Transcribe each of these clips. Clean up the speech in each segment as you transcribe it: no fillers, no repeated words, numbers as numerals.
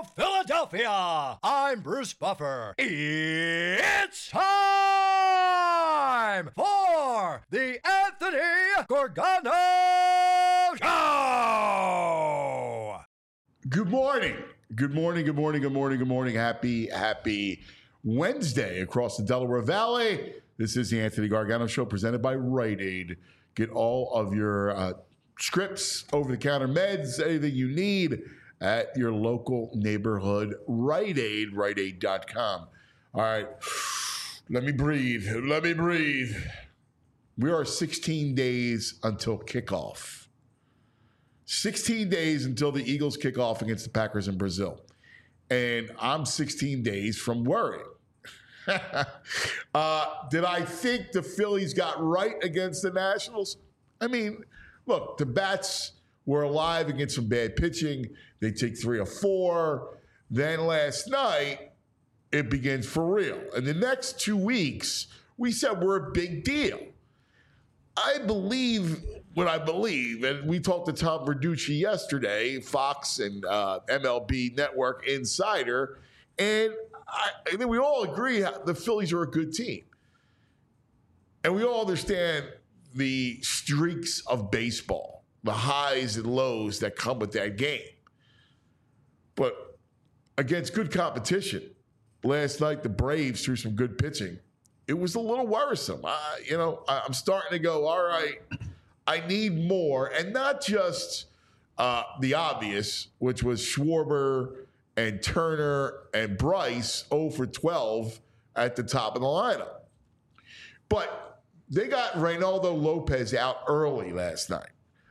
Philadelphia. I'm Bruce Buffer. It's time for the Anthony Gargano Show. Good morning. Good morning. Good morning. Good morning. Good morning. Happy Wednesday across the Delaware Valley. This is the Anthony Gargano Show presented by Rite Aid. Get all of your scripts, over-the-counter meds, anything you need at your local neighborhood Rite Aid, riteaid.com. All right, let me breathe. We are 16 days until kickoff. 16 days until the Eagles kick off against the Packers in Brazil. And I'm 16 days from worrying. Did I think the Phillies got right against the Nationals? I mean, look, the Bats were alive against some bad pitching. They take 3 or 4. Then last night, it begins for real. And the next 2 weeks, we said we're a big deal. I believe what I believe, and we talked to Tom Verducci yesterday, Fox and MLB Network insider, and I think we all agree the Phillies are a good team. And we all understand the streaks of baseball, the highs and lows that come with that game. But against good competition, last night the Braves threw some good pitching. It was a little worrisome. I'm starting to go, all right, I need more. And not just the obvious, which was Schwarber and Turner and Bryce 0 for 12 at the top of the lineup. But they got Reynaldo Lopez out early last night.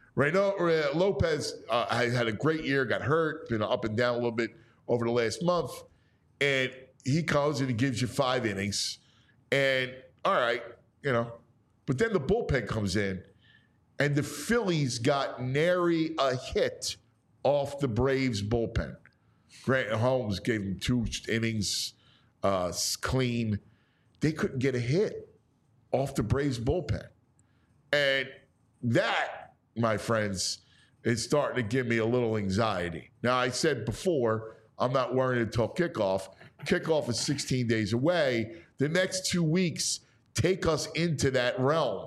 Lopez had a great year, got hurt, been up and down a little bit over the last month. And he comes and he gives you 5 innings. And, all right, But then the bullpen comes in, and the Phillies got nary a hit off the Braves bullpen. Grant Holmes gave them 2 innings clean. They couldn't get a hit off the Braves bullpen. And that, my friends, is starting to give me a little anxiety. Now, I said before, I'm not worried until kickoff. Kickoff is 16 days away. The next 2 weeks take us into that realm.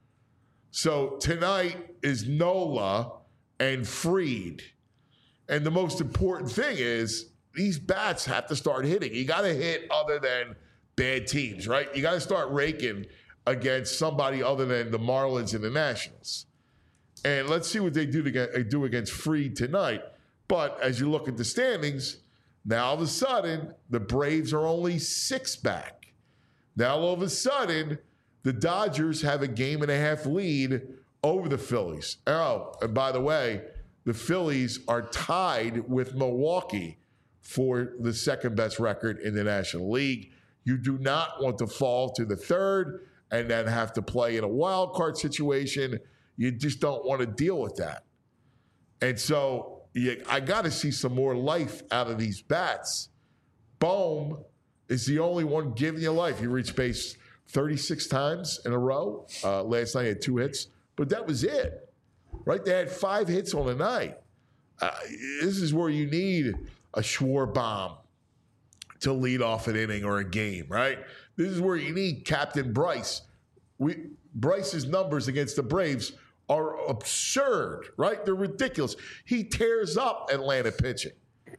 So tonight is Nola and Fried. And the most important thing is these bats have to start hitting. You got to hit other than bad teams, right? You got to start raking against somebody other than the Marlins and the Nationals. And let's see what they do against Fried tonight. But as you look at the standings, now all of a sudden, the Braves are only 6 back. Now all of a sudden, the Dodgers have a 1.5 lead over the Phillies. Oh, and by the way, the Phillies are tied with Milwaukee for the second best record in the National League. You do not want to fall to the third and then have to play in a wild card situation. You just don't want to deal with that. And so I got to see some more life out of these bats. Bohm is the only one giving you life. He reached base 36 times in a row. Last night he had 2 hits, but that was it. Right? They had 5 hits on the night. This is where you need a Schwarber to lead off an inning or a game, right? This is where you need Captain Bryce. Bryce's numbers against the Braves are absurd, right? They're ridiculous. He tears up Atlanta pitching.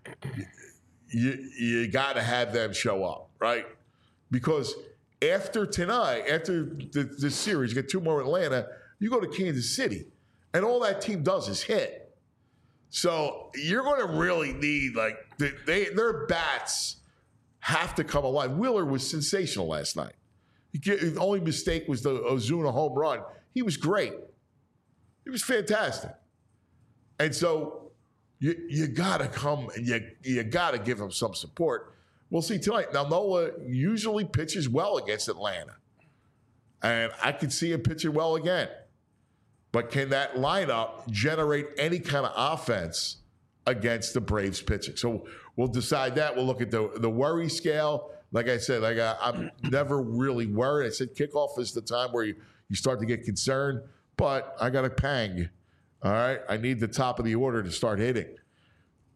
You got to have them show up, right? Because after tonight, after the series, you get 2 more Atlanta, you go to Kansas City, and all that team does is hit. So you're going to really need, their bats have to come alive. Wheeler was sensational last night. The only mistake was the Ozuna home run. He was great. He was fantastic. And so you got to come and you got to give him some support. We'll see tonight. Now, Nola usually pitches well against Atlanta. And I could see him pitching well again. But can that lineup generate any kind of offense against the Braves pitching? So we'll decide that. We'll look at the worry scale. Like I said, I'm never really worried. I said kickoff is the time where you start to get concerned. But I got a pang. All right? I need the top of the order to start hitting.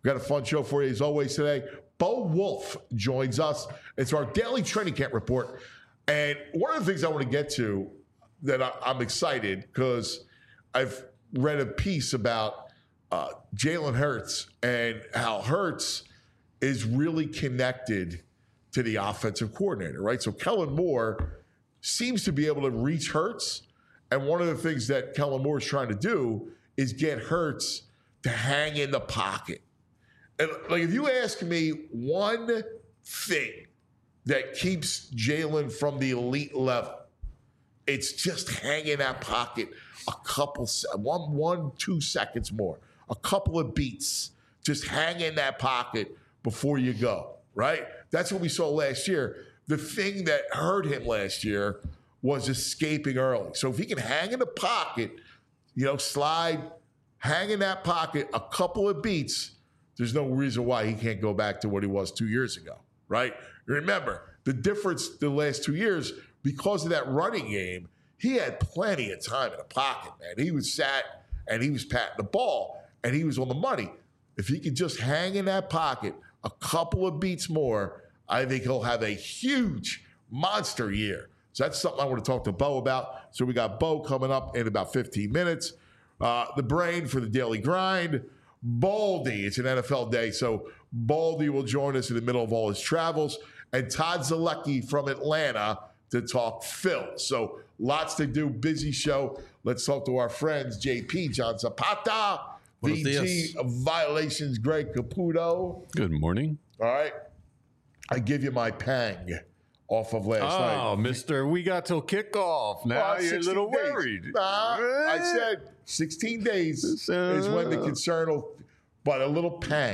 We've got a fun show for you as always today. Bo Wolf joins us. It's our daily training camp report. And one of the things I want to get to that I'm excited because I've read a piece about Jalen Hurts and how Hurts is really connected to the offensive coordinator, right? So Kellen Moore seems to be able to reach Hurts. And one of the things that Kellen Moore is trying to do is get Hurts to hang in the pocket. And like, if you ask me one thing that keeps Jalen from the elite level, it's just hanging that pocket a couple, 2 seconds more, a couple of beats, just hang in that pocket before you go, right? That's what we saw last year. The thing that hurt him last year was escaping early. So if he can hang in the pocket, slide, hang in that pocket a couple of beats, there's no reason why he can't go back to what he was 2 years ago, right? Remember, the difference the last 2 years, because of that running game, he had plenty of time in the pocket, man. He was sat and he was patting the ball and he was on the money. If he could just hang in that pocket a couple of beats more, I think he'll have a huge monster year. So that's something I want to talk to Bo about. So we got Bo coming up in about 15 minutes. The brain for the Daily Grind, Baldy. It's an NFL day, so Baldy will join us in the middle of all his travels. And Todd Zalecki from Atlanta to talk Phil. So lots to do, busy show. Let's talk to our friends, JP, John Zapata, VG Violations, Greg Caputo. Good morning. All right. I give you my pang off of last night. Oh, mister, we got till kickoff. Now you're a little days. worried. I said 16 days is when the concern will, but a little pang.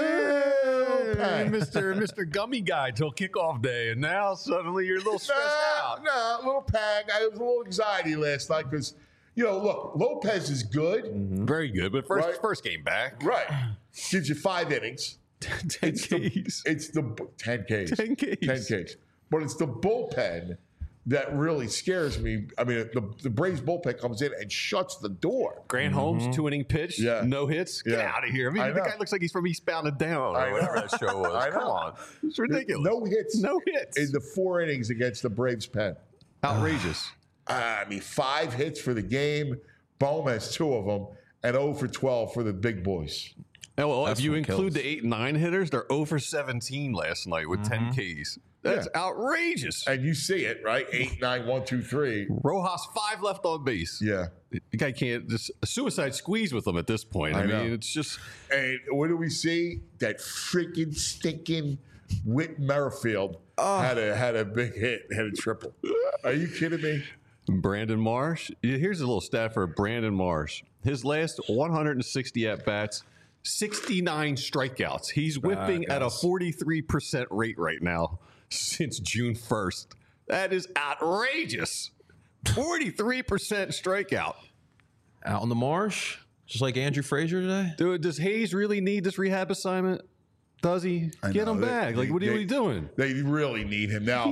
Mr. Gummy Guy till kickoff day, and now suddenly you're a little stressed out. No, a little pang. I was a little anxiety last night because, look, Lopez is good. Mm-hmm. Very good, but first game back. Right. Gives you 5 innings. 10 Ks. It's the 10 Ks. 10 Ks. 10 Ks. But it's the bullpen that really scares me. I mean, the Braves bullpen comes in and shuts the door. Grant Holmes, 2-inning pitch, no hits. Get out of here. I mean, the guy looks like he's from Eastbound and Down or whatever that show was. Come on. It's ridiculous. No hits. No hits. In the 4 innings against the Braves pen. Outrageous. 5 hits for the game. Bohm has 2 of them, and 0 for 12 for the big boys. Oh, well, if you include the 8 and 9 hitters, they're 0 for 17 last night with 10 Ks. That's outrageous. And you see it, right? 8, 9, 1, 2, 3. Rojas 5 left on base. Yeah. The guy can't just a suicide squeeze with them at this point. I mean, it's just. And what do we see? That freaking stinking Whit Merrifield had a big hit, had a triple. Are you kidding me? Brandon Marsh. Here's a little stat for Brandon Marsh. His last 160 at-bats, 69 strikeouts. He's whipping at a 43% rate right now since June 1st. That is outrageous. 43% strikeout. Out on the marsh, just like Andrew Frazier today. Dude, does Hayes really need this rehab assignment? Does he? Get him back. What are you doing? They really need him. Now,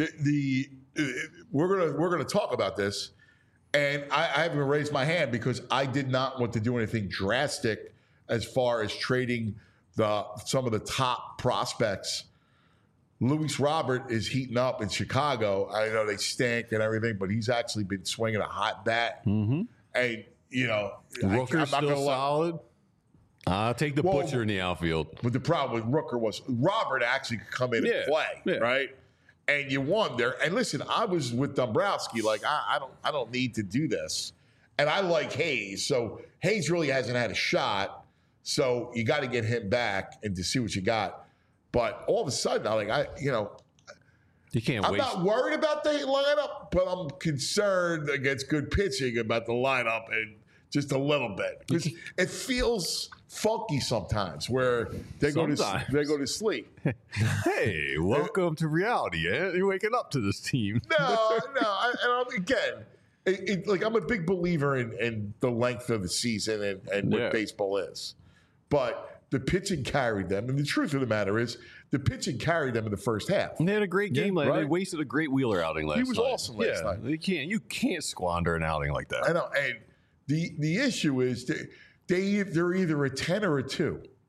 we're gonna talk about this, and I haven't raised my hand because I did not want to do anything drastic as far as trading some of the top prospects. Luis Robert is heating up in Chicago. I know they stink and everything, but he's actually been swinging a hot bat. Mm-hmm. And, Rooker's still solid. I'll take the butcher in the outfield. But the problem with Rooker was Robert actually could come in and play, right? And you wonder. And listen, I was with Dombrowski. Like, I don't need to do this. And I like Hayes. So Hayes really hasn't had a shot. So you got to get him back and to see what you got. But all of a sudden, you can't I'm not worried about the lineup, but I'm concerned against good pitching about the lineup and just a little bit. Because it feels funky sometimes where they go to sleep. Hey, welcome to reality. Eh? You're waking up to this team. Again, I'm a big believer in the length of the season and what baseball is. But the pitching carried them. And the truth of the matter is, the pitching carried them in the first half. And they had a great game last night. They wasted a great Wheeler outing last night. He was awesome last night. You can't squander an outing like that. I know. And the issue is they're either a 10 or a 2.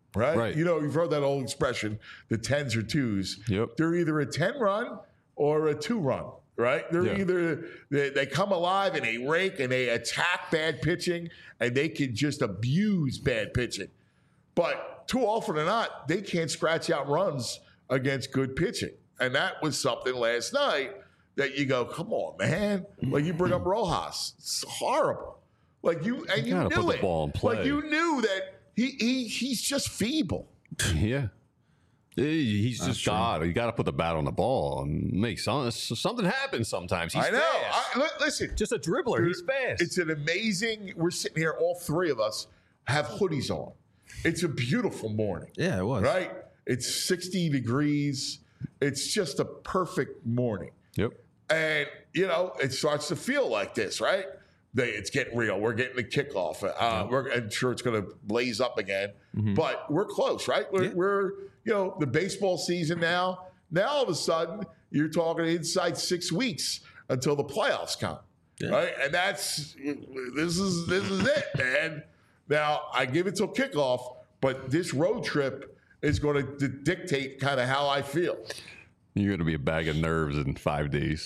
right? Right. You know, you've heard that old expression, the 10s or 2s. Yep. They're either a 10-run or a 2-run, right? They're either, they come alive and they rake and they attack bad pitching and they can just abuse bad pitching. But too often than not, they can't scratch out runs against good pitching. And that was something last night that you go, come on, man. Like you bring up Rojas. It's horrible. Like you gotta knew put the it. ball in play. Like you knew that he's just feeble. Yeah. He's just God. You got to put the bat on the ball and make something happen sometimes. He's I know. fast. Listen. Just a dribbler. He's fast. It's an amazing, we're sitting here, all three of us have hoodies on. It's a beautiful morning. Yeah, it was. Right? It's 60 degrees. It's just a perfect morning. Yep. And, you know, it starts to feel like this, right? It's getting real. We're getting the kickoff. I'm sure it's going to blaze up again. But we're close, right? We're, you know, the baseball season now. Now, all of a sudden, you're talking inside 6 weeks until the playoffs come, right? And this is it, man. Now, I give it till kickoff, but this road trip is going to dictate kind of how I feel. You're going to be a bag of nerves in 5 days.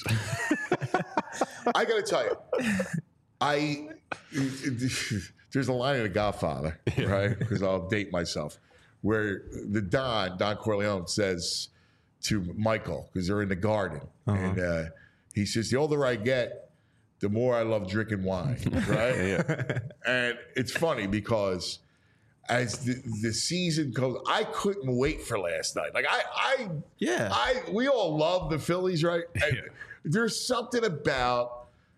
I got to tell you, there's a line in The Godfather, right? Because I'll date myself, where the Don Corleone says to Michael, because they're in the garden, and he says, the older I get, the more I love drinking wine, right? And it's funny because as the season goes, I couldn't wait for last night. Like we all love the Phillies, right? And there's something about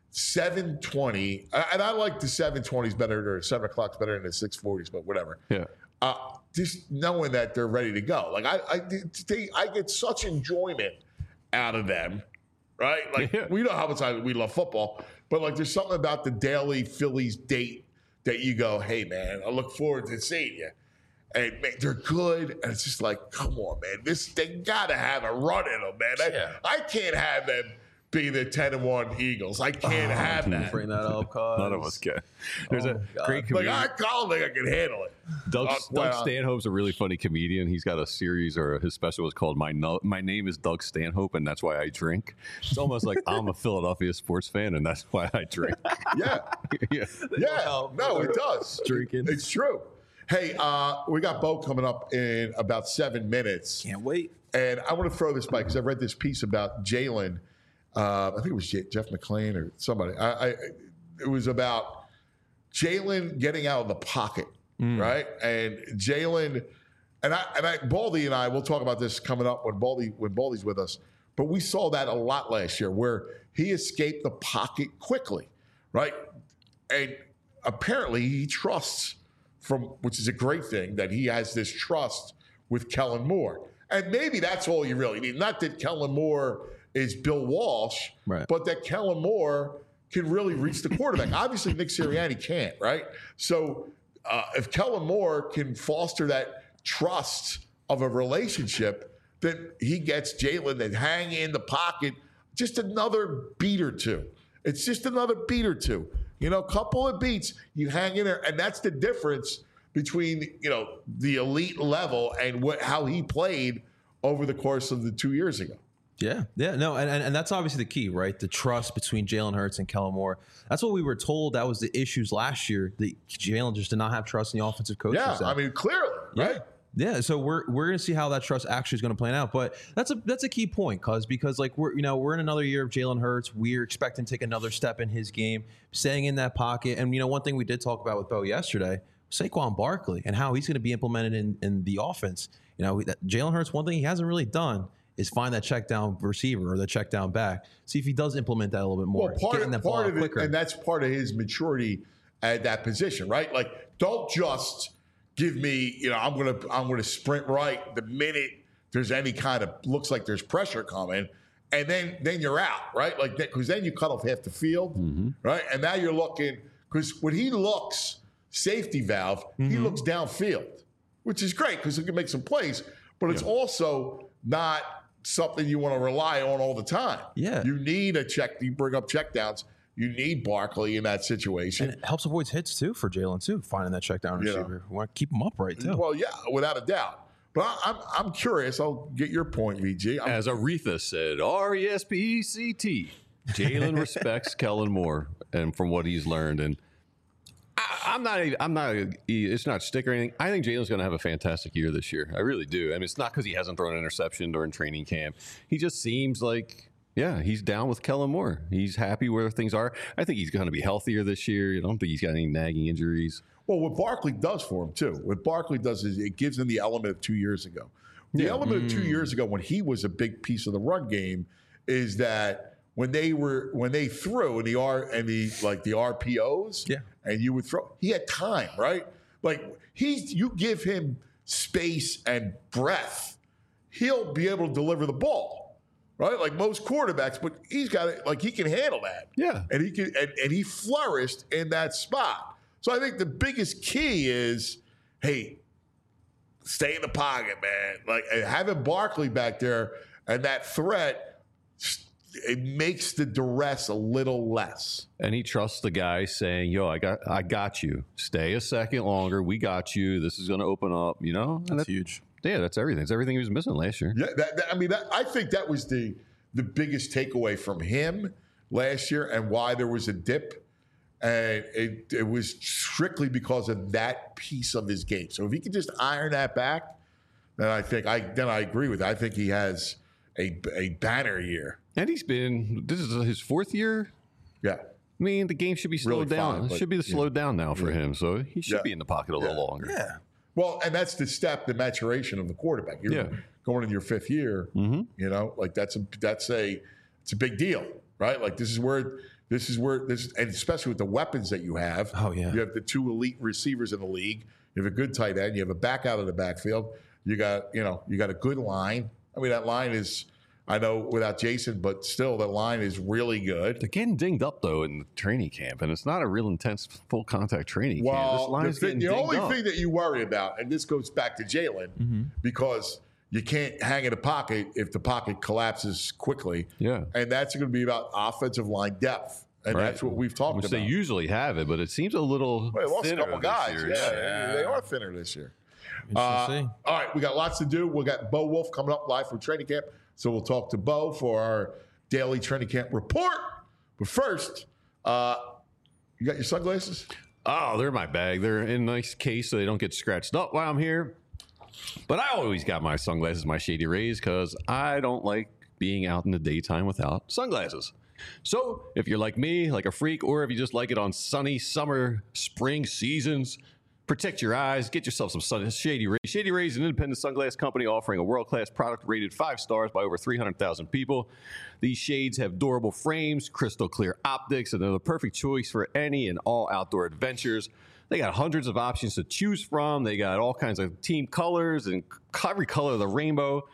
7:20, and I like the 7:20s better, or 7 o'clock's better than the 6:40s, but whatever. Yeah. Just knowing that they're ready to go. Like I get such enjoyment out of them, right? Like we know how much we love football, but like there's something about the daily Phillies date that you go, hey man, I look forward to seeing you. And man, they're good, and it's just like, come on, man, they gotta have a run in them, man. I can't have them be the 10-1 Eagles. I can't have that. Bring that up, cause None of us can. There's a great comedian. I don't think I can handle it. Doug Stanhope's a really funny comedian. He's got a series, or his special is called My Name is Doug Stanhope, and that's why I drink. It's almost like I'm a Philadelphia sports fan, and that's why I drink. Yeah. No, it does. Drinking. It's true. Hey, we got Bo coming up in about 7 minutes. Can't wait. And I want to throw this by, because I read this piece about Jalen. I think it was Jeff McClain or somebody. It was about Jalen getting out of the pocket, right? And Jalen, Baldy and I, we'll talk about this coming up when Baldy's with us. But we saw that a lot last year, where he escaped the pocket quickly, right? And apparently he trusts, which is a great thing, that he has this trust with Kellen Moore. And maybe that's all you really need. Not that Kellen Moore is Bill Walsh, right, but that Kellen Moore can really reach the quarterback. Obviously, Nick Sirianni can't, right? So if Kellen Moore can foster that trust of a relationship, then he gets Jalen to hang in the pocket just another beat or two. It's just another beat or two. You know, a couple of beats, you hang in there, and that's the difference between, you know, the elite level and how he played over the course of the 2 years ago. Yeah, no, and that's obviously the key, right? The trust between Jalen Hurts and Kellen Moore. That's what we were told. That was the issues last year. That Jalen just did not have trust in the offensive coaches. Yeah, I mean, clearly, right? Yeah, so we're going to see how that trust actually is going to play out. But that's a key point, because like we're in another year of Jalen Hurts. We're expecting to take another step in his game, staying in that pocket. And one thing we did talk about with Bo yesterday, Saquon Barkley, and how he's going to be implemented in the offense. Jalen Hurts, one thing he hasn't really done is find that check down receiver or the check down back. See if he does implement that a little bit more. Well, part of it, and that's part of his maturity at that position, right? Like, don't just give me, I'm gonna sprint right the minute there's any kind of looks like there's pressure coming, and then you're out, right? Like, because then you cut off half the field, right? And now you're looking, because when he looks safety valve, he looks downfield, which is great because he can make some plays, but it's also not something you want to rely on all the time. Yeah. You need a check. You bring up check downs You need Barkley in that situation. And it helps avoid hits, too, for Jalen, too, finding that check down receiver. We want to keep him upright, too. Well, yeah, without a doubt. But I'm curious. I'll get your point, VG. As Aretha said, R-E-S-P-E-C-T. Jalen respects Kellen Moore and from what he's learned. And I'm not, it's not stick or anything. I think Jalen's going to have a fantastic year this year. I really do. I mean, it's not because he hasn't thrown an interception during training camp. He just seems like, yeah, he's down with Kellen Moore. He's happy where things are. I think he's going to be healthier this year. I don't think he's got any nagging injuries. Well, what Barkley does for him, too, what Barkley does is it gives him the element of 2 years ago. The element of 2 years ago when he was a big piece of the run game is that when they threw in the RPOs, and you would throw, he had time, right? Like you give him space and breath, he'll be able to deliver the ball, right? Like most quarterbacks, but he's got it, like he can handle that. Yeah. And he can and he flourished in that spot. So I think the biggest key is, hey, stay in the pocket, man. Like having Barkley back there and that threat, it makes the duress a little less. And he trusts the guy saying, yo, I got you. Stay a second longer. We got you. This is going to open up, you know? And That's huge. Yeah, that's everything. It's everything he was missing last year. Yeah, I think that was the biggest takeaway from him last year and why there was a dip. And it was strictly because of that piece of his game. So if he could just iron that back, then I agree with it. I think he has a banner year. And this is his fourth year. Yeah. I mean, the game should be slowed down. It should be slowed down now for him. So he should be in the pocket a little longer. Yeah. Well, and that's the maturation of the quarterback. You're going into your fifth year, you know, like it's a big deal, right? Like this is where, and especially with the weapons that you have. Oh, yeah. You have the two elite receivers in the league. You have a good tight end. You have a back out of the backfield. You got a good line. I mean, that line is, I know without Jason, but still that line is really good. They're getting dinged up, though, in the training camp, and it's not a real intense full contact training camp. This line is getting the dinged only up. thing that you worry about, and this goes back to Jalen, because you can't hang in a pocket if the pocket collapses quickly. Yeah. And that's going to be about offensive line depth. And that's what we've talked Which about. they usually have it, but it seems a little They lost a thinner couple this guys. year. Yeah, they are thinner this year. Interesting to see. All right, we got lots to do. We got Bo Wolf coming up live from training camp. So we'll talk to Bo for our daily training camp report. But first, you got your sunglasses? Oh, they're in my bag. They're in a nice case so they don't get scratched up while I'm here. But I always got my sunglasses, my Shady Rays, because I don't like being out in the daytime without sunglasses. So if you're like me, like a freak, or if you just like it on sunny summer, spring seasons, protect your eyes, get yourself some Shady Rays. Shady Rays is an independent sunglass company offering a world-class product rated 5 stars by over 300,000 people. These shades have durable frames, crystal clear optics, and they're the perfect choice for any and all outdoor adventures. They got hundreds of options to choose from. They got all kinds of team colors and every color of the rainbow.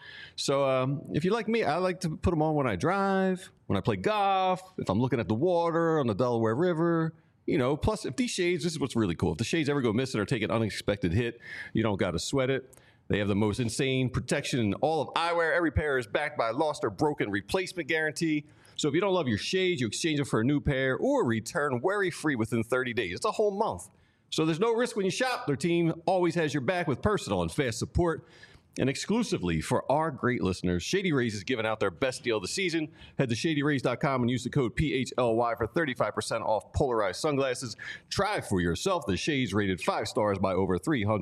So if you're like me, I like to put them on when I drive, when I play golf, if I'm looking at the water on the Delaware River. You know, plus if these shades, this is what's really cool. If the shades ever go missing or take an unexpected hit, you don't got to sweat it. They have the most insane protection in all of eyewear. Every pair is backed by a lost or broken replacement guarantee. So if you don't love your shades, you exchange them for a new pair or return worry-free within 30 days. It's a whole month. So there's no risk when you shop. Their team always has your back with personal and fast support. And exclusively for our great listeners, Shady Rays is giving out their best deal of the season. Head to ShadyRays.com and use the code PHLY for 35% off polarized sunglasses. Try for yourself the shades rated 5 stars by over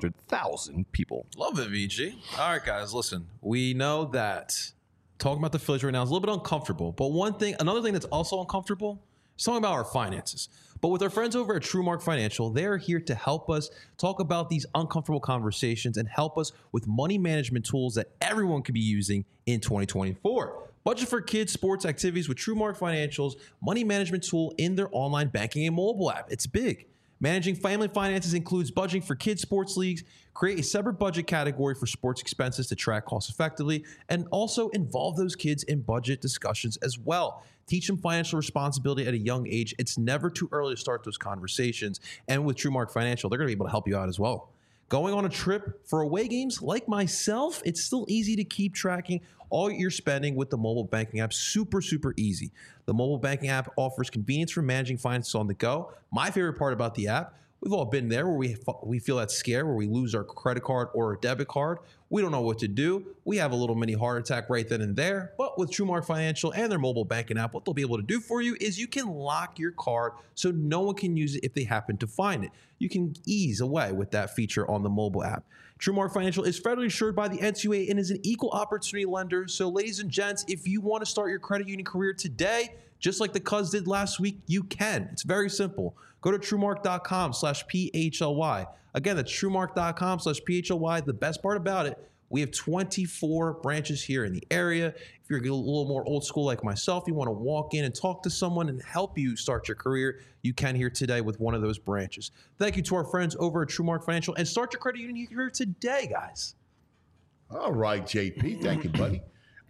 300,000 people. Love it, VG. All right, guys, listen. We know that talking about the Phillies right now is a little bit uncomfortable. But another thing that's also uncomfortable is talking about our finances. But with our friends over at TrueMark Financial, they are here to help us talk about these uncomfortable conversations and help us with money management tools that everyone could be using in 2024. Budget for kids' sports activities with TrueMark Financial's money management tool in their online banking and mobile app. It's big. Managing family finances includes budgeting for kids' sports leagues, create a separate budget category for sports expenses to track costs effectively, and also involve those kids in budget discussions as well. Teach them financial responsibility at a young age. It's never too early to start those conversations. And with TrueMark Financial, they're going to be able to help you out as well. Going on a trip for away games like myself, it's still easy to keep tracking all your spending with the mobile banking app. Super, super easy. The mobile banking app offers convenience for managing finances on the go. My favorite part about the app, we've all been there where we feel that scare where we lose our credit card or a debit card. We don't know what to do. We have a little mini heart attack right then and there. But with TrueMark Financial and their mobile banking app, what they'll be able to do for you is you can lock your card so no one can use it if they happen to find it. You can ease away with that feature on the mobile app. TrueMark Financial is federally insured by the NCUA and is an equal opportunity lender. So ladies and gents, if you want to start your credit union career today, just like the Cuz did last week, you can. It's very simple. Go to TrueMark.com/PHLY. Again, that's TrueMark.com/PHLY. The best part about it, we have 24 branches here in the area. If you're a little more old school like myself, you want to walk in and talk to someone and help you start your career, you can here today with one of those branches. Thank you to our friends over at TrueMark Financial, and start your credit union career today, guys. All right, JP. Thank you, buddy.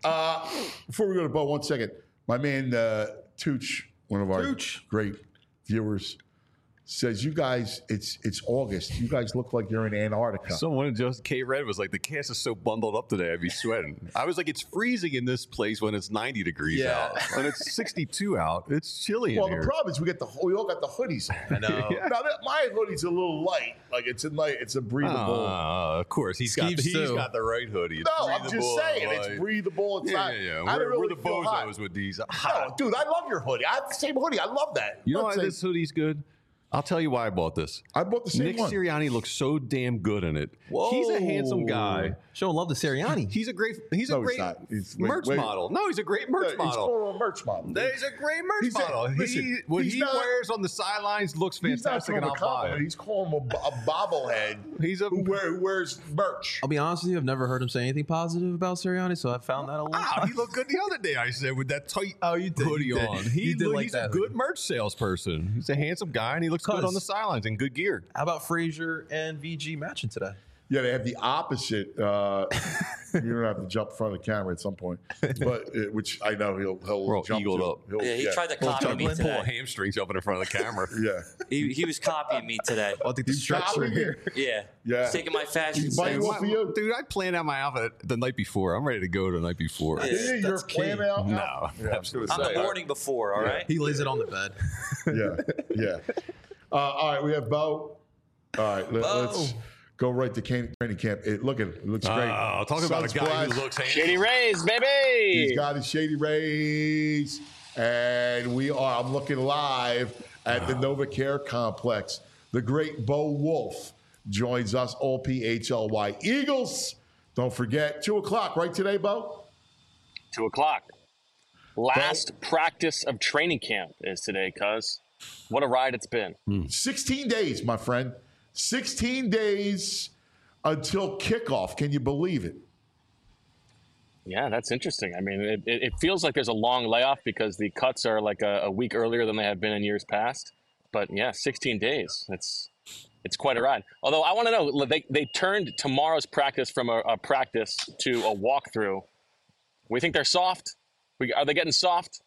Before we go to Bo, 1 second. My man, Tooch, one of our great viewers, says, you guys, it's August. You guys look like you're in Antarctica. Someone just K-Red was like, the cast is so bundled up today, I'd be sweating. I was like, it's freezing in this place when it's 90 degrees out. When it's 62 out, it's chilly in here. Well, the problem is we all got the hoodies on. I know. Yeah. Now, my hoodie's a little light. Like, it's a breathable. Of course. He's got the right hoodie. It's no, I'm just saying. It's breathable. It's not. Yeah. We're the bozos with these. No, dude, I love your hoodie. I have the same hoodie. I love that. You know why this hoodie's good? I'll tell you why I bought this. I bought the same Nick one. Sirianni looks so damn good in it. Whoa. He's a handsome guy. Showing love to Sirianni. He's a great He's merch model. No, he's a great merch model. He's called a merch model. He's a great merch model. What he wears on the sidelines looks fantastic, and I'll buy it. He's calling him a bobblehead who wears merch. I'll be honest with you, I've never heard him say anything positive about Sirianni, so I found that a little. He looked good the other day, I said, with that tight you did, hoodie on. He's a good hoodie. merch salesperson. He's a handsome guy, and he looks good on the sidelines in good gear. How about Frazier and VG matching today? Yeah, they have the opposite. You don't have to jump in front of the camera at some point, but which I know he'll jump eagled to. up. He tried to copy me today. Pull hamstrings up in front of the camera. Yeah, he was copying me today. I think the stretcher here. Yeah, yeah. Taking my fashion He's biting sense. off for you, dude. I planned out my outfit the night before. I'm ready to go the night before. Yeah. You're planning out. No, Yeah. absolutely. I'm the morning before. All right. He lays it on the bed. Yeah. All right, we have Bo. All right, let's go right to training camp. It looks great. Talk about a guy who looks handsome. Shady Rays, baby. He's got his Shady Rays, and I'm looking live at the NovaCare Complex. The great Bo Wolf joins us, all PHLY Eagles. Don't forget, 2:00, right today, Bo? 2:00. Last practice of training camp is today, cuz. What a ride it's been. 16 days, my friend. 16 days until kickoff. Can you believe it? Yeah, that's interesting. I mean, it feels like there's a long layoff because the cuts are like a week earlier than they have been in years past. But yeah, 16 days. It's quite a ride. Although I want to know, they turned tomorrow's practice from a practice to a walkthrough. We think they're soft? Are they getting soft?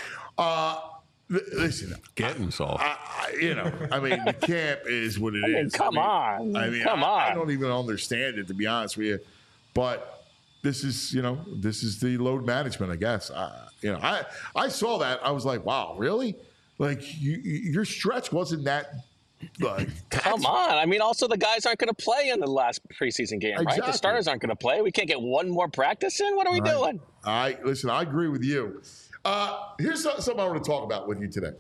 Listen, getting soft. The camp is what it is. Come on. I don't even understand it, to be honest with you. But this is the load management, I guess. I saw that. I was like, wow, really? Like your stretch wasn't that. Come on. I mean, also the guys aren't going to play in the last preseason game, right? Exactly. The starters aren't going to play. We can't get one more practice in? What are we doing? Listen, I agree with you. Here's something I want to talk about with you today.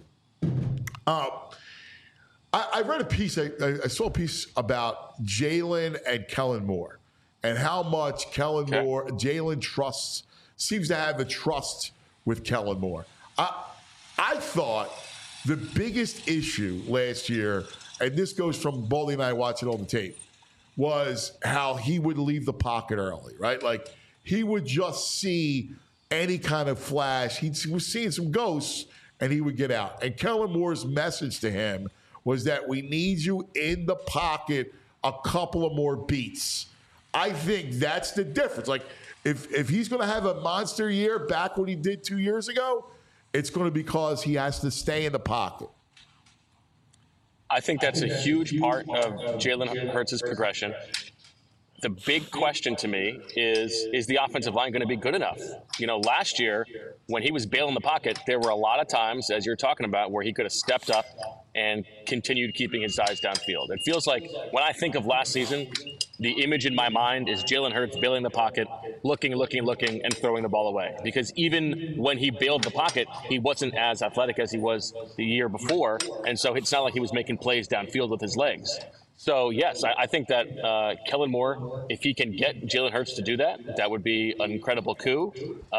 I read a piece. I saw a piece about Jalen and Kellen Moore and how much Jalen seems to have the trust with Kellen Moore. I thought the biggest issue last year, and this goes from Baldy and I watching on the tape, was how he would leave the pocket early, right? Like he would just see any kind of flash. He was seeing some ghosts, and he would get out. And Kellen Moore's message to him was that we need you in the pocket a couple of more beats. I think that's the difference. Like, if he's going to have a monster year back what he did 2 years ago, it's going to be because he has to stay in the pocket. I think that's a huge part of Jalen Hurts' progression. The big question to me is the offensive line going to be good enough? You know, last year when he was bailing the pocket, there were a lot of times, as you're talking about, where he could have stepped up and continued keeping his eyes downfield. It feels like when I think of last season, the image in my mind is Jalen Hurts bailing the pocket, looking, and throwing the ball away. Because even when he bailed the pocket, he wasn't as athletic as he was the year before. And so it's not like he was making plays downfield with his legs. So, yes, I think that Kellen Moore, if he can get Jalen Hurts to do that, that would be an incredible coup.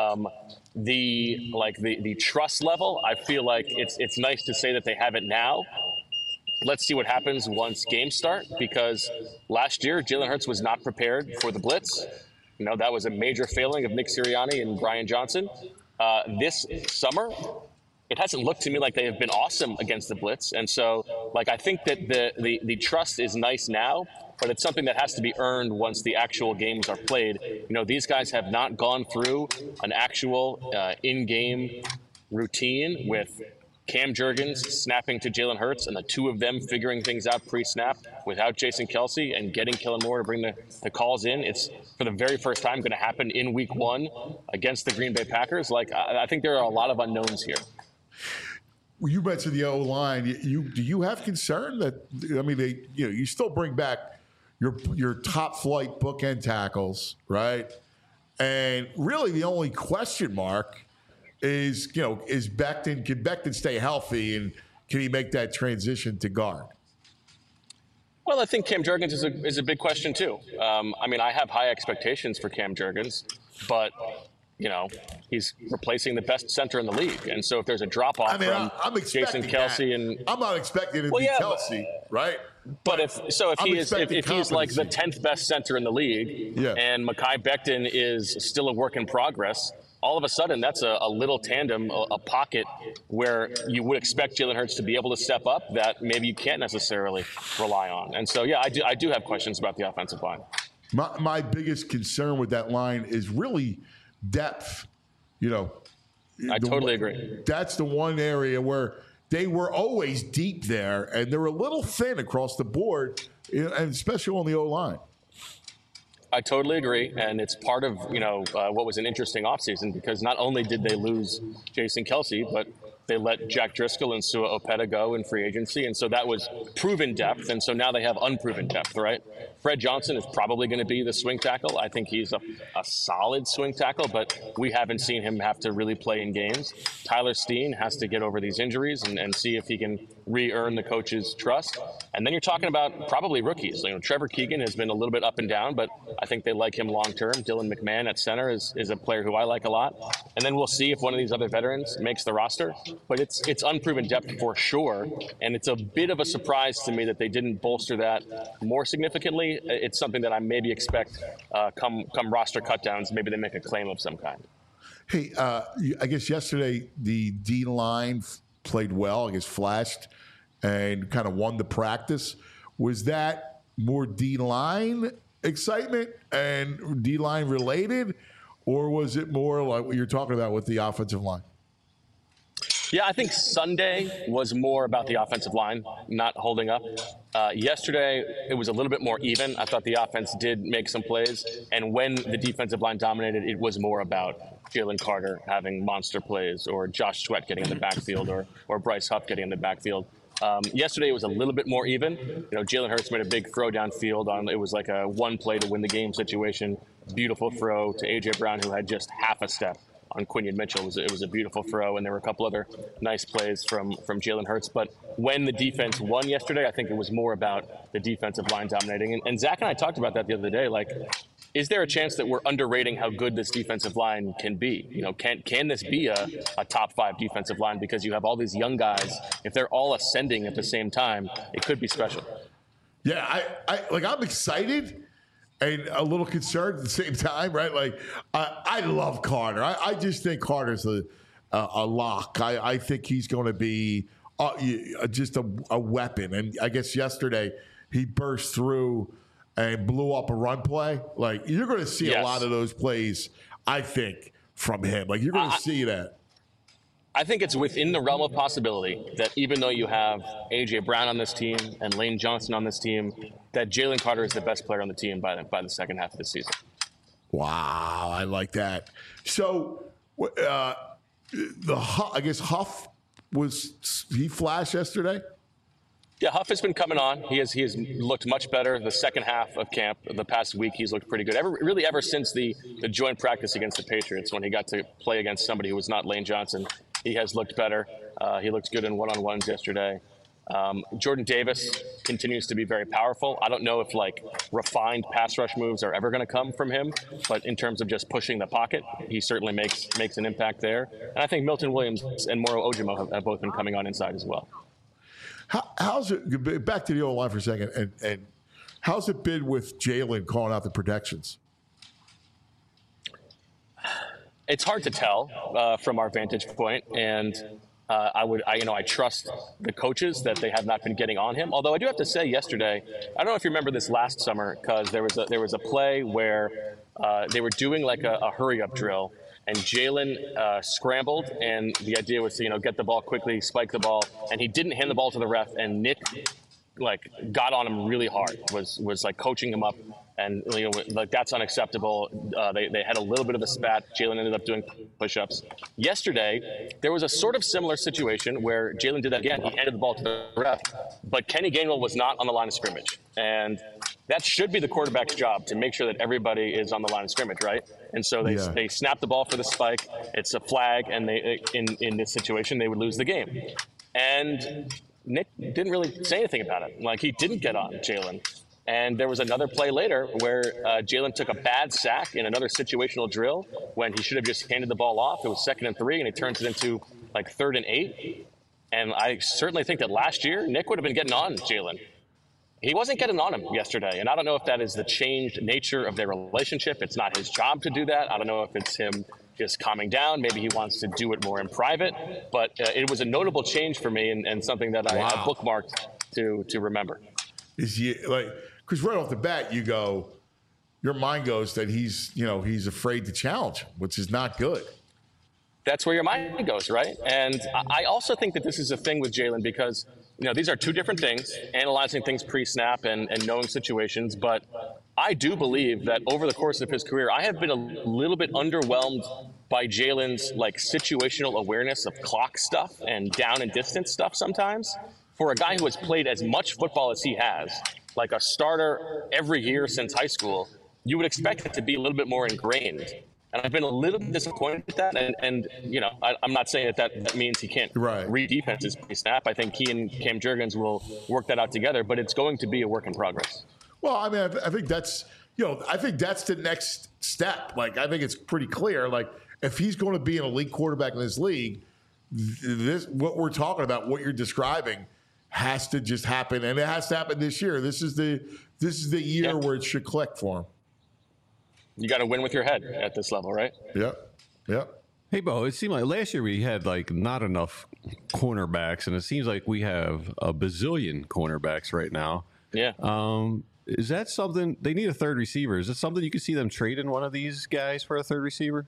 The trust level, I feel like it's nice to say that they have it now. Let's see what happens once games start, because last year Jalen Hurts was not prepared for the blitz. You know, that was a major failing of Nick Sirianni and Brian Johnson. This summer, it hasn't looked to me like they have been awesome against the blitz. And so, I think that the trust is nice now, but it's something that has to be earned once the actual games are played. You know, these guys have not gone through an actual in-game routine with Cam Jurgens snapping to Jalen Hurts and the two of them figuring things out pre-snap without Jason Kelce and getting Kellen Moore to bring the calls in. It's for the very first time going to happen in week 1 against the Green Bay Packers. I think there are a lot of unknowns here. You mentioned the O-line. Do you have concern that, you still bring back your top flight bookend tackles, right? And really the only question mark is Becton, can Becton stay healthy, and can he make that transition to guard? Well, I think Cam Jurgens is a big question too. I have high expectations for Cam Jurgens, but he's replacing the best center in the league. And so if there's a drop-off from Jason Kelce and I'm not expecting it to be Kelce, right? But if he's like the 10th best center in the league, and Mekhi Becton is still a work in progress, all of a sudden that's a little tandem, a pocket where you would expect Jalen Hurts to be able to step up that maybe you can't necessarily rely on. And so, I do have questions about the offensive line. My biggest concern with that line is really depth. I totally agree. That's the one area where they were always deep there, and they're a little thin across the board, and especially on the O-line. I totally agree, and it's part of what was an interesting offseason, because not only did they lose Jason Kelce, but they let Jack Driscoll and Sua Opeta go in free agency, and so that was proven depth, and so now they have unproven depth, right? Fred Johnson is probably going to be the swing tackle. I think he's a solid swing tackle, but we haven't seen him have to really play in games. Tyler Steen has to get over these injuries and see if he can re-earn the coach's trust. And then you're talking about probably rookies. Trevor Keegan has been a little bit up and down, but I think they like him long-term. Dylan McMahon at center is a player who I like a lot. And then we'll see if one of these other veterans makes the roster. But it's unproven depth for sure, and it's a bit of a surprise to me that they didn't bolster that more significantly. It's something that I maybe expect come roster cutdowns. Maybe they make a claim of some kind. Hey, I guess yesterday the D-line played well. I guess flashed and kind of won the practice. Was that more D-line excitement and D-line related, or was it more like what you're talking about with the offensive line? Yeah, I think Sunday was more about the offensive line not holding up. Yesterday, it was a little bit more even. I thought the offense did make some plays. And when the defensive line dominated, it was more about Jalen Carter having monster plays, or Josh Sweat getting in the backfield, or Bryce Huff getting in the backfield. Yesterday, it was a little bit more even. Jalen Hurts made a big throw downfield it was like a one play to win the game situation. Beautiful throw to A.J. Brown, who had just half a step on Quinion Mitchell. It was a beautiful throw, and there were a couple other nice plays from Jalen Hurts. But when the defense won yesterday, I think it was more about the defensive line dominating. And Zach and I talked about that the other day. Is there a chance that we're underrating how good this defensive line can be? Can this be a top 5 defensive line? Because you have all these young guys. If they're all ascending at the same time, it could be special. Yeah, I'm excited and a little concerned at the same time, right? I love Carter. I just think Carter's a lock. I think he's going to be just a weapon. And I guess yesterday he burst through and blew up a run play. You're going to see a lot of those plays, I think, from him. You're going to see that. I think it's within the realm of possibility that even though you have A.J. Brown on this team and Lane Johnson on this team, that Jalen Carter is the best player on the team by the second half of the season. Wow, I like that. So, I guess Huff he flashed yesterday? Yeah, Huff has been coming on. He has looked much better the second half of camp. The past week, he's looked pretty good. Ever since the joint practice against the Patriots, when he got to play against somebody who was not Lane Johnson, he has looked better. He looked good in one-on-ones yesterday. Jordan Davis continues to be very powerful. I don't know if refined pass rush moves are ever going to come from him, but in terms of just pushing the pocket, he certainly makes an impact there. And I think Milton Williams and Moro Ojimo have both been coming on inside as well. How's it, back to the O-line for a second, and how's it been with Jalen calling out the protections? It's hard to tell from our vantage point, and I trust the coaches that they have not been getting on him. Although I do have to say, yesterday, I don't know if you remember this last summer, because there was a play where they were doing a hurry up drill, and Jalen scrambled, and the idea was to get the ball quickly, spike the ball, and he didn't hand the ball to the ref, and Nick got on him really hard, was coaching him up, and that's unacceptable. They had a little bit of a spat. Jalen ended up doing push-ups. Yesterday, there was a sort of similar situation where Jalen did that again. He handed the ball to the ref, but Kenny Gainwell was not on the line of scrimmage, and that should be the quarterback's job, to make sure that everybody is on the line of scrimmage, right? And so they snap the ball for the spike. It's a flag, and in this situation, they would lose the game. And Nick didn't really say anything about it. He didn't get on Jalen. And there was another play later where Jalen took a bad sack in another situational drill when he should have just handed the ball off. It was 2nd and 3, and he turns it into 3rd and 8. And I certainly think that last year, Nick would have been getting on Jalen. He wasn't getting on him yesterday, and I don't know if that is the changed nature of their relationship. It's not his job to do that. I don't know if it's him just calming down. Maybe he wants to do it more in private. But it was a notable change for me, and something that I bookmarked to remember. Is he because right off the bat, your mind goes that he's afraid to challenge him, which is not good. That's where your mind goes, right? And I also think that this is a thing with Jalen because, these are two different things, analyzing things pre-snap and knowing situations. But I do believe that over the course of his career, I have been a little bit underwhelmed by Jalen's situational awareness of clock stuff and down and distance stuff sometimes. For a guy who has played as much football as he has, like a starter every year since high school, you would expect it to be a little bit more ingrained. And I've been a little bit disappointed with that. And I'm not saying that means he can't read defenses pre-snap. I think he and Cam Jurgens will work that out together, but it's going to be a work in progress. Well, I mean, I think that's, that's the next step. I think it's pretty clear. If he's going to be an elite quarterback in this league, what we're talking about, what you're describing, has to just happen, and it has to happen this year. This is the year where it should click for him. You got to win with your head at this level, right? Yep. Hey, Bo, it seemed like last year we had not enough cornerbacks, and it seems like we have a bazillion cornerbacks right now. Yeah. Is that something they need a third receiver? Is it something you could see them trading one of these guys for a third receiver?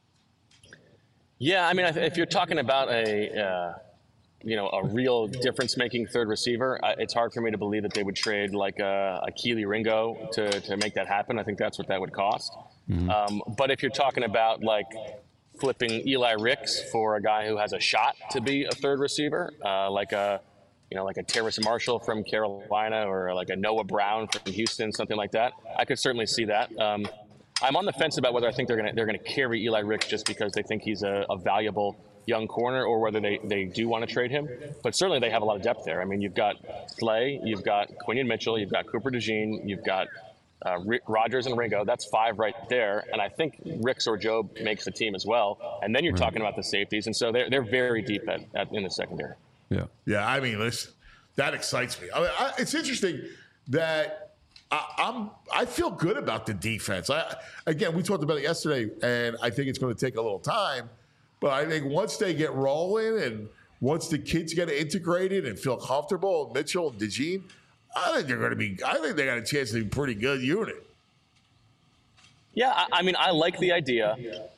Yeah, I mean, if you're talking about a real difference-making third receiver, it's hard for me to believe that they would trade a Keely Ringo to make that happen. I think that's what that would cost. Mm-hmm. But if you're talking about flipping Eli Ricks for a guy who has a shot to be a third receiver, like a Terrace Marshall from Carolina or a Noah Brown from Houston, something like that, I could certainly see that. I'm on the fence about whether I think they're gonna carry Eli Ricks just because they think he's a valuable young corner, or whether they do want to trade him. But certainly they have a lot of depth there. I mean, you've got Slay, you've got Quinion Mitchell, you've got Cooper DeJean, you've got Rodgers and Ringo. That's 5 right there. And I think Ricks or Job makes the team as well. And then you're talking about the safeties. And so they're very deep in the secondary. Yeah, I mean, listen, that excites me. It's interesting that I feel good about the defense. Again, we talked about it yesterday, and I think it's going to take a little time. But I think once they get rolling and once the kids get integrated and feel comfortable, Mitchell and DeJean, I think they got a chance to be a pretty good unit. Yeah, I mean, I like the idea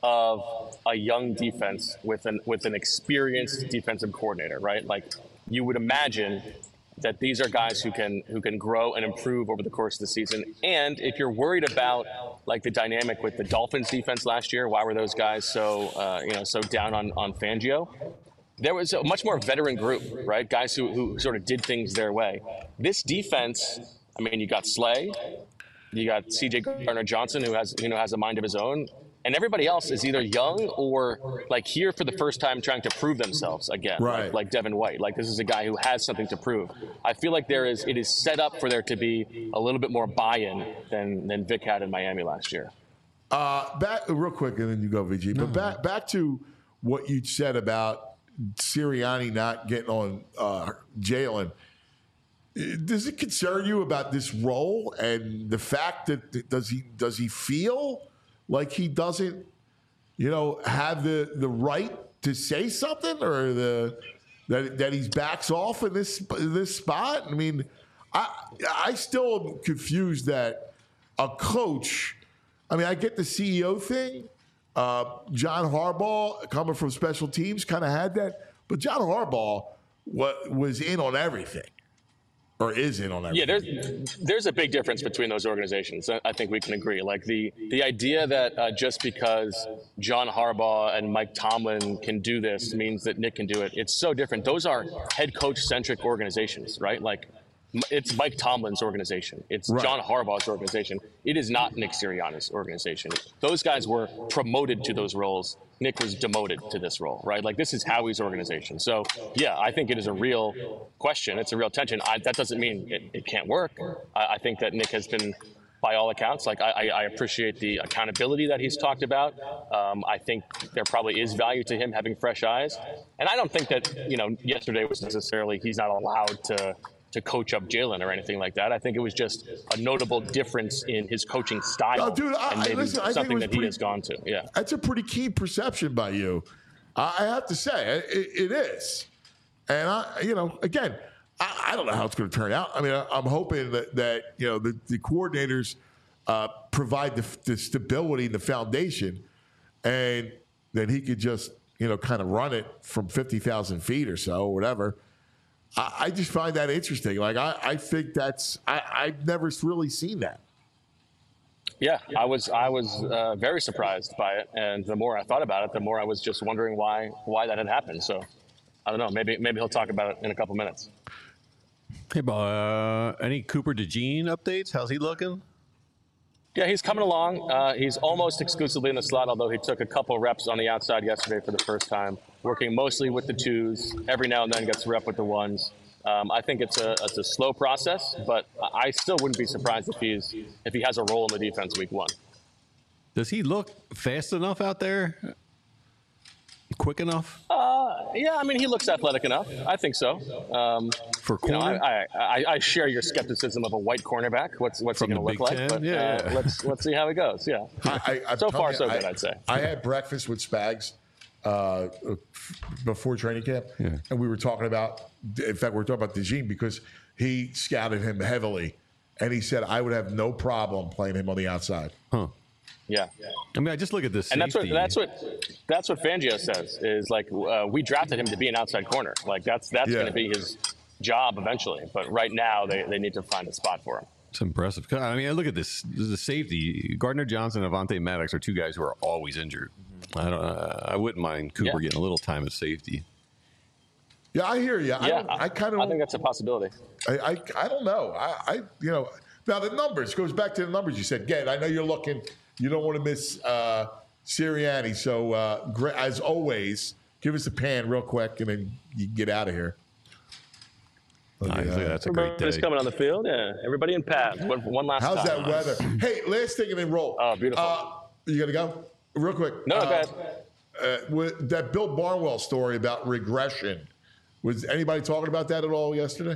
of a young defense with an experienced defensive coordinator, right? Like, you would imagine that these are guys who can grow and improve over the course of the season. And if you're worried about like the dynamic with the Dolphins defense last year, why were those guys so down on Fangio? There was a much more veteran group, right? Guys who sort of did things their way. This defense, I mean, you got Slay, you got C.J. Gardner-Johnson, who has a mind of his own, and everybody else is either young or like here for the first time trying to prove themselves again, right? Like Devin White. Like, this is a guy who has something to prove. I feel like it is set up for there to be a little bit more buy-in than Vic had in Miami last year. Back real quick, and then you go, VG. But back to what you said about Sirianni not getting on Jalen. Does it concern you about this role and the fact that does he feel like he doesn't, have the right to say something, or that he backs off in this spot? I mean, I still am confused that a coach. I mean, I get the CEO thing. John Harbaugh, coming from special teams, kind of had that, but John Harbaugh was in on everything. Or is in on everything. Yeah, there's a big difference between those organizations. I think we can agree. Like the idea that just because John Harbaugh and Mike Tomlin can do this means that Nick can do it. It's so different. Those are head coach centric organizations, right? Like, it's Mike Tomlin's organization. It's right. John Harbaugh's organization. It is not Nick Sirianni's organization. Those guys were promoted to those roles. Nick was demoted to this role, right? Like, this is Howie's organization. So, yeah, I think it is a real question. It's a real tension. That doesn't mean it can't work. I think that Nick has been, by all accounts, like, I appreciate the accountability that he's talked about. I think there probably is value to him having fresh eyes. And I don't think that, yesterday was necessarily he's not allowed to coach up Jalen or anything like that. I think it was just a notable difference in his coaching style. Oh, dude, and maybe something that he has gone to. Yeah, that's a pretty keen perception by you. I have to say, it is. And again, I don't know how it's going to turn out. I mean, I'm hoping that the coordinators provide the stability and the foundation, and then he could just kind of run it from 50,000 feet or so, or whatever. I just find that interesting. Like, I think I've never really seen that. Yeah, I was very surprised by it, and the more I thought about it, the more I was just wondering why that had happened. So, I don't know. Maybe he'll talk about it in a couple minutes. Hey, any Cooper DeJean updates? How's he looking? Yeah, he's coming along. He's almost exclusively in the slot, although he took a couple reps on the outside yesterday for the first time, working mostly with the twos. Every now and then gets a rep with the ones. I think it's a slow process, but I still wouldn't be surprised if he has a role in the defense week one. Does he look fast enough out there? Quick enough? Yeah, I mean, he looks athletic enough. I think so. For corner? I share your skepticism of a white cornerback. What's he going to look like? But let's see how it goes. Yeah. So far, so good, I'd say. I had breakfast with Spags before training camp, and we were talking about, in fact, we were talking about DeJean because he scouted him heavily, and he said, I would have no problem playing him on the outside. Huh. Yeah. I mean, I just look at this safety. And that's what Fangio says is like, we drafted him to be an outside corner. Like that's going to be his job eventually. But right now they need to find a spot for him. It's impressive. I mean, look at this. This is the safety. Gardner-Johnson and Avonte Maddox are two guys who are always injured. I wouldn't mind Cooper getting a little time at safety. Yeah, I hear you. Yeah, I kind of. I think that's a possibility. I don't know. Now the numbers goes back to the numbers you said. Ged, I know you're looking. You don't want to miss Sirianni. So, as always, give us a pan real quick, and then you can get out of here. That's a great day. Everybody's coming on the field. Yeah, everybody in pads. One last How's time. that weather? Hey, last thing and then roll. Oh, beautiful. You got to go? Real quick. No, go ahead. With that Bill Barnwell story about regression, was anybody talking about that at all yesterday?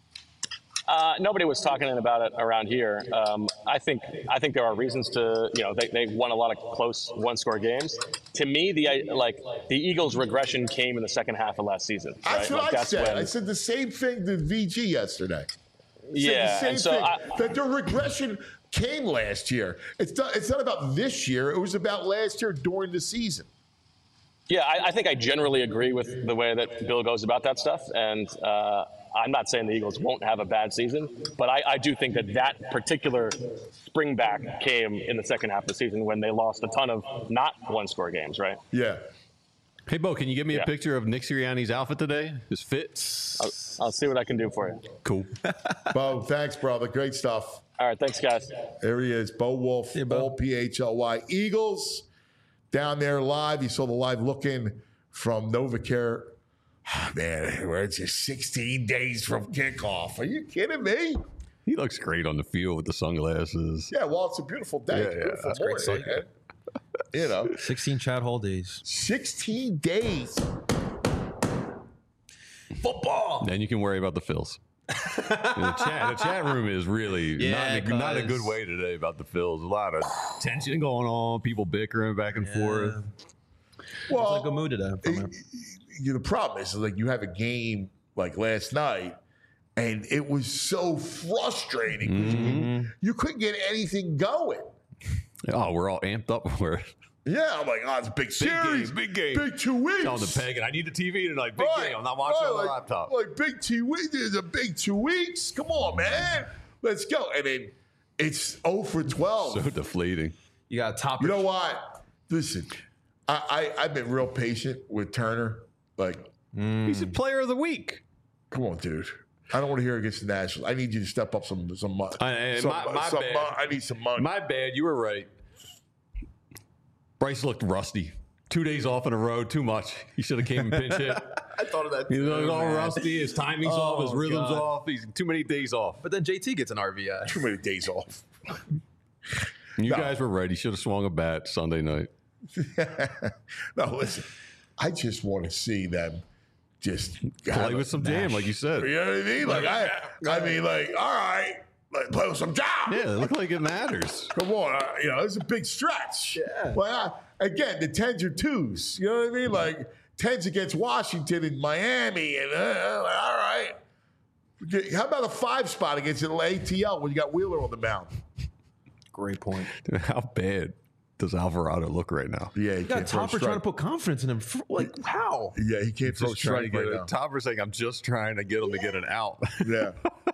Nobody was talking about it around here. I think there are reasons to, they won a lot of close one-score games. To me, the Eagles' regression came in the second half of last season. That's right? what I said. I said the same thing to VG yesterday. Yeah, that their regression came last year. It's not about this year. It was about last year during the season. Yeah, I think I generally agree with the way that Bill goes about that stuff. And I'm not saying the Eagles won't have a bad season, but I do think that particular spring back came in the second half of the season when they lost a ton of not one-score games, right? Yeah. Hey, Bo, can you give me a picture of Nick Sirianni's outfit today? His fit? I'll see what I can do for you. Cool. Bo, thanks, brother. Great stuff. All right, thanks, guys. There he is, Bo Wolf, all PHLY. Eagles down there live. You saw the live look-in from NovaCare. Oh, man, we're just 16 days from kickoff. Are you kidding me? He looks great on the field with the sunglasses. Yeah, well, it's a beautiful day. Yeah, It's a beautiful that's morning, great. man. You know, 16 Chad Hall days. 16 days. Football. Then you can worry about the Phils. The chat room is really not a good way today about the Phils. A lot of tension going on, people bickering back and forth. Well, It's like a mood today. The problem is, like, you have a game like last night, and it was so frustrating. You couldn't get anything going. Oh, we're all amped up for it. Yeah, I'm like, oh, it's a big series. Big game. Big 2 weeks. On the peg, and I need the TV tonight. Big game. I'm not watching on the laptop. Like, big 2 weeks. There's a big 2 weeks. Come on, man. Let's go. And then it's 0 for 12. So deflating. You got top. You know what? Listen, I've been real patient with Turner. Like, He's a player of the week. come on, dude. I don't want to hear against the Nationals. I need you to step up some money. My bad. I need some money. My bad. You were right. Bryce looked rusty. 2 days off in a row, too much. He should have came and pinch hit. I thought of that. He Too, looked all man. rusty. His timing's off. His rhythm's God. off. He's too many days off. But then JT gets an RBI. Too many days off. You guys were right. He should have swung a bat Sunday night. No, listen. I just want to see them just Play with some jam, like you said. You know what I mean? Like I mean, like, all right, like, play with some jam. Yeah, it looked like it matters. Come on, it's a big stretch. Yeah. Well, again, the 10s or 2s. You know what I mean? Like 10s against Washington and Miami, and all right. How about a 5 spot against the ATL when you got Wheeler on the mound? Great point. Dude, how bad does Alvarado look right now? Yeah, he You got can't throw a Topper trying to strike. put confidence in him. Like, how? Yeah, he can't throw a Just trying to strike get right it. now. Topper saying, "I'm just trying to get him to get an out." Yeah.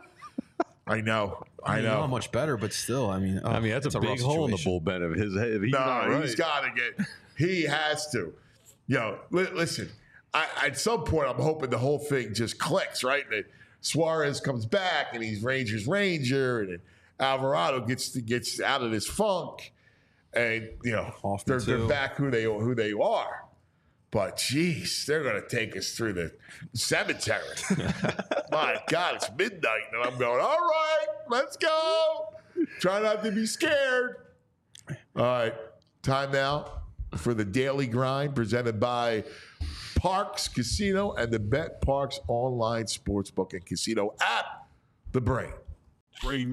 I know. I Not know. much better, but still, I mean, I mean, that's it's a big rough hole in the situation. bullpen of his head. If he's No, not right. he's got to get. He has to. Listen. At some point, I'm hoping the whole thing just clicks, right? That Suarez comes back and he's Rangers Ranger, and then Alvarado gets out of this funk, and Hoffman they're too. back who they are. But geez, they're going to take us through the cemetery. My God, it's midnight, and I'm going, all right, let's go. Try not to be scared. All right, time now for the Daily Grind presented by Parks Casino and the Bet Parks online sportsbook and casino app, The Brain. Brain.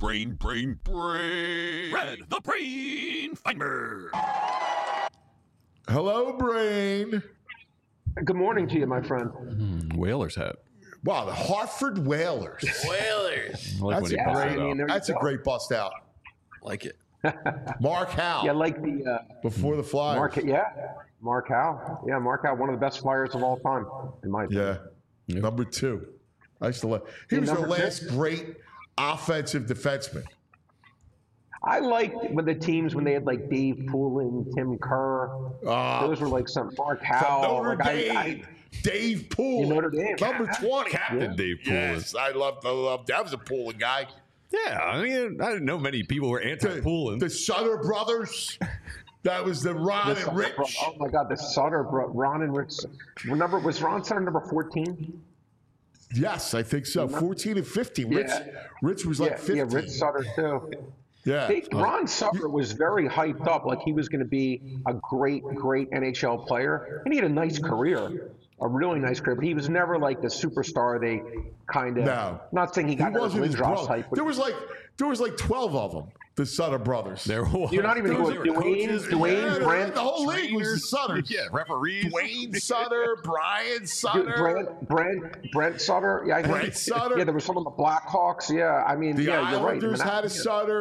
Red, the brain finder. Hello, Brain. Good morning to you, my friend. Whalers hat. Wow, the Hartford Whalers. I like That's when he a busts great- it I mean, out. there you That's a go. great bust out. Like it. Mark Howe Yeah, like the before the Flyers. Mark Howe. Yeah, Mark Howe, one of the best Flyers of all time, in my opinion. Yeah. Number 2. I used to love. He was the number two? last great offensive defenseman. I liked when they had like Dave Poulin, Tim Kerr. Those were like some Mark Howe. Notre Like, Dame. Dave Poole. Notre Dame. Number 20. Captain Dave Poulin. Yes, I love that was a Poulin guy. Yeah, I mean, I didn't know many people were anti-Poulin. The Sutter brothers. That was the Ron and Rich. Oh my God, the Sutter, Ron and Rich. Was Ron Sutter number 14? Yes, I think so. 14 and 15. Rich was like 15. Yeah, Rich Sutter too. Yeah. Ron Sutter was very hyped up, like he was going to be a great NHL player, and he had a nice career, a really nice career. But he was never like the superstar they kind of. No. Not saying he got that wasn't his Lindros brother. hype. But There was like 12 of them. The Sutter brothers. There was. you're not even There going were Dwayne, coaches. Dwayne, Yeah, Brent, the whole league was the Sutters. Yeah, referees. Dwayne Sutter, Brian Sutter. Brent Sutter. Yeah, I think. Brent Sutter. Yeah, there was some of the Blackhawks. Yeah, I mean, The yeah, you're right. Islanders I mean, had a Sutter.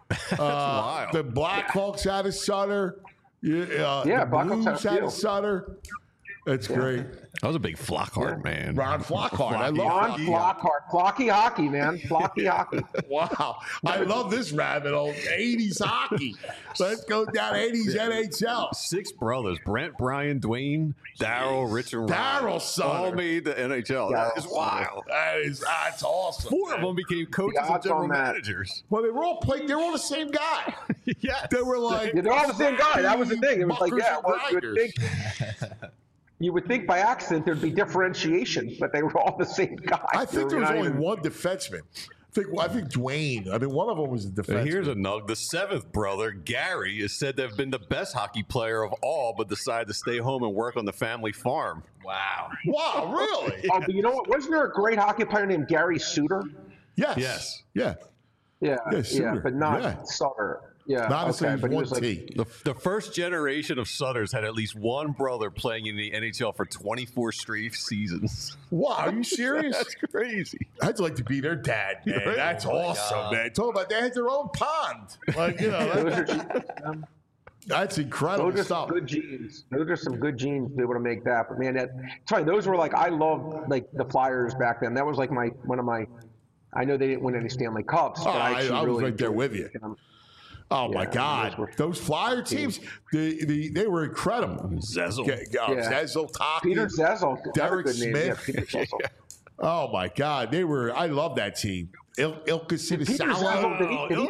wild. The Blackhawks out of Sutter. Yeah, the Blackhawks Blues out out of of Sutter. That's great. I was a big Flockhart man. Ron Flockhart. I love Ron Flockhart. Flocky hockey, man. Flocky hockey. Wow. I love this rabbit hole. 80s hockey. Let's go down 80s NHL. 6 brothers: Brent, Brian, Dwayne, Daryl, Rich, and Ryan. Daryl Sutter. All made the NHL. That is wild. That's awesome. 4 of them became coaches and odds general on that. managers. Well, they were all the same guy. Yes. They were like, They're all the same guy. That was the thing. It was like, Muckers yeah, and well, you would grinders. think, you would think by accident there'd be differentiation, but they were all the same guy. I think there was Not only even- one defenseman. I think Dwayne. I mean, one of them was a defenseman. Here's a nug. The 7th brother, Gary, is said to have been the best hockey player of all, but decided to stay home and work on the family farm. Wow. Wow, really? Oh, but you know what? Wasn't there a great hockey player named Gary Suter? Yes. Yes. Yeah. Yeah, Yeah, Suter. but not Yeah. Sutter. Yeah, Not okay, as but he one was like, T. The first generation of Sutters had at least one brother playing in the NHL for 24 straight seasons. Wow, are you serious? That's crazy. I'd like to be their dad, man. That's awesome, man. Talk about they had their own pond. Like, you know, those are, that's incredible those are stuff. some good genes. Those are some good genes to be able to make that. But man, sorry, those were like, I loved like the Flyers back then. That was like one of my. I know they didn't win any Stanley Cups, but I I was really right there enjoyed with you. them. Oh my Yeah, God, those Flyer teams, they were incredible. Zezel. Zezel, Toppy, Peter Zezel, another Derek good name. Smith. Yeah, Peter Zezel. Oh my God, they were. I love that team. Ilka Peter Zezel,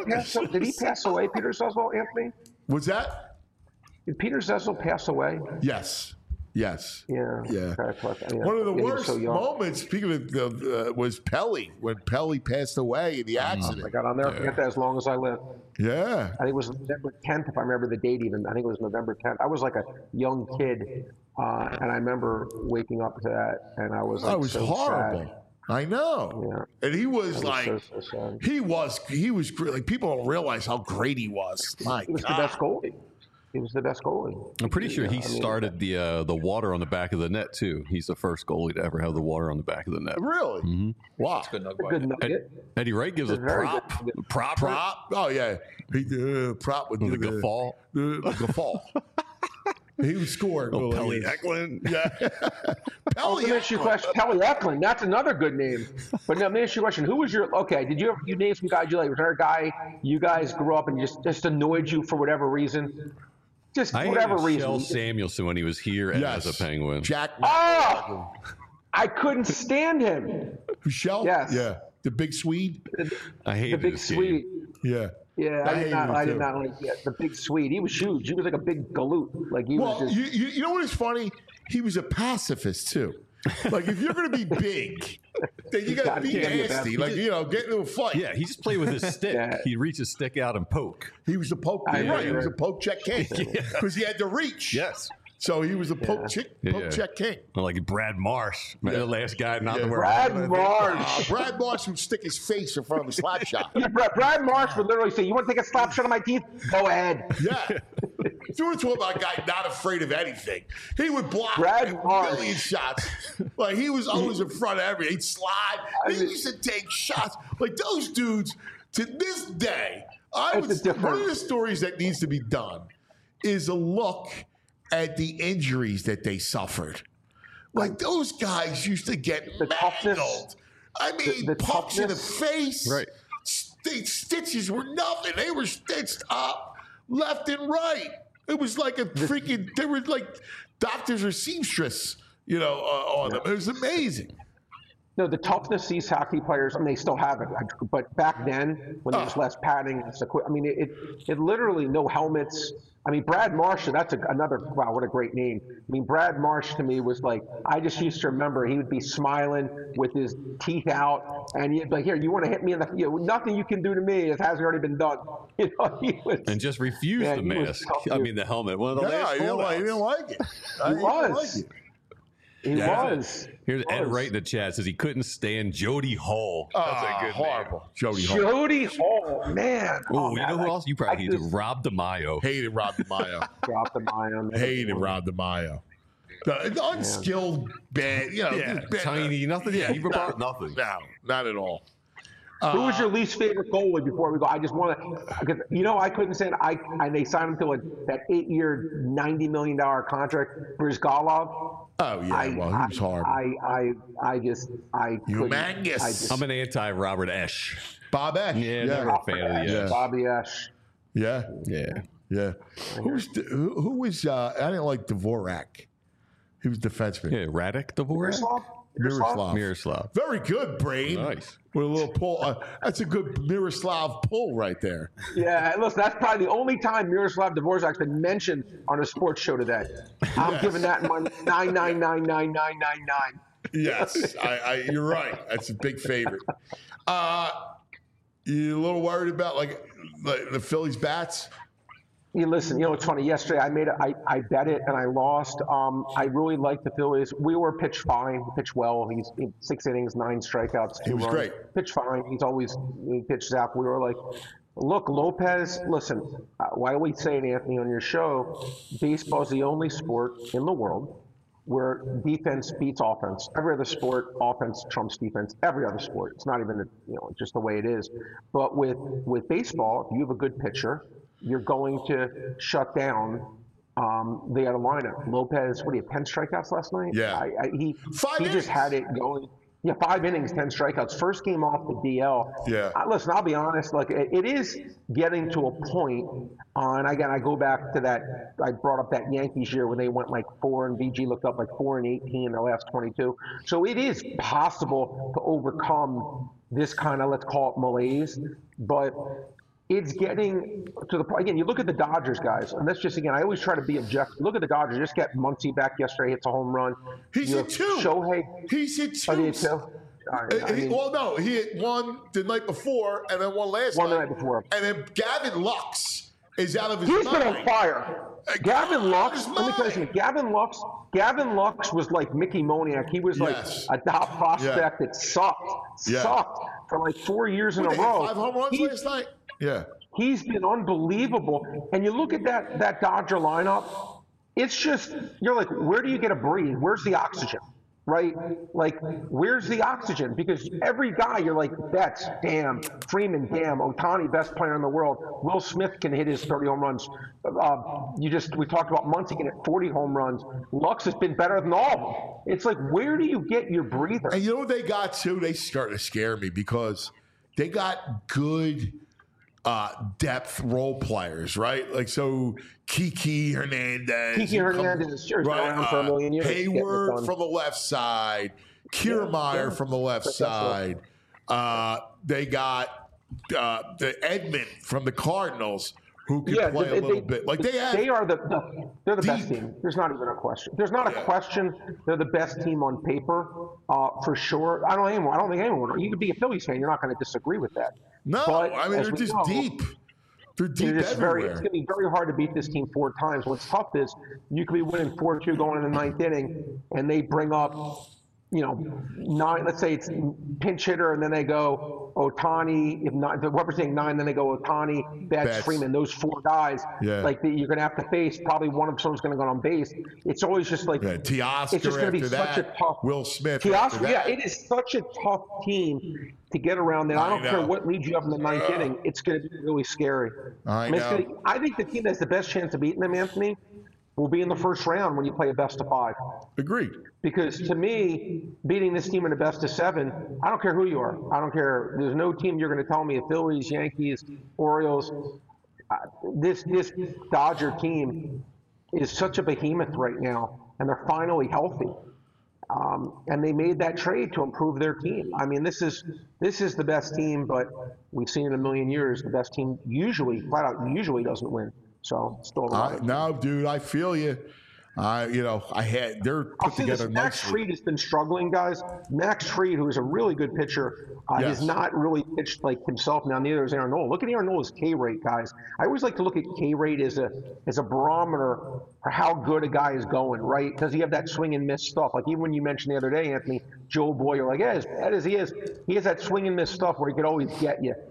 did he pass away? Peter Zezel, Anthony? Was that? Did Peter Zezel pass away? Yes. Yes. Yeah. Yeah. Okay, One of the he was worst so young. moments, speaking of, was Pelly, when Pelly passed away in the accident. I got on there. Forget that as long as I live. Yeah. I think it was November 10th, if I remember the date even. I think it was November 10th. I was like a young kid, and I remember waking up to that, and I was like, That was so horrible. sad. I know. Yeah. And he was That like, was so sad. he was great. Like, people don't realize how great he was. My He was the God. best goalie. He was the best goalie. I'm pretty sure he started the water on the back of the net too. He's the first goalie to ever have the water on the back of the net. Really? Mm-hmm. Wow. Good nug by Good him. nugget. Eddie Wright gives a Very prop. good. Prop. Oh, yeah. He prop would The do guffaw. The guffaw. He would score. Oh, Pelly Eklund. Yeah. Oh, let me ask you a question. Pelly Eklund, that's another good name. But now, let me ask you a question. Who was your, okay, did you ever, you name some guys you like? Was there a guy you guys grew up and just annoyed you for whatever reason? Just I whatever hated reason. Shel Samuelson when he was here Yes. as a Penguin. Jack. Oh! I couldn't stand him. Michelle? Yes. Yeah. The big Swede? I The hated big this game. Swede. Yeah. Yeah, I hated did not. him I too. did not like the big Swede. He was huge. He was like a big galoot. Like he Well, was just. you know what is funny? He was a pacifist too. Like, if you're going to be big, then you got to be can't be a nasty. bad- Like, you know, get into a fight. Yeah, he just played with his stick. Yeah. He'd reach his stick out and poke. He was the poke. I Right. He know, was a right. poke check king because he had the reach. Yes. So he was a poke Yeah. check king. Like Brad Marsh, the last guy not to wear. Brad Marsh. Brad Marsh would stick his face in front of a slap shot. Yeah, Brad Marsh would literally say, "You want to take a slap shot of my teeth? Go ahead." Yeah. If you want to talk about a guy not afraid of anything, he would block Brad a Marsh. million shots. Like, he was always in front of everything. He'd slide. He used to take shots. Like, those dudes, to this day, It's a one of the different- stories that needs to be done is a look at the injuries that they suffered. Like, those guys used to get The toughness- mangled. I mean, the pumps in the toughness. face. Right. Stitches were nothing. They were stitched up left and right. It was like a freaking, they were like doctors or seamstress, on them. It was amazing. No, the toughness these hockey players, I mean, they still have it. But back then, when there was less padding, I mean, it literally no helmets. I mean, Brad Marsh, that's another, wow, what a great name. I mean, Brad Marsh to me was like, I just used to remember he would be smiling with his teeth out, and he'd be like, here, you want to hit me in the, nothing you can do to me, it hasn't already been done. He was, And just refused Yeah, the he was mask. tough, I dude. mean, the helmet. One of the No, last he didn't holdouts. like it. He was. He was. Here's Ed Wright in the chat says he couldn't stand Jody Hull. That's a good horrible. Jody Hall. Jody Hall, man. Oh, you know who man, else? You probably hated just Rob DeMaio. Hated Rob DeMaio. dropped the ion. Hated Rob DeMaio. The unskilled band, Yeah, just band- tiny, nothing. Yeah, he brought nothing. No, not at all. Who was your least favorite goalie before we go? I just want to, because I couldn't say it. And they signed him to that 8-year, $90 million contract. Brizgalov. Oh yeah, he was hard. I Humongous. I'm an anti-Robert Esch. Bob Esch. Yeah, never a fan of the Esch. Bobby Esch. Yeah. Yeah. Yeah. Who was? I didn't like Dvorak. He was defenseman. Yeah, Radek Dvorak. Miroslav. Very good, Brain. Nice. With a little pull. That's a good Miroslav pull right there. Yeah, listen, that's probably the only time Miroslav Dvorak's been mentioned on a sports show today. I'm giving that my 9999999. Yes, you're right. That's a big favorite. You a little worried about like the Phillies bats? You listen, it's funny. Yesterday I bet it and I lost. I really like the Phillies. We were pitched fine, pitched well. He's 6 innings, 9 strikeouts, 2 He was runs. great. Pitched fine. He pitches out. We were like, look, Lopez, listen, why are we saying, Anthony, on your show, baseball is the only sport in the world where defense beats offense. Every other sport, offense trumps defense. Every other sport. It's not even, just the way it is. But with baseball, if you have a good pitcher, you're going to shut down the other lineup. Lopez, 10 strikeouts last night? Yeah. He innings. just had it going. Yeah, 5 innings, 10 strikeouts. First game off the DL. Yeah. Listen, I'll be honest. Like it is getting to a point. And again, I go back to that. I brought up that Yankees year when they went like 4 and VG looked up like 4-18 in their last 22. So it is possible to overcome this kind of, let's call it malaise, but it's getting to the point. Again, you look at the Dodgers, guys, and that's just, again, I always try to be objective. Look at the Dodgers. Just get Muncy back yesterday, hits a home run. He's hit 2. Shohei. He's hit 2. Oh, he hit 2? All right, no, he hit 1 the night before and then 1 last one night. the night before. And then Gavin Lux is out of his He's mind. been on fire. Gavin Lux, let me tell you something. Gavin Lux was like Mickey Moniak. He was like a top prospect that sucked for like 4 years in a row. 5 home runs last night? Yeah. He's been unbelievable. And you look at that Dodger lineup, it's just, you're like, where do you get a breathe? Where's the oxygen? Right? Like, where's the oxygen? Because every guy, you're like, Betts, damn. Freeman, damn. Ohtani, best player in the world. Will Smith can hit his 30 home runs. We talked about Muncy can hit 40 home runs. Lux has been better than all of them. It's like, where do you get your breather? And you know what they got too? They start to scare me because they got good depth role players, right? Like, so Kiki Hernandez. Sure, has been around for a million years. Hayward from the left side. Kiermaier from the left side. They got the Edmund from the Cardinals, who can play a little bit. Like they're the best team. There's not even a question. There's not a question. They're the best team on paper, for sure. I don't think anyone. You could be a Phillies fan. You're not going to disagree with that. No, but I mean they're just deep. They're deep everywhere. It's going to be very hard to beat this team 4 times. What's tough is you could be winning 4-2 going in the 9th inning, and they bring up, 9. Let's say it's pinch hitter, and then they go Ohtani. If not, what we're saying 9, then they go Ohtani, Betts, Freeman. Those 4 guys, you're going to have to face. Probably one of someone's going to go on base. It's always just like Teoscar. It's just going to be such a tough. Will Smith. Teoscar, it is such a tough team to get around that. I don't care what lead you have in the 9th inning. It's going to be really scary. I think the team that has the best chance of beating them, Anthony, will be in the first round when you play a best of 5. Agreed. Because to me, beating this team in a best of 7, I don't care who you are. I don't care. There's no team you're going to tell me, the Phillies, Yankees, Orioles. This Dodger team is such a behemoth right now, and they're finally healthy. And they made that trade to improve their team. I mean, this is the best team, but we've seen in a million years the best team flat out doesn't win. So still no, dude, I feel you. They're put together Max nicely. Fried has been struggling, guys. Max Fried, who is a really good pitcher, has not really pitched like himself. Now, neither is Aaron Nola. Look at Aaron Nola's K rate, guys. I always like to look at K rate as a barometer for how good a guy is going, right? Does he have that swing and miss stuff? Like even when you mentioned the other day, Anthony, Joe Boyer, like, as bad as he has that swing and miss stuff where he could always get you.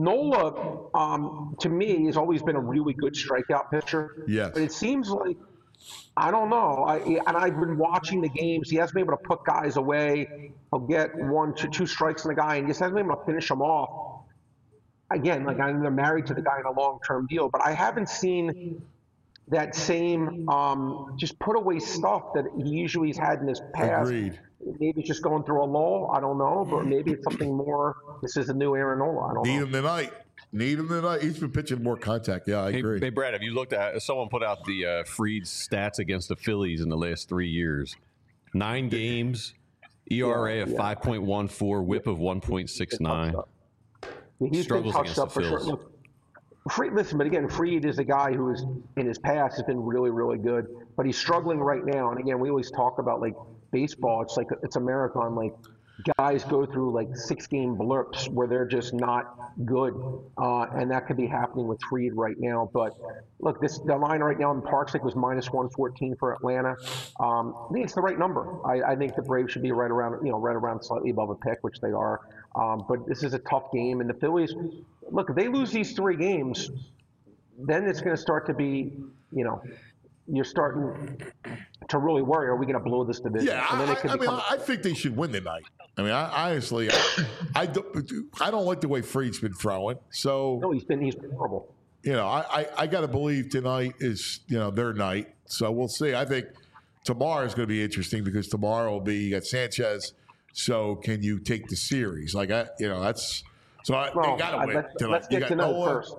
Nola, to me, has always been a really good strikeout pitcher. Yes. But it seems like I don't know. I've been watching the games. He hasn't been able to put guys away. He'll get 1 to 2 strikes on the guy, and he just hasn't been able to finish them off. Again, like I know they're married to the guy in a long-term deal, but I haven't seen that same just put away stuff that he usually has had in his past. Agreed. Maybe he's just going through a lull. I don't know, but maybe it's something more. This is a new Aaron Nola. I don't Need know. him tonight. Need him tonight. He's been pitching more contact. Yeah, I agree. Hey, Brad, have you looked at? Someone put out the Fried's stats against the Phillies in the last 3 years. 9 games, ERA of 5.14, WHIP of 1.69. He's Struggles been against touched up the for sure. Phils. Look, Listen, but again, Fried is a guy who is in his past has been really, really good, but he's struggling right now. And again, we always talk about like baseball. It's like it's a marathon. Like guys go through like 6-game blurps where they're just not good, and that could be happening with Fried right now. But look, the line right now in Parks was -114 for Atlanta. I think it's the right number. I think the Braves should be right around slightly above a pick, which they are. But this is a tough game, and the Phillies. Look, if they lose these 3 games, then it's going to start to be, you're starting to really worry, are we going to blow this division? Yeah, And then I think they should win tonight. I mean, I honestly, I don't like the way Fried's been throwing. So no, he's been horrible. I got to believe tonight is their night. So we'll see. I think tomorrow is going to be interesting because tomorrow will be you got Sanchez. So can you take the series? Like that's. So they got to win tonight. Let's get to know first.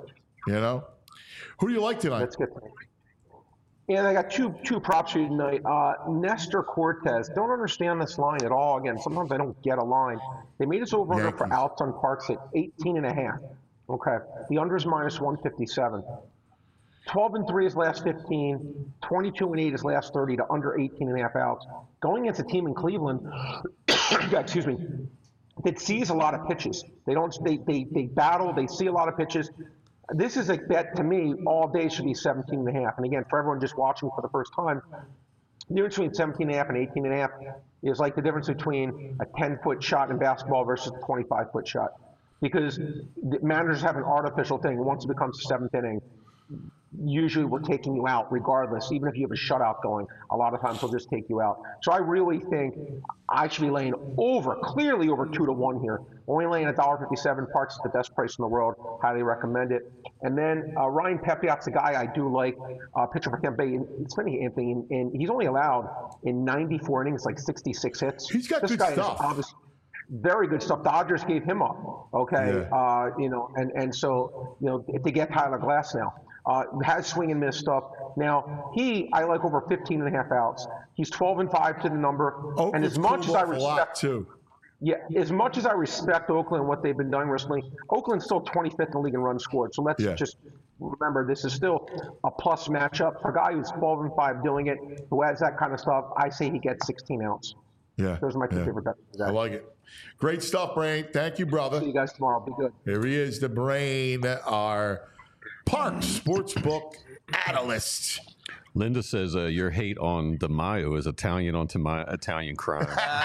Who do you like tonight? Let's get to know. And I got two props for you tonight. Nestor Cortez. Don't understand this line at all. Again, sometimes I don't get a line. They made us over under for outs on Parks at 18.5. Okay. The under is -157. 12-3 his last 15. 22-8 his last 30 to under 18.5 outs. Going against a team in Cleveland, excuse me, that sees a lot of pitches. They battle. They see a lot of pitches. This is a bet to me. All day should be 17.5. And again, for everyone just watching for the first time, the difference between 17.5 and 18.5 is like the difference between a 10-foot shot in basketball versus a 25-foot shot. Because the managers have an artificial thing. Once it becomes the 7th inning, usually we're taking you out regardless. Even if you have a shutout going, a lot of times they'll just take you out. So I really think I should be laying clearly over 2-1 here. Only laying $1.57. Parks is the best price in the world. Highly recommend it. And then Ryan Pepiot's a guy I do like, pitcher for Tampa Bay. It's funny, Anthony, and he's only allowed in 94 innings like 66 hits. He's got this good guy stuff. Is obviously very good stuff. Dodgers gave him up. Okay, Yeah. and so to get Tyler Glass now. Has swing and miss stuff. Now, I like over 15.5 outs. He's 12-5 to the number. And as much as I respect as much as I respect Oakland and what they've been doing recently, Oakland's still 25th in the league in runs scored. So let's just remember this is still a plus matchup. For a guy who's 12-5 doing it, who has that kind of stuff, I say he gets 16 outs. Yeah. Those are my 2 favorite bets. I like it. Great stuff, Brain. Thank you, brother. See you guys tomorrow. Be good. Here he is, the Brain, our Parks Sportsbook analyst. Linda says your hate on the Mayo is Italian onto my Italian crime.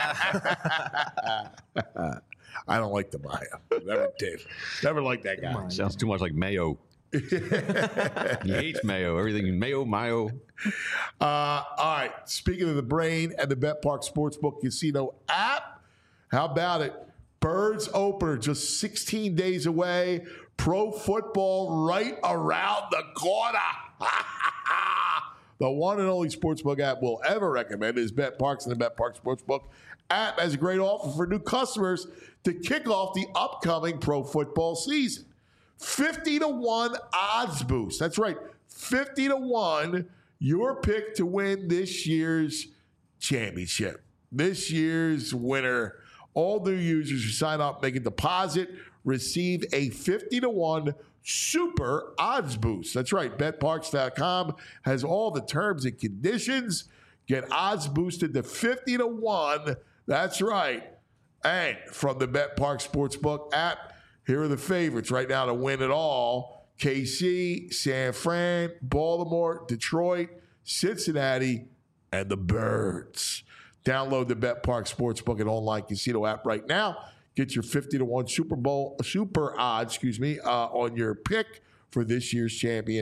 I don't like the Mayo. Never did. Never liked that guy. Sounds too much like mayo. He hates mayo. Everything mayo. All right. Speaking of the Brain and the BetPark Sportsbook Casino app, how about it? Birds opener just 16 days away. Pro football right around the corner. The one and only sportsbook app we'll ever recommend is BetParks, and the BetPark Sportsbook app has a great offer for new customers to kick off the upcoming pro football season. 50-1 odds boost. That's right. 50-1, your pick to win this year's championship. This year's winner. All new users who sign up, make a deposit, receive a 50-1 super odds boost. That's right. BetParks.com has all the terms and conditions. Get odds boosted to 50-1. That's right. And from the BetPark Sportsbook app, here are the favorites right now to win it all. KC, San Fran, Baltimore, Detroit, Cincinnati, and the Birds. Download the BetPark Sportsbook and online casino app right now. Get your 50-1 super odds, on your pick for this year's champion.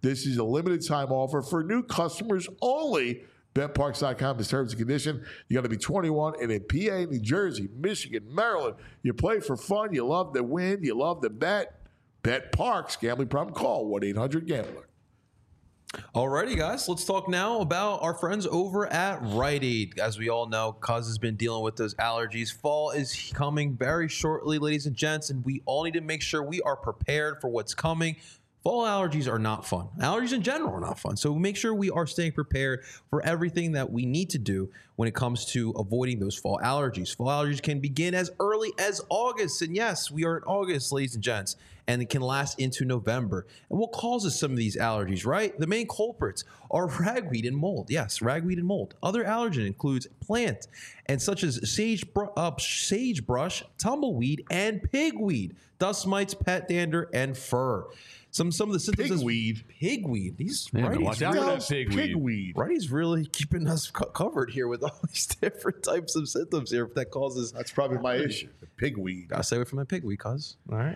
This is a limited time offer for new customers only. BetParks.com is terms and condition. You got to be 21 and in PA, New Jersey, Michigan, Maryland. You play for fun. You love to win. You love to bet. Bet Parks. Gambling problem? Call 1-800-GAMBLER. Alrighty, guys, let's talk now about our friends over at Rite Aid. As we all know, Cuz has been dealing with those allergies. Fall is coming very shortly, ladies and gents, and we all need to make sure we are prepared for what's coming. Fall allergies are not fun. Allergies in general are not fun. So make sure we are staying prepared for everything that we need to do when it comes to avoiding those fall allergies. Fall allergies can begin as early as August. And yes, we are in August, ladies and gents, and it can last into November. And what causes some of these allergies, right? The main culprits are ragweed and mold. Yes, ragweed and mold. Other allergen includes plant and such as sagebrush, tumbleweed, and pigweed, dust mites, pet dander, and fur. Some of the symptoms. Pigweed. These watch out for that pigweed. Righty's really keeping us covered here with all these different types of symptoms here that causes. That's probably my issue. The pigweed. Gotta stay away from my pigweed, cuz. All right.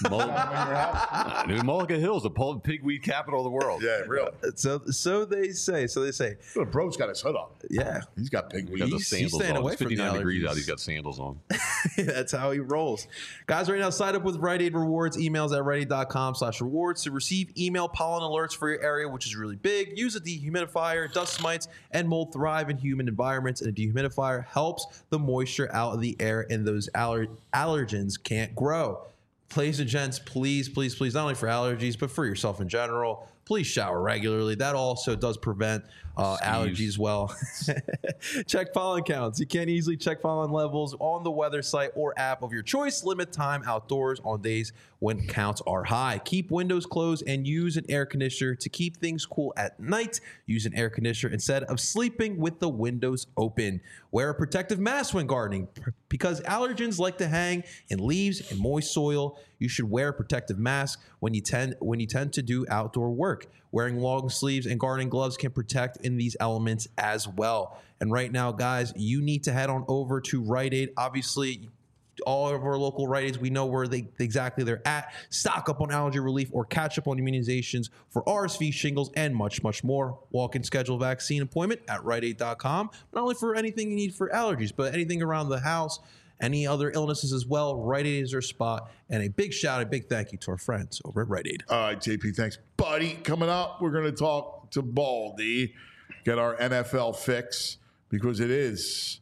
New Mulligan Hills, the pigweed capital of the world. Yeah, really. So they say. The bro's got his hood up. Yeah. He's got pigweed. He's staying away it's from the 59 degrees allergies. out. He's got sandals on. That's how he rolls. Guys, right now, sign up with Rite Aid Rewards. Emails at riteaid.com/rewards to receive email pollen alerts for your area, which is really big. Use a dehumidifier. Dust mites and mold thrive in humid environments, and a dehumidifier helps the moisture out of the air, and those allergens can't grow. Ladies and gents, please, not only for allergies, but for yourself in general, please shower regularly. That also does prevent allergies as well. Check pollen counts. You can easily check pollen levels on the weather site or app of your choice. Limit time outdoors on days when counts are high. Keep windows closed and use an air conditioner to keep things cool at night. Use an air conditioner instead of sleeping with the windows open. Wear a protective mask when gardening because allergens like to hang in leaves and moist soil. You should wear a protective mask when you tend to do outdoor work. Wearing long sleeves and gardening gloves can protect in these elements as well. And right now, guys, you need to head on over to Rite Aid. Obviously, all of our local Rite Aids, we know where exactly they're at. Stock up on allergy relief or catch up on immunizations for RSV, shingles, and much, much more. Walk-in schedule vaccine appointment at riteaid.com. Not only for anything you need for allergies, but anything around the house, any other illnesses as well. Rite Aid is our spot. And a big shout, a big thank you to our friends over at Rite Aid. All right, JP, thanks, buddy. Coming up, we're going to talk to Baldy, get our NFL fix, because it is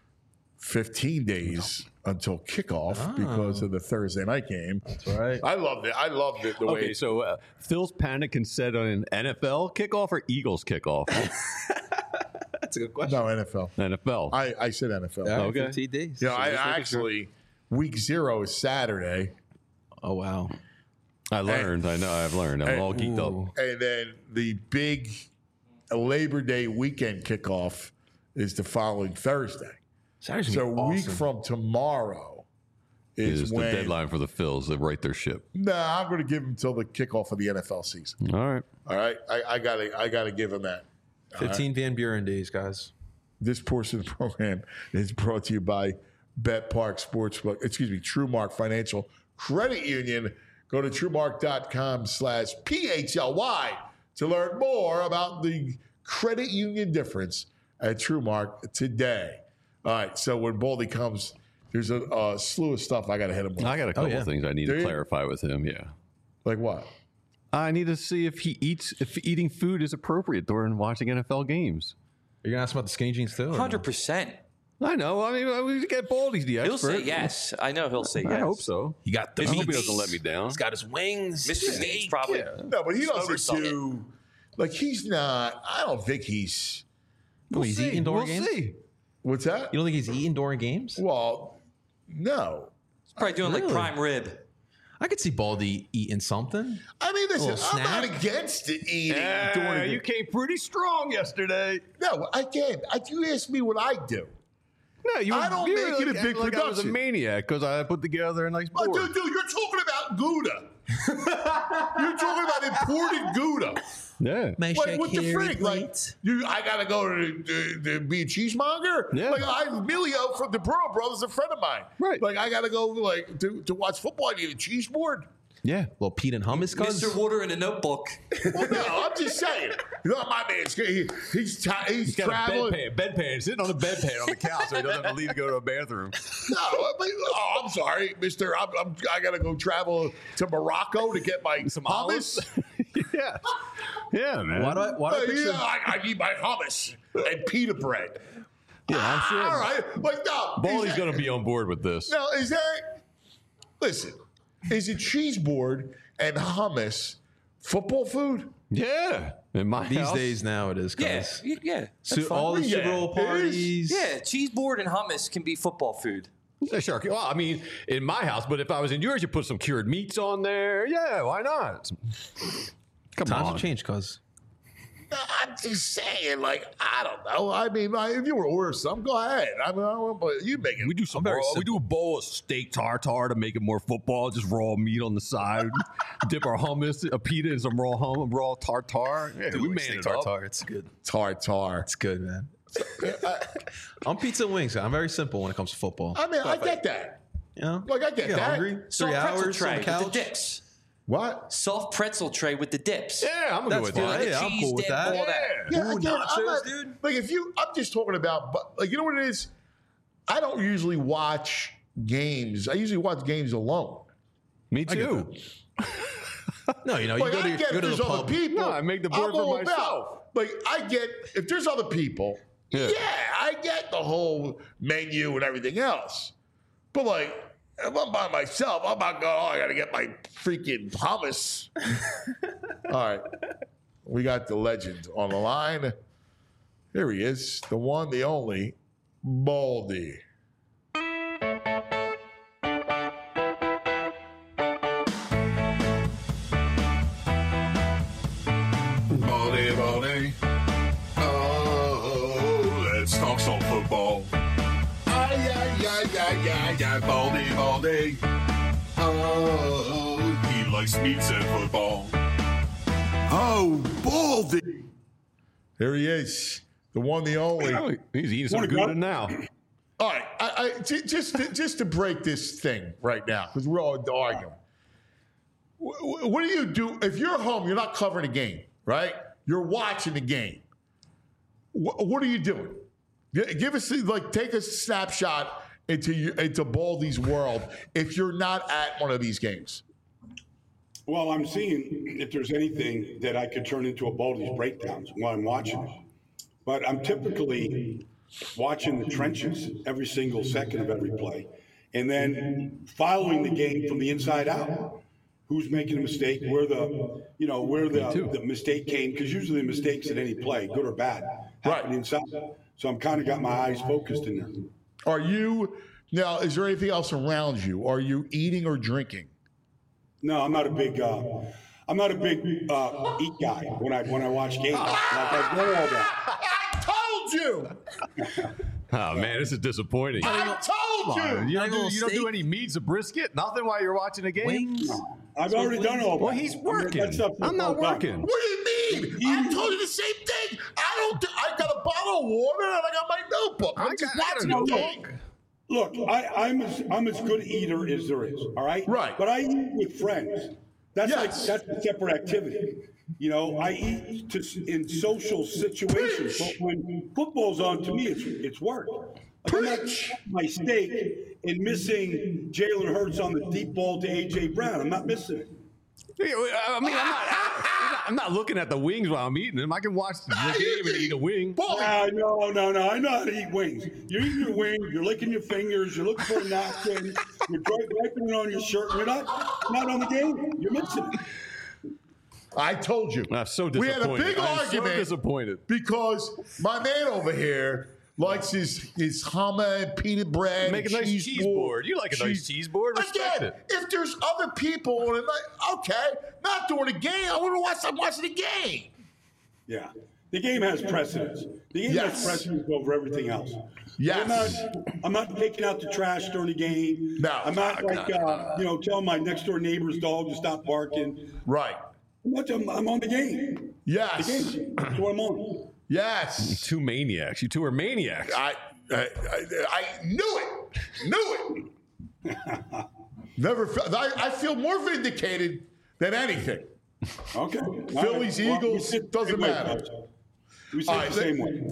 15 days until kickoff because of the Thursday night game. That's right. I loved it. The way. Okay, so Phil's panic can set on an NFL kickoff or Eagles kickoff? That's a good question. No, NFL. NFL. I said NFL. Yeah, Okay. 15 days. Yeah, I actually, week 0 is Saturday. Oh, wow. I've learned. I'm all geeked up. And then the big Labor Day weekend kickoff is the following Thursday. Saturday's So gonna be a week awesome. from tomorrow is the when. deadline for the Phils to right their ship. Nah, I'm going to give him till the kickoff of the NFL season. All right. All right, I gotta give him that. 15 Van Buren days, guys. This portion of the program is brought to you by BetPark Sportsbook. TrueMark Financial Credit Union. Go to TrueMark.com/PHLY to learn more about the credit union difference at TrueMark today. All right, so when Baldy comes, there's a slew of stuff I got to hit him with. I got a couple things I need Do to you? clarify with him. Yeah. Like what? I need to see if eating food is appropriate during watching NFL games. You're going to ask about the skinny jeans too? or no? 100%. I know. I mean, we get Baldy's the expert. He'll say yes. I know he'll say yes. I hope so. He got the I hope he meats. doesn't let me down. He's got his wings. Mr. Meats probably. No, but he doesn't Oversold do. Like he's not. I don't think he's. Oh, he's eating during We'll games? see. What's that? You don't think he's eating during games? Well, no. Probably doing like Really? prime rib. I could see Baldy eating something. I mean, listen, Little I'm not snack? against it eating during the you came pretty strong yesterday. No, I can't. You asked me what I do. No, you I don't you make it a big like I was a production. maniac because I put together a nice Oh, board. dude, you're talking about Gouda. You're talking about imported Gouda. Yeah. Like, what the frig? Like, I gotta go to be a cheesemonger. Yeah. Like, Emilio from the Burrow Brothers, a friend of mine. Right. Like, I gotta go to watch football. I need a cheese board. Yeah, little Pete and hummus, cuz. Mr. Water in a notebook. Well, no, I'm just saying. My man's he's Got traveling. a bedpan, sitting on a bedpan on the couch, so he doesn't have to leave to go to a bathroom. No, I'm sorry, Mister. I gotta go travel to Morocco to get my Some hummus. yeah, yeah, man. Why do I picture? Yeah, I need my hummus and pita bread. Yeah, I'm sure. All right, like no, Baldy's going to be on board with this. Now, is there? Listen, is it cheese board and hummus football food? Yeah, in my These house. days now it is, Yeah, cuz. yeah. That's fine. All the Super Yeah, Bowl it is. parties. Yeah, cheese board and hummus can be football food. Yeah, sure. Well, I mean, in my house, but if I was in yours, you put some cured meats on there. Yeah, why not? Come Times on. have changed, cuz. I'm just saying, like, I don't know. I mean, like, if you were to order some, go ahead. I mean, but you make it. We do some very raw, we simple. do a bowl of steak tartare to make it more football, just raw meat on the side. Dip our hummus, a pita, and some raw tartare. Yeah, we made it up. tartare. It's good. Tartar. It's good, man. I'm pizza and wings. I'm very simple when it comes to football. I mean, I get that. You know, Like, I get You that. hungry? 3 Soft pretzel hours on tray the with the couch. dips. What? Soft pretzel tray with the dips. Yeah, I'm That's good with fine. that. Yeah, I'm cheese cool with dip, that. all that. Yeah, Ooh, again, I'm nachos, not, dude. Like, I'm just talking about, like, you know what it is? I don't usually watch games. I usually watch games alone. Me too. No, you know, you Like, go to, I get go if to there's the other pub. people. No, I make the board I'm for all myself. about. Like, I get, if there's other people, Yeah. yeah, I get the whole menu and everything else. But, like, if I'm by myself, I'm not going, I got to get my freaking hummus. All right. We got the legend on the line. Here he is, the one, the only, Baldy. Baldy, Baldy. Oh, let's talk some football. Ay, Baldy, Baldy. Oh, he likes meats and football. Oh, Baldy. Here he is, the one, the only. Oh, he's eating some Gouda now. All right, just to break this thing right now, because we're all arguing. What do you do if you're home? You're not covering the game, right? You're watching the game. What are you doing? Give us take a snapshot into Baldy's world if you're not at one of these games. Well, I'm seeing if there's anything that I could turn into a Baldy's breakdowns while I'm watching it. But I'm typically watching the trenches every single second of every play, and then following the game from the inside out. Who's making a mistake? Where the mistake came? Because usually the mistakes at any play, good or bad, happen Right. inside. So I'm kind of got my eyes focused in there. Are you now? Is there anything else around you? Are you eating or drinking? No, I'm not a big eat guy when I watch games. Like I know all that. I told you. Oh man, this is disappointing. I told you. You Not even a don't do steak? any meats or brisket? Nothing while you're watching a game? Wings. I've already done all that. Well, he's working. That stuff- I'm not all done. working. What do you mean? I told you the same thing. I got a bottle of water and I got my notebook. I'm just watching got a the game. notebook. Look, I'm as good eater as there is. All right. Right. But I eat with friends. That's Yes. that's a separate activity. You know, I eat in social situations. But when football's on, to me, it's work. Like I'm not Preach. my steak and missing Jalen Hurts on the deep ball to A.J. Brown. I'm not missing it. I mean, I'm not looking at the wings while I'm eating them. I can watch the game and eat a wing. Baldy, No. I know how to eat wings. You're eating your wing. You're licking your fingers. You're looking for a napkin. You're wiping it on your shirt. You're not on the game. You're missing it. I told you. I'm so We disappointed. had a big I'm argument so disappointed. because my man over here likes his hummer and peanut bread. Make a and nice cheese board. You like a nice cheese board? Respect Again, it. if there's other people on it, like, okay, not during the game. I want to watch. I'm watching the game. Yeah. The game has precedence. The game Yes. has precedence over everything else. Yes. I'm not taking out the trash during the game. No. I'm not telling my next door neighbor's dog to stop barking. Right. I'm on the game. Yes. The game. That's what I'm on. Yes. Two maniacs. You two are maniacs. I knew it. Knew it. Never. I feel more vindicated than anything. Okay. Phillies, Eagles, doesn't matter. We say the same way.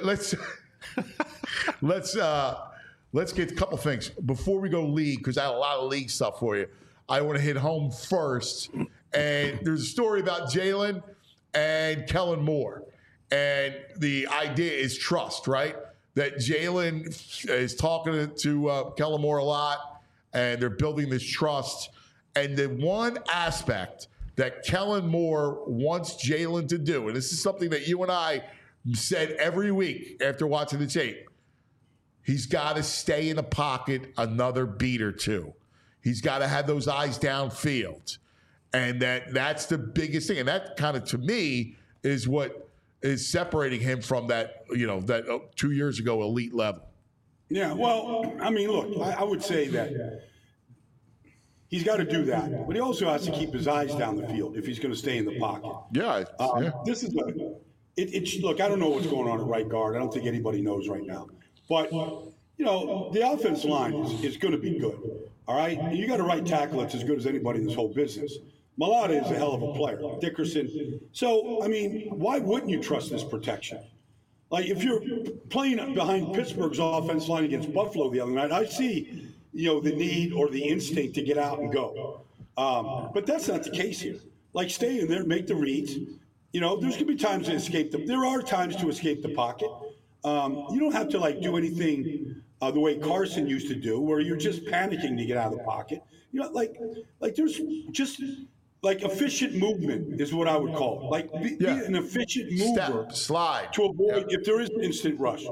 Let's get a couple things before we go league, because I have a lot of league stuff for you. I want to hit home first, and there's a story about Jalen and Kellen Moore, and the idea is trust, right? That Jalen is talking to Kellen Moore a lot, and they're building this trust. And the one aspect that Kellen Moore wants Jalen to do, and this is something that you and I said every week after watching the tape, he's got to stay in the pocket another beat or two. He's got to have those eyes downfield. And that's the biggest thing. And that kind of, to me, is what is separating him from that 2 years ago elite level. Yeah, well, I mean, look, I would say that he's got to do that, but he also has to keep his eyes down the field if he's going to stay in the pocket. Yeah. This is look, I don't know what's going on at right guard. I don't think anybody knows right now. But, the offensive line is going to be good, all right? And you got a right tackle that's as good as anybody in this whole business. Mailata is a hell of a player. Dickerson. So, I mean, why wouldn't you trust this protection? Like, if you're playing behind Pittsburgh's offense line against Buffalo the other night, I see, the need or the instinct to get out and go. But that's not the case here. Like, stay in there, make the reads. There's going to be times to escape there are times to escape the pocket. You don't have to, do anything the way Carson used to do, where you're just panicking to get out of the pocket. There's just... efficient movement is what I would call it. Be an efficient mover. Slide. To avoid, if there is instant rush.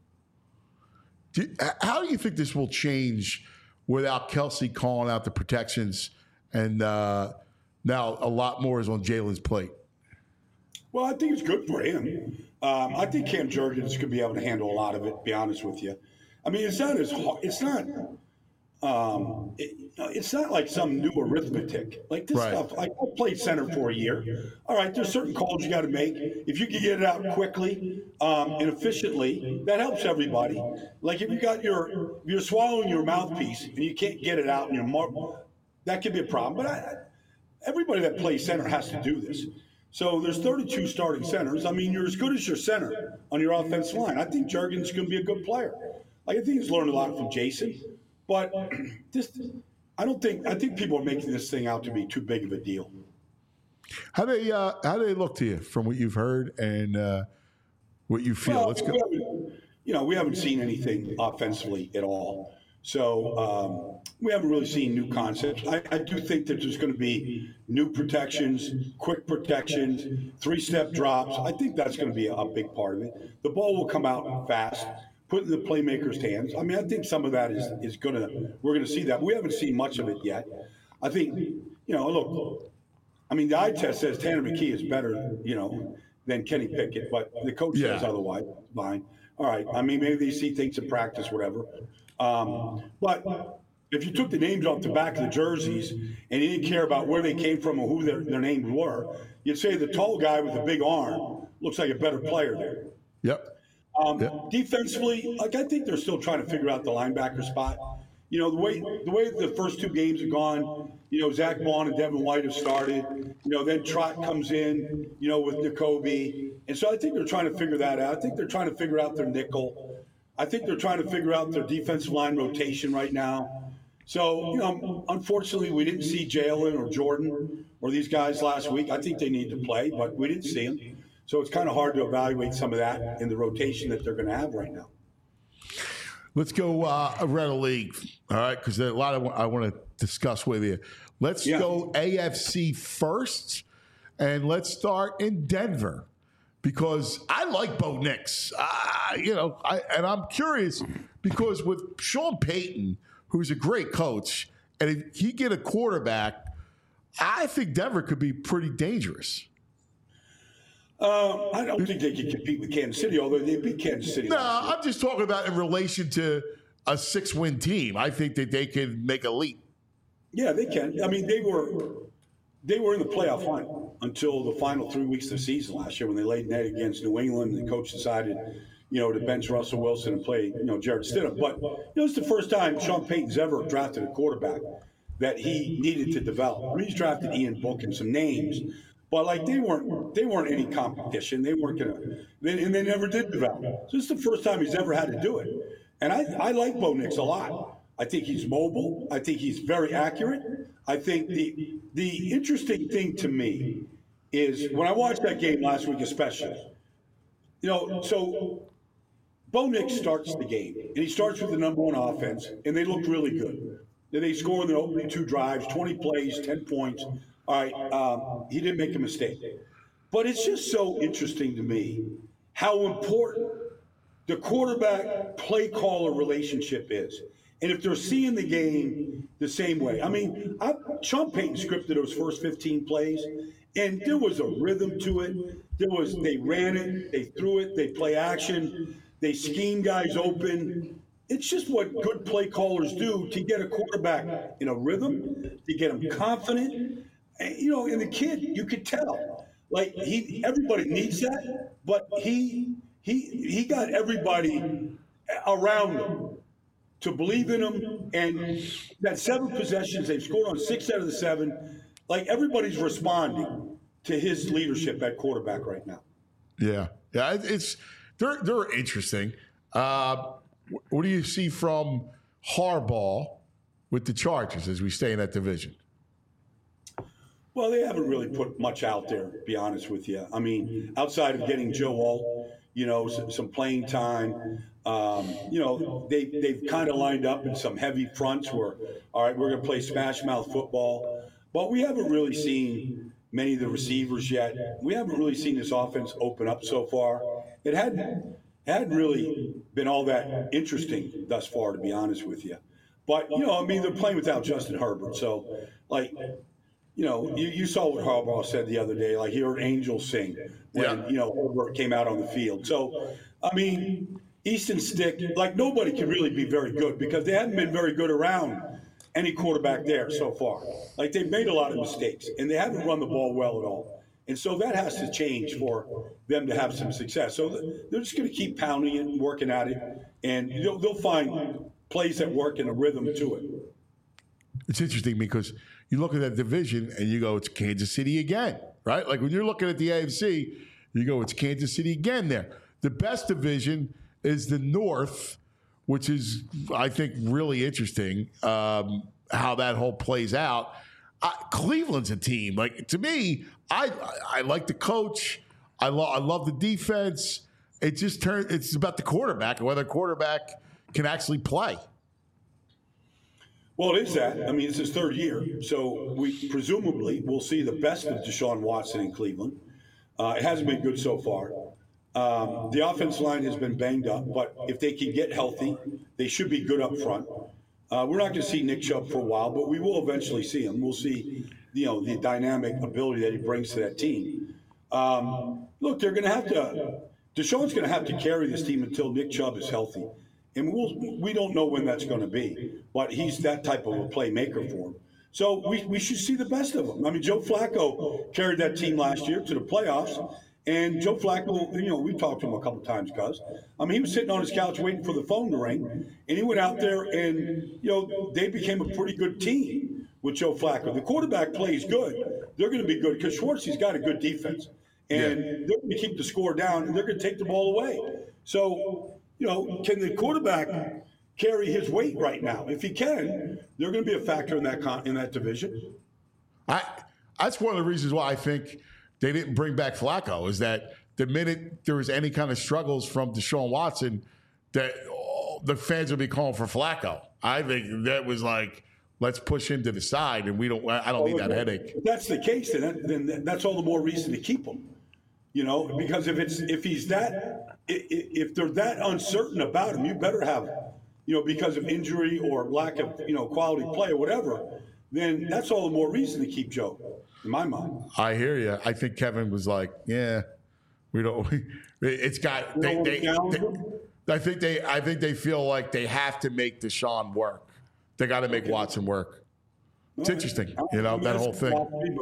How do you think this will change without Kelsey calling out the protections, and now a lot more is on Jalen's plate? Well, I think it's good for him. I think Cam Jurgens could be able to handle a lot of it, to be honest with you. I mean, it's not as hard. It's not like some new arithmetic. Like this stuff, I played center for a year. All right, there's certain calls you got to make. If you can get it out quickly and efficiently, that helps everybody. Like if you're swallowing your mouthpiece and you can't get it out in your mouth, that could be a problem. But everybody that plays center has to do this. So there's 32 starting centers. I mean, you're as good as your center on your offensive line. I think Jurgens is going to be a good player. I think he's learned a lot from Jason. But I think people are making this thing out to be too big of a deal. How do they look to you from what you've heard and what you feel? Well, Let's go. We haven't seen anything offensively at all. So we haven't really seen new concepts. I do think that there's going to be new protections, quick protections, 3-step drops. I think that's going to be a big part of it. The ball will come out fast, put in the playmaker's hands. I mean, I think some of that is going to – we're going to see that. We haven't seen much of it yet. I think, look, I mean, the eye test says Tanner McKee is better, than Kenny Pickett, but the coach says otherwise. Fine. All right. I mean, maybe they see things in practice, whatever. But if you took the names off the back of the jerseys and you didn't care about where they came from or who their names were, you'd say the tall guy with the big arm looks like a better player there. Yep. Defensively, I think they're still trying to figure out the linebacker spot. The way the first two games have gone, Zach Vaughn and Devin White have started. Then Trott comes in, with N'Kobe. And so I think they're trying to figure that out. I think they're trying to figure out their nickel. I think they're trying to figure out their defensive line rotation right now. So, unfortunately, we didn't see Jalen or Jordan or these guys last week. I think they need to play, but we didn't see them. So it's kind of hard to evaluate some of that in the rotation that they're going to have right now. Let's go around the league, all right, because there's a lot I want to discuss with you. Let's go AFC first, and let's start in Denver because I like Bo Nix. And I'm curious because with Sean Payton, who's a great coach, and if he get a quarterback, I think Denver could be pretty dangerous. I don't think they can compete with Kansas City, although they beat Kansas City. No, I'm just talking about in relation to a 6-win team. I think that they can make a leap. Yeah, they can. I mean, they were in the playoff hunt until the final 3 weeks of the season last year when they laid an egg against New England. And the coach decided, to bench Russell Wilson and play, Jarrett Stidham. But it's the first time Sean Payton's ever drafted a quarterback. that he needed to develop. I mean, he's drafted Ian Book and some names, but like they weren't any competition. They weren't and they never did develop. So this is the first time he's ever had to do it. And I like Bo Nix a lot. I think he's mobile. I think he's very accurate. I think the interesting thing to me is when I watched that game last week, especially, so Bo Nix starts the game, and he starts with the number one offense, and they look really good. They score in their opening 2 drives, 20 plays, 10 points. All right, he didn't make a mistake. But it's just so interesting to me how important the quarterback play caller relationship is. And if they're seeing the game the same way. I mean, Sean Payton scripted those first 15 plays, and there was a rhythm to it. They ran it, they threw it, they play action, they scheme guys open. It's just what good play callers do to get a quarterback in a rhythm, to get him confident. And the kid, you could tell, like everybody needs that, but he got everybody around him to believe in him. And that 7 possessions, they've scored on 6 out of the 7. Like everybody's responding to his leadership at quarterback right now. Yeah, they're interesting. What do you see from Harbaugh with the Chargers as we stay in that division? Well, they haven't really put much out there, to be honest with you. I mean, outside of getting Joe Alt, some playing time, they've kind of lined up in some heavy fronts where, all right, we're going to play smash mouth football. But we haven't really seen many of the receivers yet. We haven't really seen this offense open up so far. It hadn't really been all that interesting thus far, to be honest with you. But, they're playing without Justin Herbert. So, you saw what Harbaugh said the other day. Like, he heard angels sing when, Herbert came out on the field. So, Easton Stick, nobody can really be very good because they haven't been very good around any quarterback there so far. Like, they've made a lot of mistakes, and they haven't run the ball well at all. And so that has to change for them to have some success. So they're just going to keep pounding it and working at it, and they'll find plays that work and a rhythm to it. It's interesting because you look at that division and you go, it's Kansas City again, right? Like when you're looking at the AFC, you go, it's Kansas City again there. The best division is the North, which is, I think, really interesting how that whole plays out. Cleveland's a team. Like, to me, I like the coach. I love the defense. It's about the quarterback and whether the quarterback can actually play. Well, it is that. I mean, it's his 3rd year. So we presumably will see the best of Deshaun Watson in Cleveland. It hasn't been good so far. The offensive line has been banged up, but if they can get healthy, they should be good up front. We're not going to see Nick Chubb for a while, but we will eventually see him. We'll see, the dynamic ability that he brings to that team. Look, they're going to have to – Deshaun's going to have to carry this team until Nick Chubb is healthy. And we don't know when that's going to be, but he's that type of a playmaker for him. So we should see the best of him. I mean, Joe Flacco carried that team last year to the playoffs. And Joe Flacco, we talked to him a couple times, Gus. I mean, he was sitting on his couch waiting for the phone to ring, and he went out there and, they became a pretty good team with Joe Flacco. The quarterback plays good. They're going to be good because Schwartzy's got a good defense. And they're going to keep the score down, and they're going to take the ball away. So, can the quarterback carry his weight right now? If he can, they're going to be a factor in that division. That's one of the reasons why I think they didn't bring back Flacco, is that the minute there was any kind of struggles from Deshaun Watson, that the fans would be calling for Flacco. I think that was like, let's push him to the side, and I don't need that headache. If that's the case, then that's all the more reason to keep him. Because if they're that uncertain about him, you better have, because of injury or lack of, quality play or whatever, then that's all the more reason to keep Joe, in my mind. I hear you. I think Kevin was like, yeah, we don't. It's got. I think they feel like they have to make Deshaun work. They got to make Watson work. It's interesting, that whole thing.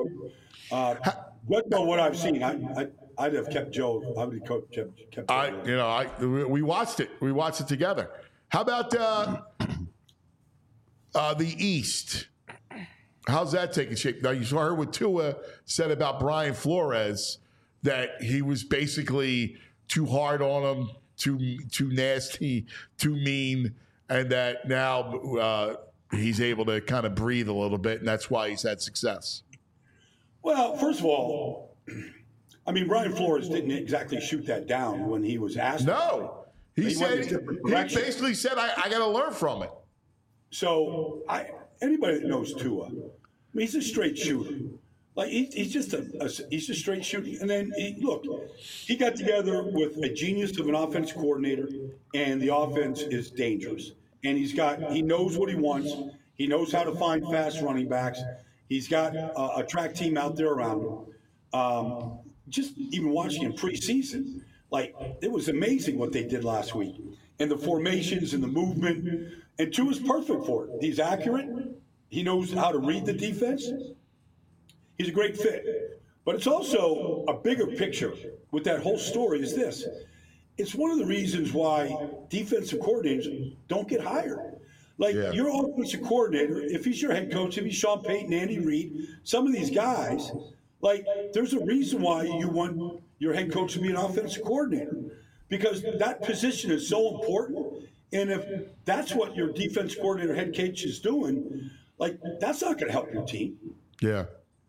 But what I've seen, I'd have kept Joe. I would have kept Joe. We watched it. We watched it together. How about the East? How's that taking shape? Now, you heard what Tua said about Brian Flores, that he was basically too hard on him, too nasty, too mean, and that now he's able to kind of breathe a little bit, and that's why he's had success. Well, first of all, I mean, Brian Flores didn't exactly shoot that down when he was asked. No. He basically said, I got to learn from it. So anybody that knows Tua, I mean, he's a straight shooter. Like he's just a straight shooter. And then he got together with a genius of an offense coordinator, and the offense is dangerous. And he knows what he wants. He knows how to find fast running backs. He's got a track team out there around him. Just even watching him preseason, like it was amazing what they did last week, and the formations and the movement. And Tua's perfect for it. He's accurate. He knows how to read the defense. He's a great fit. But it's also a bigger picture with that whole story is this. It's one of the reasons why defensive coordinators don't get hired. Like your offensive coordinator, if he's your head coach, if he's Sean Payton, Andy Reid, some of these guys, like there's a reason why you want your head coach to be an offensive coordinator, because that position is so important. And if that's what your defense coordinator, head coach is doing, like that's not going to help your team. Yeah.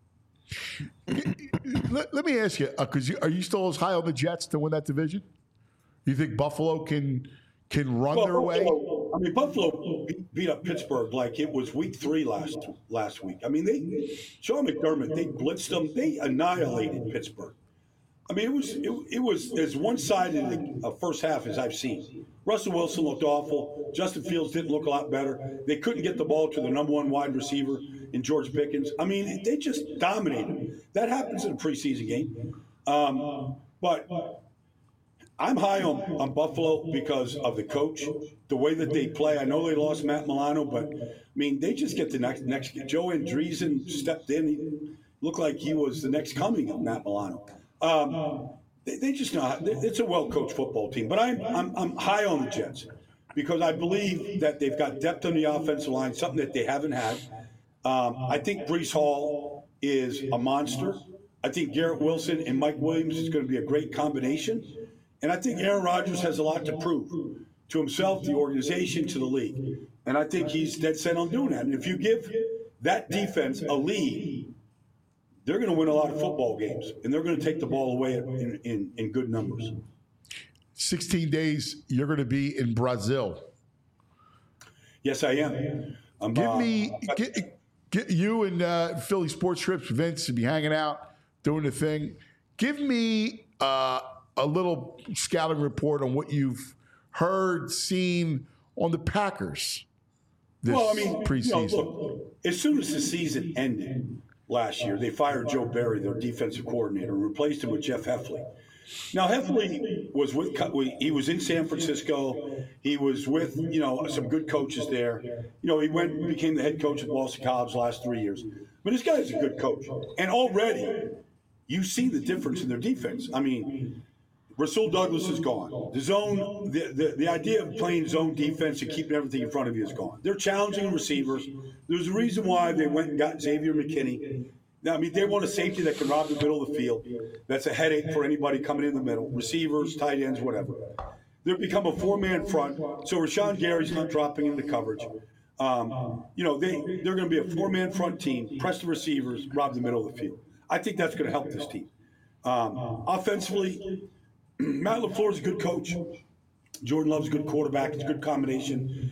Let me ask you, because are you still as high on the Jets to win that division? You think Buffalo can run their way? I mean, Buffalo beat up Pittsburgh like it was week 3 last week. I mean, Sean McDermott, they blitzed them. They annihilated Pittsburgh. I mean, it was as one-sided a first half as I've seen. Russell Wilson looked awful. Justin Fields didn't look a lot better. They couldn't get the ball to the number 1 wide receiver in George Pickens. I mean, they just dominated. That happens in a preseason game. But I'm high on Buffalo because of the coach, the way that they play. I know they lost Matt Milano, but, I mean, they just get the next. Joe Andreessen stepped in. He looked like he was the next coming of Matt Milano. They just know it's a well-coached football team. But I'm high on the Jets because I believe that they've got depth on the offensive line, something that they haven't had. I think Breece Hall is a monster. I think Garrett Wilson and Mike Williams is going to be a great combination. And I think Aaron Rodgers has a lot to prove to himself, the organization, to the league. And I think he's dead set on doing that. And if you give that defense a lead, they're going to win a lot of football games, and they're going to take the ball away in good numbers. 16 days, you're going to be in Brazil. Yes, I am. Get you and Philly Sports Trips, Vince, to be hanging out, doing the thing. Give me a little scouting report on what you've heard, seen on the Packers this preseason. Look, as soon as the season ended last year, they fired Joe Barry, their defensive coordinator, and replaced him with Jeff Heffley. Now, Heffley was in San Francisco. He was with, some good coaches there. He went and became the head coach at Boston College the last 3 years. But this guy is a good coach. And already, you see the difference in their defense. I mean, Rasul Douglas is gone. The zone, the idea of playing zone defense and keeping everything in front of you is gone. They're challenging receivers. There's a reason why they went and got Xavier McKinney. I mean, they want a safety that can rob the middle of the field. That's a headache for anybody coming in the middle. Receivers, tight ends, whatever. They've become a 4-man front. So Rashawn Gary's not dropping into coverage. They're going to be a 4-man front team, press the receivers, rob the middle of the field. I think that's going to help this team. Offensively, Matt LaFleur is a good coach. Jordan Love's a good quarterback. It's a good combination.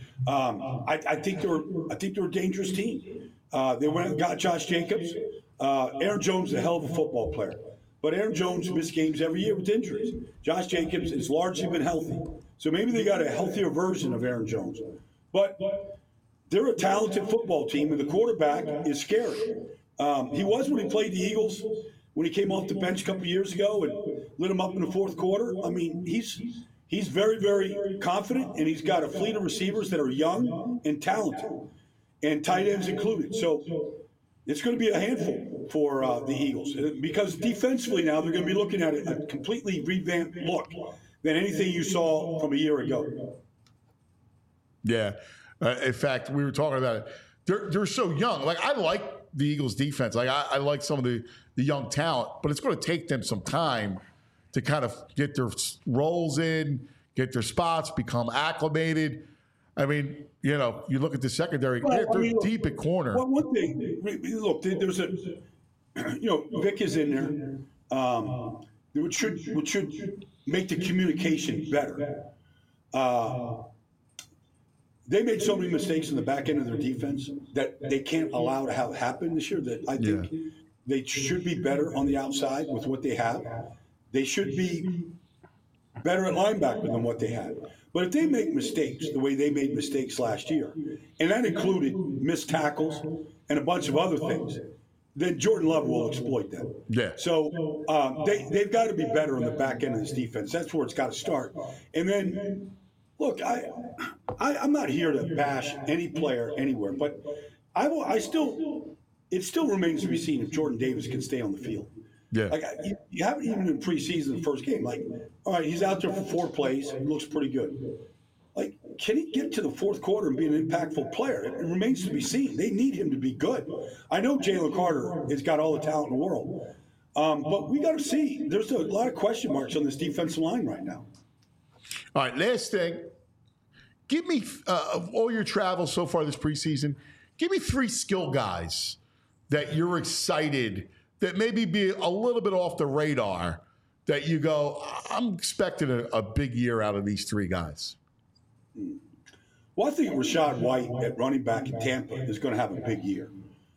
I think they're a dangerous team. They went and got Josh Jacobs. Aaron Jones is a hell of a football player. But Aaron Jones missed games every year with injuries. Josh Jacobs has largely been healthy. So maybe they got a healthier version of Aaron Jones. But they're a talented football team, and the quarterback is scary. He was when he played the Eagles, when he came off the bench a couple years ago and lit him up in the fourth quarter. I mean, he's very, very confident, and he's got a fleet of receivers that are young and talented, and tight ends included. So it's going to be a handful for the Eagles because defensively now they're going to be looking at a completely revamped look than anything you saw from a year ago. Yeah. In fact, we were talking about it. They're so young. Like, I like the Eagles defense. Like I like some of the young talent, but it's going to take them some time to kind of get their roles in, get their spots, become acclimated. I mean, you look at the secondary, they're deep at corner. Well, one thing, look, there's Vic is in there, which should make the communication better. They made so many mistakes in the back end of their defense that they can't allow to have happen this year that I think they should be better on the outside with what they have. They should be better at linebacker than what they had. But if they make mistakes the way they made mistakes last year, and that included missed tackles and a bunch of other things, then Jordan Love will exploit them. Yeah. So they've got to be better on the back end of this defense. That's where it's got to start. And then, look, I'm not here to bash any player anywhere, but it still remains to be seen if Jordan Davis can stay on the field. Yeah. Like you haven't even in preseason the first game. Like, all right, he's out there for 4 plays. He looks pretty good. Like, can he get to the fourth quarter and be an impactful player? It remains to be seen. They need him to be good. I know Jalen Carter has got all the talent in the world, but we got to see. There's a lot of question marks on this defensive line right now. All right, last thing. Give me, of all your travels so far this preseason, give me 3 skill guys that you're excited that maybe be a little bit off the radar that you go, I'm expecting a big year out of these 3 guys. Well, I think Rachaad White at running back in Tampa is going to have a big year.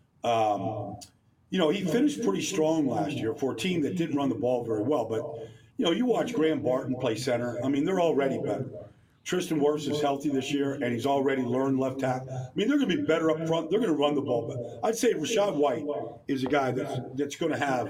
He finished pretty strong last year for a team that didn't run the ball very well. But, you watch Graham Barton play center. I mean, they're already better. Tristan Wirfs is healthy this year, and he's already learned left tackle. I mean, they're going to be better up front. They're going to run the ball. But I'd say Rachaad White is a guy that's going to have,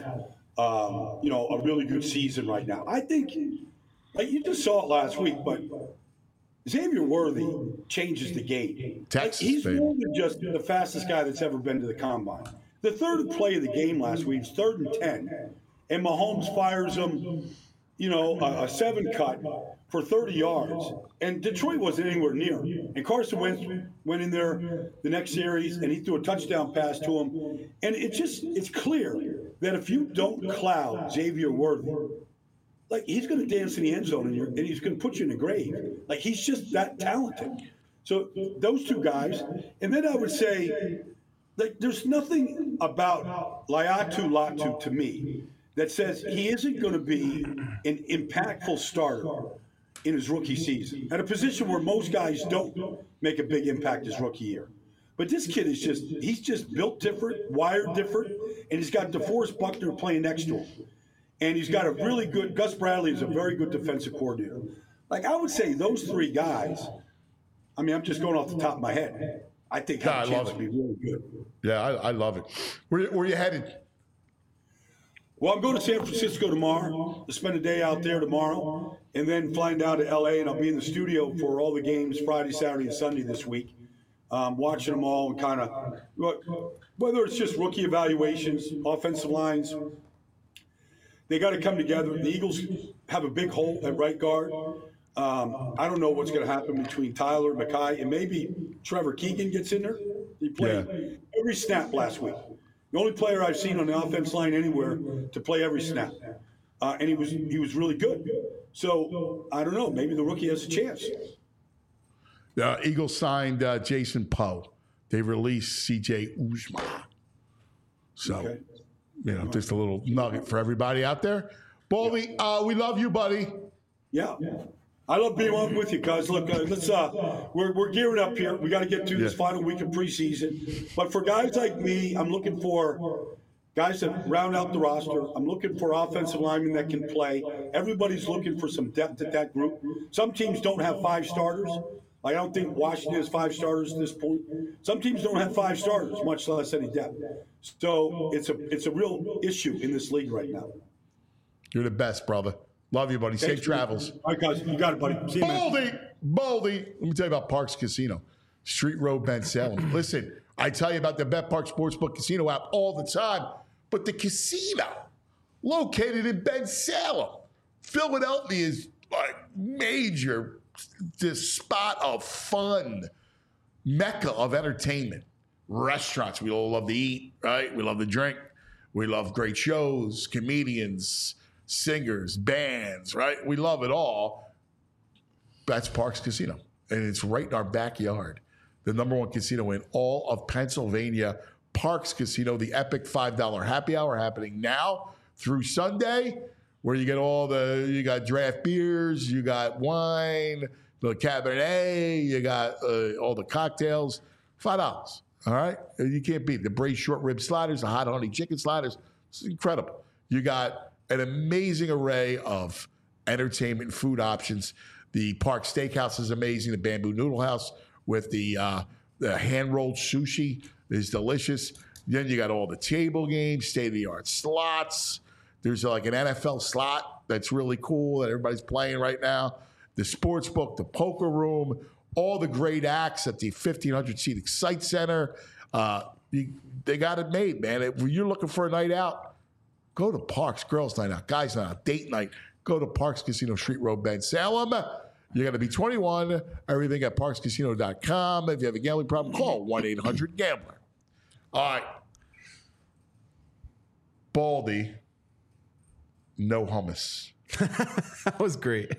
a really good season right now. I think, like you just saw it last week, but Xavier Worthy changes the game. He's more than just the fastest guy that's ever been to the combine. The third play of the game last week was 3rd and 10, and Mahomes fires him, a 7 cut for 30 yards, and Detroit wasn't anywhere near him. And Carson Wentz went in there the next series, and he threw a touchdown pass to him. And it's clear that if you don't cloud Xavier Worthy, like, he's going to dance in the end zone, and he's going to put you in the grave. Like, he's just that talented. So those 2 guys. And then I would say, like, there's nothing about Laiatu Latu to me that says he isn't going to be an impactful starter in his rookie season at a position where most guys don't make a big impact his rookie year. But this kid he's just built different, wired different, and he's got DeForest Buckner playing next to him. And he's got a really good, Gus Bradley is a very good defensive coordinator. Like, I would say those 3 guys, I mean, I'm just going off the top of my head. I think have a chance to be really good. Yeah, I love it. Where are you headed? Well, I'm going to San Francisco tomorrow to spend a day out there tomorrow, and then flying down to L.A., and I'll be in the studio for all the games Friday, Saturday, and Sunday this week, watching them all and kind of, whether it's just rookie evaluations, offensive lines, they got to come together. The Eagles have a big hole at right guard. I don't know what's going to happen between Tyler, Mekhi, and maybe Trevor Keegan gets in there. He played every snap last week. The only player I've seen on the offense line anywhere to play every snap. And he was really good. So, I don't know. Maybe the rookie has a chance. The Eagles signed Jason Poe. They released C.J. Uzomah. So, just a little nugget for everybody out there. Baldy, we love you, buddy. Yeah. I love being on with you guys. Look, we're gearing up here. We got to get to this final week of preseason. But for guys like me, I'm looking for guys that round out the roster. I'm looking for offensive linemen that can play. Everybody's looking for some depth at that group. Some teams don't have 5 starters. I don't think Washington has 5 starters at this point. Some teams don't have 5 starters, much less any depth. So it's a real issue in this league right now. You're the best, brother. Love you, buddy. Safe travels. All right, guys. You got it, buddy. See you, man. Baldy. Let me tell you about Parks Casino, Street Road, Ben Salem. Listen, I tell you about the Bet Park Sportsbook Casino app all the time, but the casino located in Ben Salem, Philadelphia, is like major, this spot of fun, mecca of entertainment. restaurants. We all love to eat, right? We love to drink. We love great shows, comedians, singers, bands, right? We love it all. That's Parx Casino. And it's right in our backyard. The #1 casino in all of Pennsylvania, Parx Casino, the epic $5 happy hour happening now through Sunday, where you get you got draft beers, you got wine, the Cabernet, you got all the cocktails, $5. All right? You can't beat it. The braised short rib sliders, the hot honey chicken sliders. It's incredible. You got an amazing array of entertainment and food options. The Parx Steakhouse is amazing. The Bamboo Noodle House with the hand-rolled sushi is delicious. Then you got all the table games, state-of-the-art slots. There's like an NFL slot that's really cool that everybody's playing right now. The sports book, the poker room, all the great acts at the 1,500-seat Excite Center. They got it made, man. If you're looking for a night out, go to Parx. Girls' night out, guys' night out, date night. Go to Parx Casino, Street Road, Ben Salem. You're going to be 21. Everything at parxcasino.com. If you have a gambling problem, call 1-800-GAMBLER. All right. Baldy, no hummus. That was great.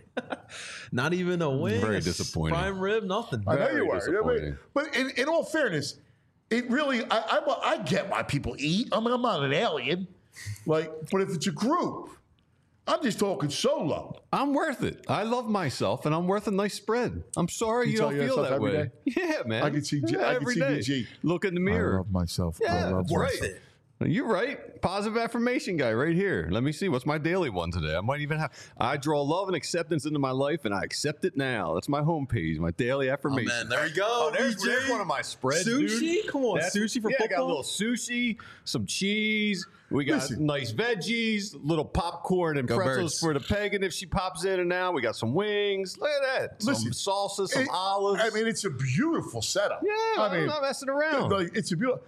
Not even a wing. Very disappointing. Prime rib, nothing. I know you were. disappointing. But in all fairness, it really, I get why people eat. I mean, I'm not an alien. But if it's a group, I'm just talking solo. I'm worth it. I love myself, and I'm worth a nice spread. I'm sorry you don't feel that every way. day? Yeah, man. I can see every day. VG. Look in the mirror. I love myself. Yeah, I love worth myself. it. You're right. Positive affirmation guy right here. Let me see. What's my daily one today? I might even have. I draw love and acceptance into my life, and I accept it now. That's my homepage, my daily affirmation. Oh, man, there we go. Oh, there's one of my spreads, Sushi? dude. Come on, sushi for I got a football? little sushi, some cheese. We got Listen. nice veggies, little popcorn and Go pretzels Birds. for the pagan if she pops in and out. We got some wings. Look at that. Listen, some salsa, some olives. I mean, it's a beautiful setup. Yeah, I mean, I'm not messing around. It's a beautiful,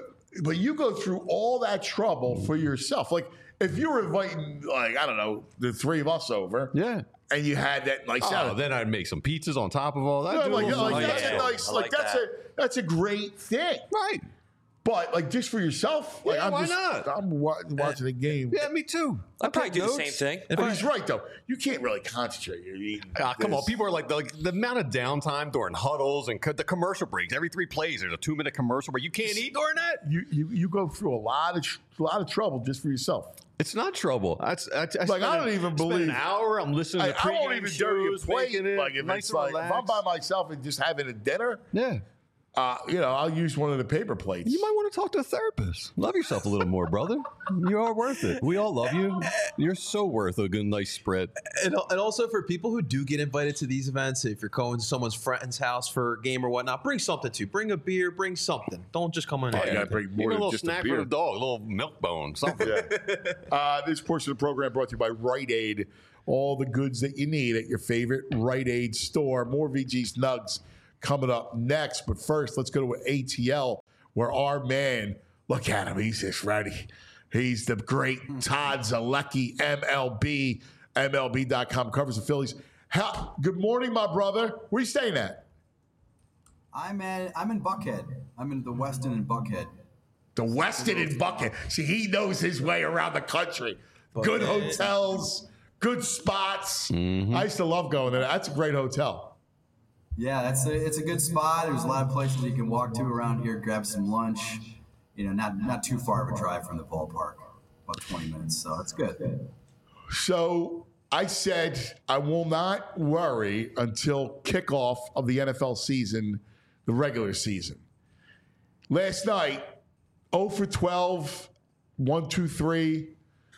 but you go through all that trouble for yourself. Like if you were inviting, like I don't know, the three of us over, Yeah. and you had that nice Oh, salad. then I'd make some pizzas on top of all that. Yeah, Do a little like, something. that's a nice, like that's a great thing. Right. But like just for yourself, like Yeah, I'm why just not? I'm watching the game. Yeah, me too. I'd probably do the same thing. But he's right though. You can't really concentrate. You're eating. Come on, this. people are like the amount of downtime during huddles and the commercial breaks. Every 3 plays, there's a 2-minute commercial where you can't eat during that. You go through a lot of trouble just for yourself. It's not trouble. I don't even believe an hour. I'm listening to I won't pregame even dare you shows, plate. making it Like if nice it's and like if I'm relaxed. by myself and just having a dinner, Yeah. I'll use one of the paper plates. You might want to talk to a therapist. Love yourself a little more, brother. You are worth it. We all love you. You're so worth a good, nice spread. And also for people who do get invited to these events, if you're going to someone's friend's house for a game or whatnot, bring something too. Bring a beer, bring something. Don't just come in You here. gotta bring Even more a than little just snack a for beer. the dog, a little milk bone, something. This portion of the program brought to you by Rite Aid. All the goods that you need at your favorite Rite Aid store. More VG's Nugs coming up next. But first, let's go to ATL, where our man, look at him, he's just ready. He's the great Todd Zalecki, MLB, MLB.com, covers the Phillies. Good morning, my brother. Where are you staying at? I'm in Buckhead. I'm in the Westin in Buckhead. The Westin in Buckhead. See, he knows his way around the country. Good hotels, good spots. I used to love going there. That's a great hotel. Yeah, it's a good spot. There's a lot of places you can walk to around here, grab some lunch. You know, not too far of a drive from the ballpark, about 20 minutes. So it's good. So I said I will not worry until kickoff of the NFL season, the regular season. Last night, 0 for 12, 1, 2, 3.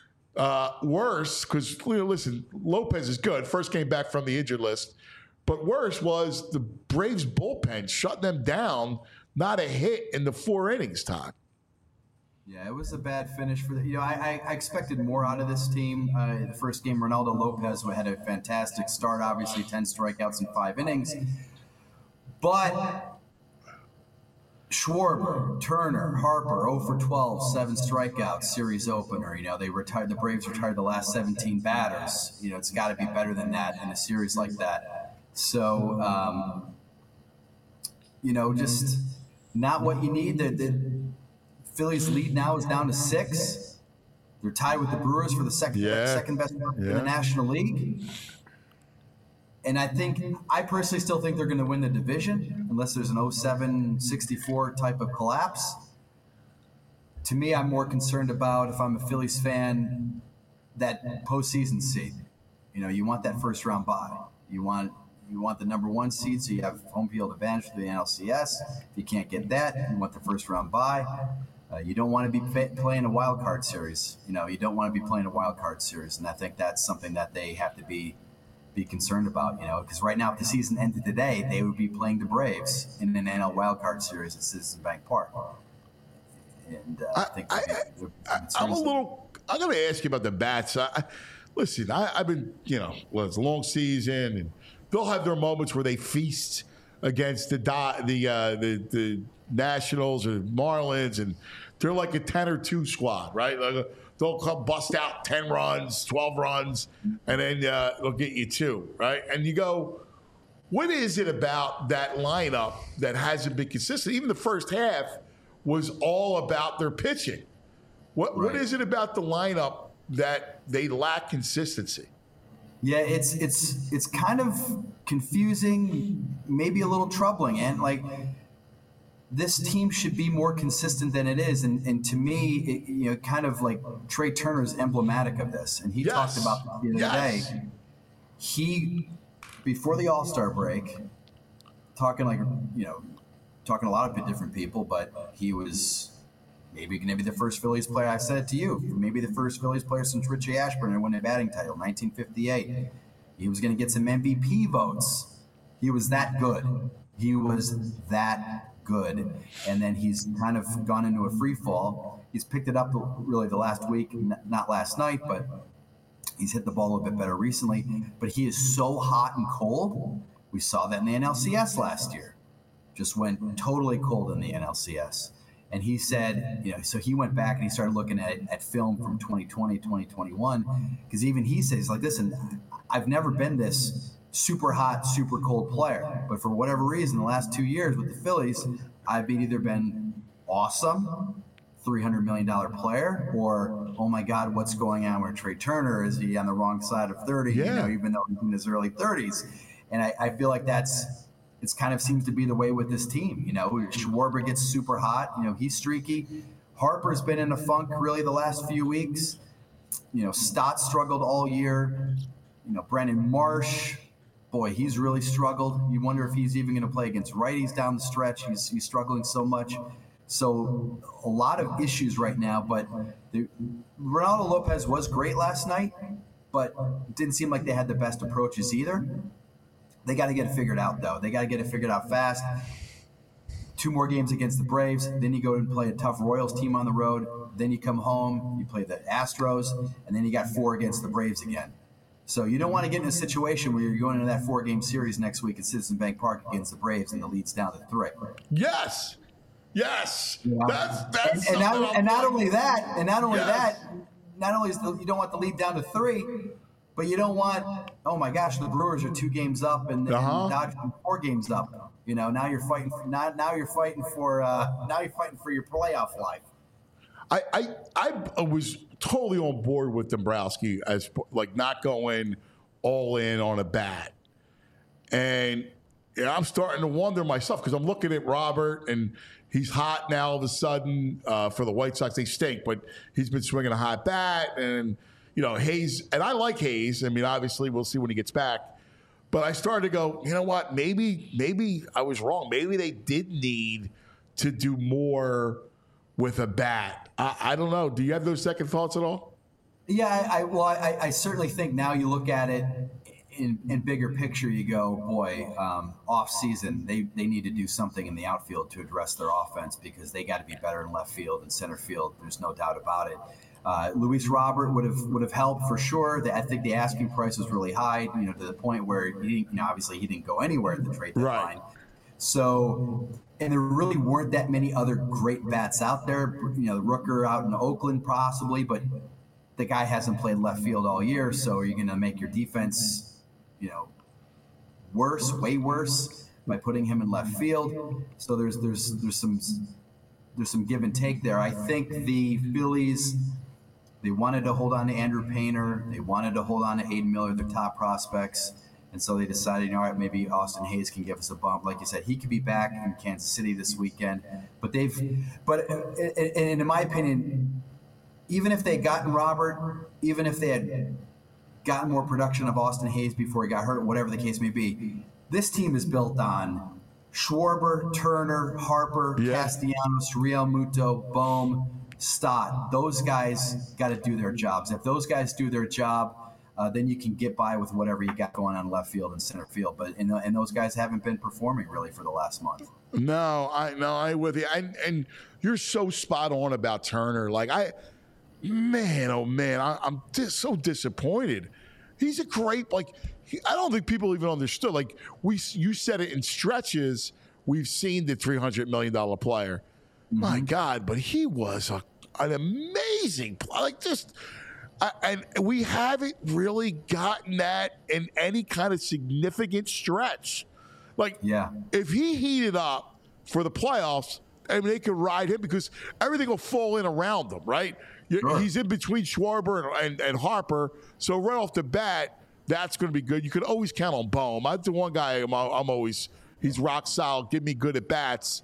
Worse, because listen, Lopez is good. First came back from the injured list. But worse was the Braves bullpen shut them down. Not a hit in the 4 innings, Todd. Yeah, it was a bad finish for the. I expected more out of this team. The first game, Ronaldo Lopez had a fantastic start. Obviously, 10 strikeouts in 5 innings. But Schwarber, Turner, Harper, 0 for 12, 7 strikeouts, series opener. You know, the Braves retired the last 17 batters. You know, it's got to be better than that in a series like that. So, just not what you need. The Phillies' lead now is down to 6. They're tied with the Brewers for the second best in the National League. And I personally still think they're going to win the division unless there's an 07-64 type of collapse. To me, I'm more concerned about, if I'm a Phillies fan, that postseason seed. You want that first round bye. You want the number 1 seed, so you have home field advantage for the NLCS. If you can't get that, you want the first round bye. You don't want to be playing a wild card series. You don't want to be playing a wild card series, and I think that's something that they have to be concerned about. Because right now, if the season ended today, they would be playing the Braves in an NL wild card series at Citizens Bank Park. And I'm going to ask you about the bats. Listen, I've been, it's a long season, and they'll have their moments where they feast against the Nationals or Marlins, and they're like a 10 or 2 squad, right? Like, they'll come bust out 10 runs, 12 runs, and then they'll get you 2, right? And you go, what is it about that lineup that hasn't been consistent? Even the first half was all about their pitching. What is it about the lineup that they lack consistency? Yeah, it's kind of confusing, maybe a little troubling, and like this team should be more consistent than it is. And to me, kind of like Trey Turner is emblematic of this, and he talked about the other day. He, before the All-Star break, talking a lot of different people, but he was maybe going to be the first Phillies player. I said it to you, maybe the first Phillies player since Richie Ashburn to win a batting title, 1958. He was going to get some MVP votes. He was that good. And then he's kind of gone into a free fall. He's picked it up really the last week, not last night, but he's hit the ball a little bit better recently. But he is so hot and cold. We saw that in the NLCS last year. Just went totally cold in the NLCS. And he said, so he went back and he started looking at film from 2020, 2021, because even he says, like, listen, I've never been this super hot, super cold player. But for whatever reason, the last 2 years with the Phillies, I've either been awesome, $300 million player, or, oh my God, what's going on with Trey Turner? Is he on the wrong side of 30, even though he's in his early 30s? And I feel like it's kind of seems to be the way with this team. Schwarber gets super hot. He's streaky. Harper's been in a funk really the last few weeks. Stott struggled all year. Brandon Marsh, boy, he's really struggled. You wonder if he's even going to play against righties down the stretch. He's struggling so much. So a lot of issues right now. But Ronaldo Lopez was great last night, but it didn't seem like they had the best approaches either. They got to get it figured out, though. They got to get it figured out fast. 2 more games against the Braves. Then you go and play a tough Royals team on the road. Then you come home, you play the Astros, and then you got 4 against the Braves again. So you don't want to get in a situation where you're going into that 4-game series next week at Citizens Bank Park against the Braves and the lead's down to 3. Yes. That's and not only that, not only is you don't want the lead down to 3, but you don't want, oh my gosh, the Brewers are 2 games up and the Dodgers are 4 games up. Now you're fighting for your playoff life. I was totally on board with Dombrowski as like not going all in on a bat, and I'm starting to wonder myself because I'm looking at Robert and he's hot now all of a sudden for the White Sox. They stink, but he's been swinging a hot bat, and Hayes, and I like Hayes. I mean, obviously we'll see when he gets back, but I started to go, you know what? Maybe I was wrong. Maybe they did need to do more with a bat. I don't know. Do you have those second thoughts at all? Yeah, I certainly think now you look at it in bigger picture, you go, boy, off season, they need to do something in the outfield to address their offense because they got to be better in left field and center field. There's no doubt about it. Luis Robert would have helped for sure. I think the asking price was really high, to the point where obviously he didn't go anywhere at the trade deadline. Right. So, and there really weren't that many other great bats out there. Rooker out in Oakland possibly, but the guy hasn't played left field all year. So are you going to make your defense, worse, way worse? by putting him in left field. So there's some give and take there. I think the Phillies, they wanted to hold on to Andrew Painter. They wanted to hold on to Aiden Miller, their top prospects. And so they decided, all right, maybe Austin Hayes can give us a bump. Like you said, he could be back in Kansas City this weekend. But in my opinion, even if they had gotten Robert, even if they had gotten more production of Austin Hayes before he got hurt, whatever the case may be, this team is built on Schwarber, Turner, Harper, Castellanos, Real Muto, Bohm, Stott. Those guys got to do their jobs. If those guys do their job, then you can get by with whatever you got going on left field and center field. But and those guys haven't been performing really for the last month. No, I'm with you. And you're so spot on about Turner. Like I'm just so disappointed. He's a great I don't think people even understood. Like you said it in stretches. We've seen the $300 million player. Mm-hmm. My God, but he was an amazing player. And we haven't really gotten that in any kind of significant stretch. If he heated up for the playoffs, they could ride him because everything will fall in around him, right? Sure. He's in between Schwarber and Harper, so right off the bat, that's going to be good. You could always count on Bohm. That's the one guy I'm always – he's rock solid, give me good at bats.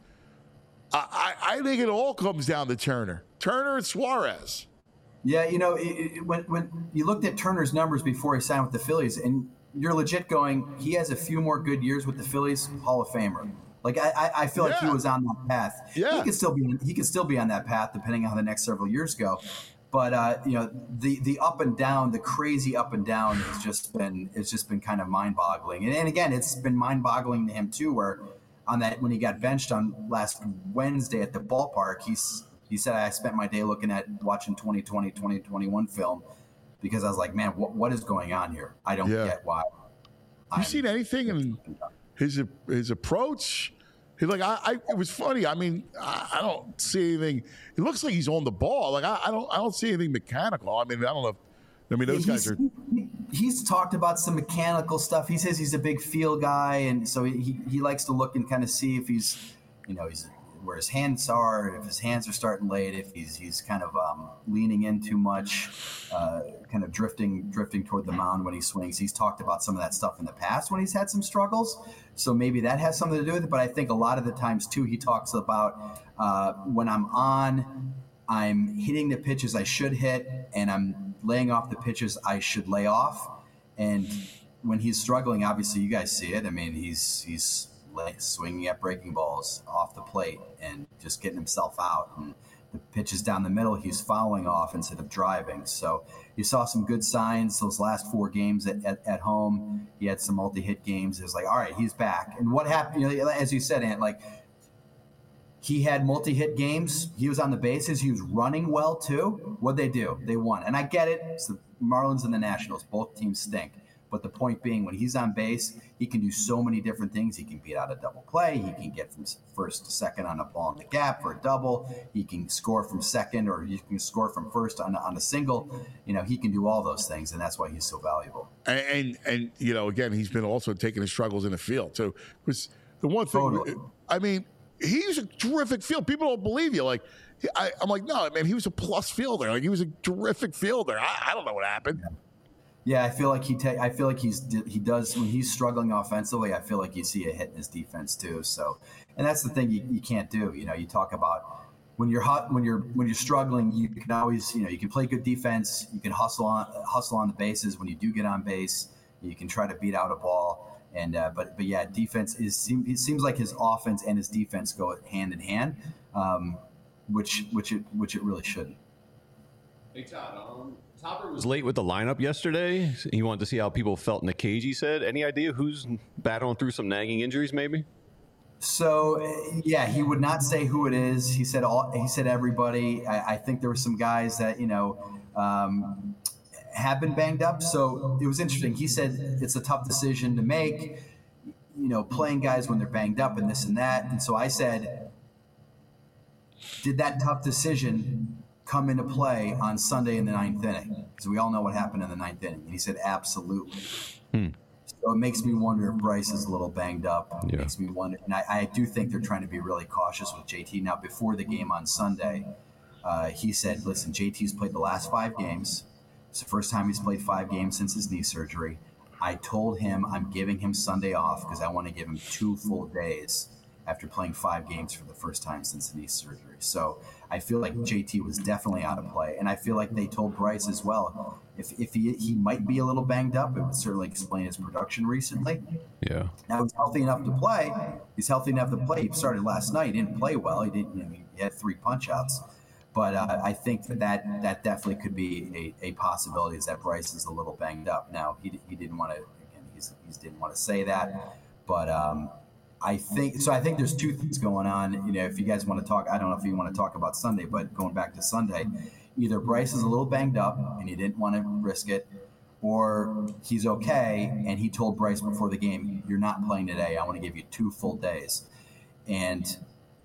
I think it all comes down to Turner and Suarez. Yeah, when you looked at Turner's numbers before he signed with the Phillies, and you're legit going, he has a few more good years with the Phillies, Hall of Famer. I feel like he was on that path. Yeah. He could still be on that path depending on how the next several years go. But the up and down, the crazy up and down has just been kind of mind-boggling. And again, it's been mind-boggling to him too, where on that when he got benched on last Wednesday at the ballpark, he said, I spent my day watching 2020, 2021 film because I was like, man, what is going on here? I don't get why. You seen anything in his approach? It was funny. I mean, I don't see anything. It looks like he's on the ball. I don't see anything mechanical. I mean, I don't know. Those guys are. He's talked about some mechanical stuff. He says he's a big feel guy, and so he likes to look and kind of see if he's where his hands are, if his hands are starting late, if he's kind of leaning in too much, kind of drifting toward the mound when he swings. He's talked about some of that stuff in the past when he's had some struggles. So maybe that has something to do with it. But I think a lot of the times too, he talks about when I'm hitting the pitches I should hit, and I'm laying off the pitches I should lay off. And when he's struggling, obviously you guys see it. I mean, he's swinging at breaking balls off the plate and just getting himself out. And the pitches down the middle, he's fouling off instead of driving. So you saw some good signs those last 4 games at home. He had some multi-hit games. It was like, all right, he's back. And what happened, as you said, Ant, he had multi-hit games. He was on the bases. He was running well, too. What'd they do? They won. And I get it. It's the Marlins and the Nationals. Both teams stink. But the point being, when he's on base, he can do so many different things. He can beat out a double play. He can get from first to second on a ball in the gap for a double. He can score from second, or he can score from first on a single. He can do all those things, and that's why he's so valuable. And again, he's been also taking his struggles in the field. So, was the one thing. Totally. I mean, he's a terrific field. People don't believe you. I'm like, no, man, he was a plus fielder. He was a terrific fielder. I don't know what happened. Yeah, I feel like he does when he's struggling offensively. I feel like you see a hit in his defense too. So, and that's the thing you can't do. You talk about when you're struggling, you can always you can play good defense. You can hustle on the bases. When you do get on base, you can try to beat out a ball. And but yeah, defense it seems like his offense and his defense go hand in hand, which it really shouldn't. Hey Todd, Topper was late with the lineup yesterday. He wanted to see how people felt in the cage, he said. Any idea who's battling through some nagging injuries maybe? So, yeah, he would not say who it is. He said everybody. I think there were some guys that, have been banged up. So it was interesting. He said it's a tough decision to make, playing guys when they're banged up and this and that. And so I said, did that tough decision come into play on Sunday in the 9th inning? Because we all know what happened in the 9th inning. And he said, absolutely. So it makes me wonder if Bryce is a little banged up. It Yeah. makes me wonder. And I do think they're trying to be really cautious with JT. Now, before the game on Sunday, he said, listen, JT's played the last 5 games. It's the first time he's played 5 games since his knee surgery. I told him I'm giving him Sunday off because I want to give him 2 full days after playing 5 games for the first time since the knee surgery. So I feel like JT was definitely out of play. And I feel like they told Bryce as well, if he might be a little banged up, it would certainly explain his production recently. Yeah. Now he's healthy enough to play. He started last night. He didn't play well. He had 3 punch-outs. But I think that definitely could be a possibility, is that Bryce is a little banged up. Now, he didn't want to, again, he didn't want to say that. But I think there's 2 things going on. If you guys want to talk, I don't know if you want to talk about Sunday, but going back to Sunday, either Bryce is a little banged up and he didn't want to risk it, or he's okay and he told Bryce before the game, you're not playing today. I want to give you 2 full days. And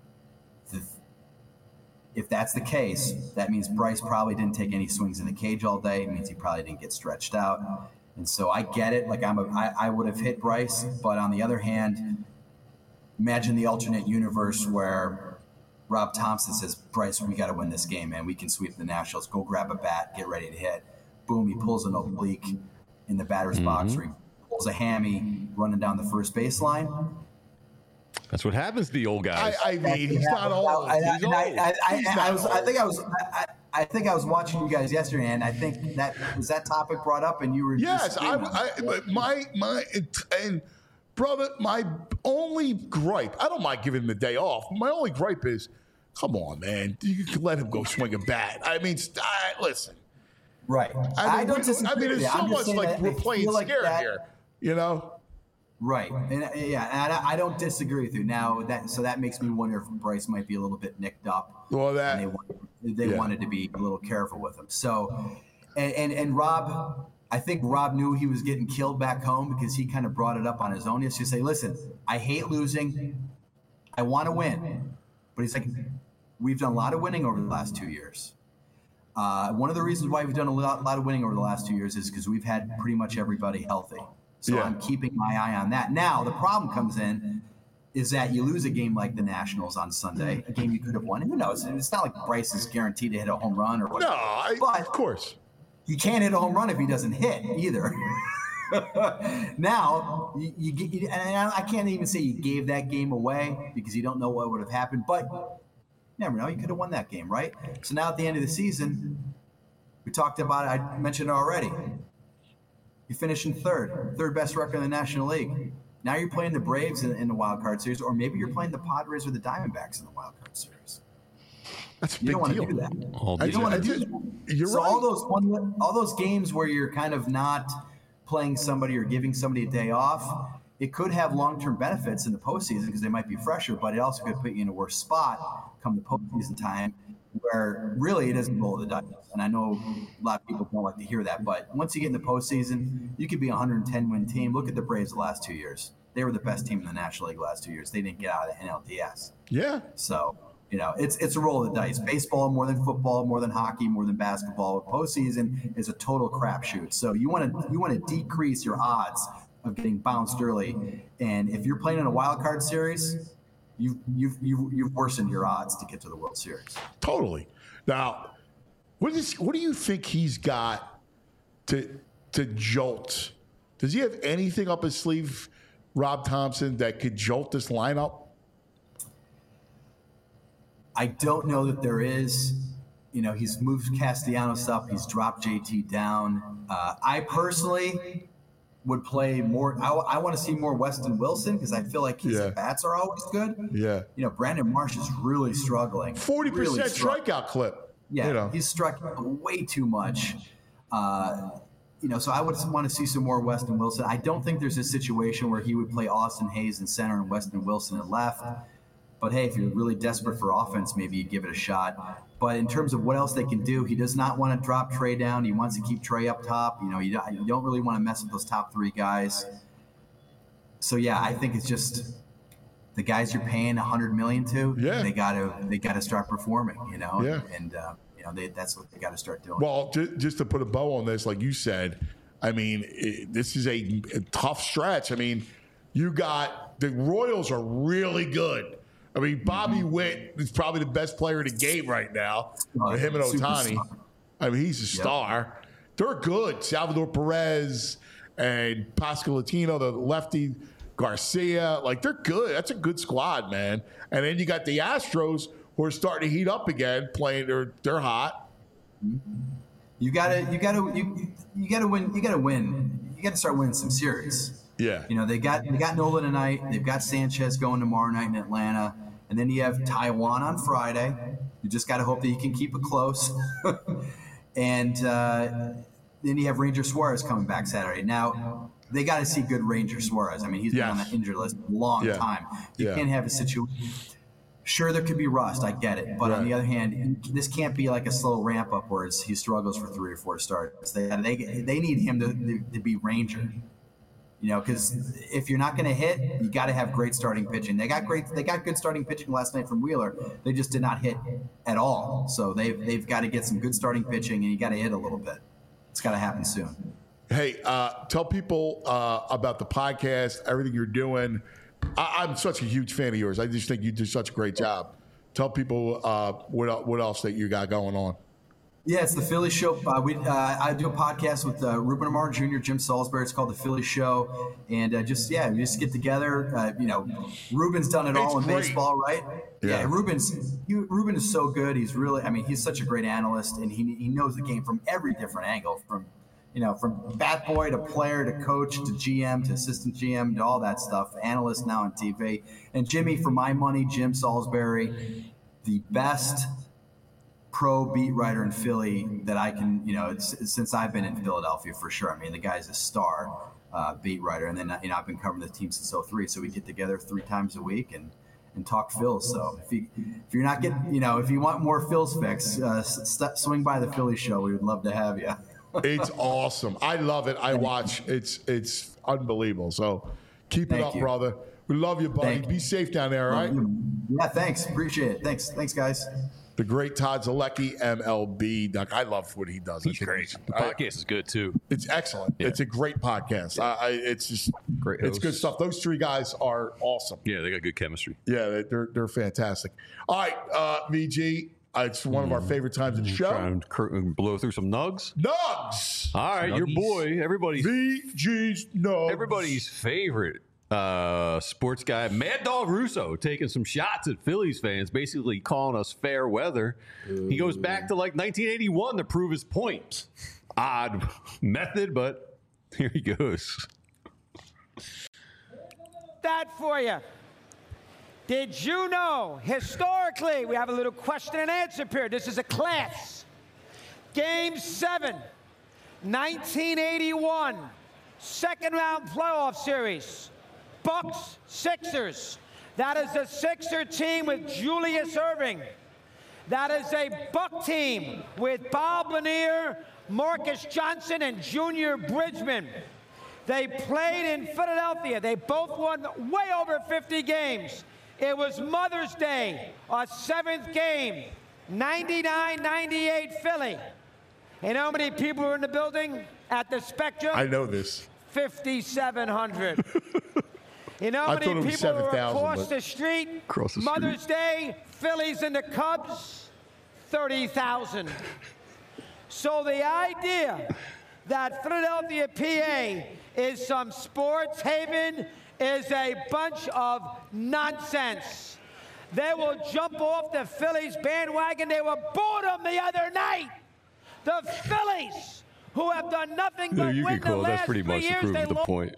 if that's the case, that means Bryce probably didn't take any swings in the cage all day. It means he probably didn't get stretched out. And so I get it. Like I would have hit Bryce, but on the other hand, imagine the alternate universe where Rob Thompson says, Bryce, we got to win this game, man. We can sweep the Nationals. Go grab a bat, get ready to hit. Boom, he pulls an oblique in the batter's box, or he pulls a hammy running down the first baseline. That's what happens to the old guys. I mean, he's not old. He's old. I think I was watching you guys yesterday, and I think that topic brought up, and you were yes. Brother, my only gripe, I don't mind giving him the day off. My only gripe is, come on, man, you can let him go swing a bat. I mean, listen. Right. I don't disagree. I mean, it's so much like we're playing scared here, Right. And I don't disagree with you. Now that makes me wonder if Bryce might be a little bit nicked up. Well, they wanted to be a little careful with him. So, and Rob, I think Rob knew he was getting killed back home because he kind of brought it up on his own. He used to say, listen, I hate losing. I want to win. But he's like, we've done a lot of winning over the last 2 years. One of the reasons why we've done a lot of winning over the last 2 years is because we've had pretty much everybody healthy. So I'm keeping my eye on that. Now, the problem comes in is that you lose a game like the Nationals on Sunday, a game you could have won. Who knows? It's not like Bryce is guaranteed to hit a home run or whatever. No, of course. He can't hit a home run if he doesn't hit either. Now, and I can't even say you gave that game away because you don't know what would have happened, but you never know. You could have won that game, right? So now at the end of the season, we talked about it. I mentioned it already. You finish in third best record in the National League. Now you're playing the Braves in the wild card series, or maybe you're playing the Padres or the Diamondbacks in the wild card series. That's a big You don't want deal. to do that. You don't want to do that. You're so right. all those games where you're kind of not playing somebody or giving somebody a day off, it could have long-term benefits in the postseason because they might be fresher, but it also could put you in a worse spot come the postseason time where really it doesn't roll the dice. And I know a lot of people don't like to hear that, but once you get in the postseason, you could be a 110-win team. Look at the Braves the last 2 years. They were the best team in the National League the last 2 years. They didn't get out of the NLDS. Yeah. So, it's a roll of the dice. Baseball, more than football, more than hockey, more than basketball. Postseason is a total crapshoot. So you want to decrease your odds of getting bounced early. And if you're playing in a wild card series, you've worsened your odds to get to the World Series. Totally. Now, what do you think he's got to jolt? Does he have anything up his sleeve, Rob Thompson, that could jolt this lineup? I don't know that there is. He's moved Castellanos up. He's dropped JT down. I personally would play more. I want to see more Weston Wilson because I feel like his at-bats are always good. Yeah. Brandon Marsh is really struggling. 40% strikeout clip. Yeah, he's struck way too much. So I would want to see some more Weston Wilson. I don't think there's a situation where he would play Austin Hayes in center and Weston Wilson at left. But hey, if you're really desperate for offense, maybe you give it a shot. But in terms of what else they can do, he does not want to drop Trey down. He wants to keep Trey up top. You don't really want to mess with those top 3 guys. So yeah, I think it's just the guys you're paying $100 million to. Yeah. They got to start performing. Yeah. And that's what they got to start doing. Well, just to put a bow on this, like you said, I mean, this is a tough stretch. I mean, you got the Royals are really good. I mean, Bobby Witt is probably the best player in the game right now. With him and Ohtani. I mean, he's a star. They're good. Salvador Perez and Pascal Latino, the lefty, Garcia. Like, they're good. That's a good squad, man. And then you got the Astros who are starting to heat up again, playing. They're hot. You gotta win. You gotta start winning some series. Yeah. You know, they got Nola tonight. They've got Sanchez going tomorrow night in Atlanta. And then you have Taiwan on Friday. You just got to hope that you can keep it close. And then you have Ranger Suarez coming back Saturday. Now, they got to see good Ranger Suarez. I mean, he's been on the injured list a long time. You can't have a situation. Sure, there could be rust. I get it. But on the other hand, this can't be like a slow ramp up where he struggles for 3 or 4 starts. They need him to be Ranger. You know, because if you're not going to hit, you got to have great starting pitching. They got good starting pitching last night from Wheeler. They just did not hit at all. So they've got to get some good starting pitching, and you got to hit a little bit. It's got to happen soon. Hey, tell people about the podcast, everything you're doing. I'm such a huge fan of yours. I just think you do such a great job. Tell people what else that you got going on. Yeah, it's the Philly Show. I do a podcast with Ruben Amar Jr., Jim Salisbury. It's called the Philly Show, and we just get together. Ruben's done it all in baseball, right? Yeah, Ruben is so good. He's really, he's such a great analyst, and he knows the game from every different angle, from bat boy to player to coach to GM to assistant GM to all that stuff. Analyst now on TV, and Jimmy, for my money, Jim Salisbury, the best pro beat writer in Philly that I can, since I've been in Philadelphia for sure. I mean, the guy's a star beat writer. And then, I've been covering the team since 2003. So we get together 3 times a week and talk Phils. So if you're not getting, if you want more Phils fix, swing by the Philly Show. We would love to have you. It's awesome. I love it. I watch. It's unbelievable. So keep it up, brother. We love you, buddy. Be safe down there, all right? Yeah, thanks. Appreciate it. Thanks, guys. The great Todd Zolecki, MLB. I love what he does. He's great. The podcast is good, too. It's excellent. Yeah. It's a great podcast. It's just great. It's good stuff. Those 3 guys are awesome. Yeah, they got good chemistry. Yeah, they're fantastic. All right, VG. It's one of our favorite times in the show. Trying to blow through some nugs. Nugs! All right, your boy, everybody's VG's nugs. Everybody's favorite sports guy, Mad Dog Russo, taking some shots at Phillies fans, basically calling us fair weather. He goes back to 1981 to prove his point. Odd method, but here he goes. That for you. Did you know, historically, we have a little question and answer period. This is a class. Game 7, 1981, second round playoff series. Bucks, Sixers. That is a Sixer team with Julius Erving. That is a Buck team with Bob Lanier, Marcus Johnson, and Junior Bridgman. They played in Philadelphia. They both won way over 50 games. It was Mother's Day, our 7th game, 99-98 Philly. You know how many people were in the building at the Spectrum? I know this. 5,700. You know how many people were across the street? Mother's Day, Phillies and the Cubs, 30,000. So the idea that Philadelphia, PA is some sports haven is a bunch of nonsense. They will jump off the Phillies bandwagon. They were boredom the other night. The Phillies, who have done nothing but win the last that's pretty 3 much years, to prove the point.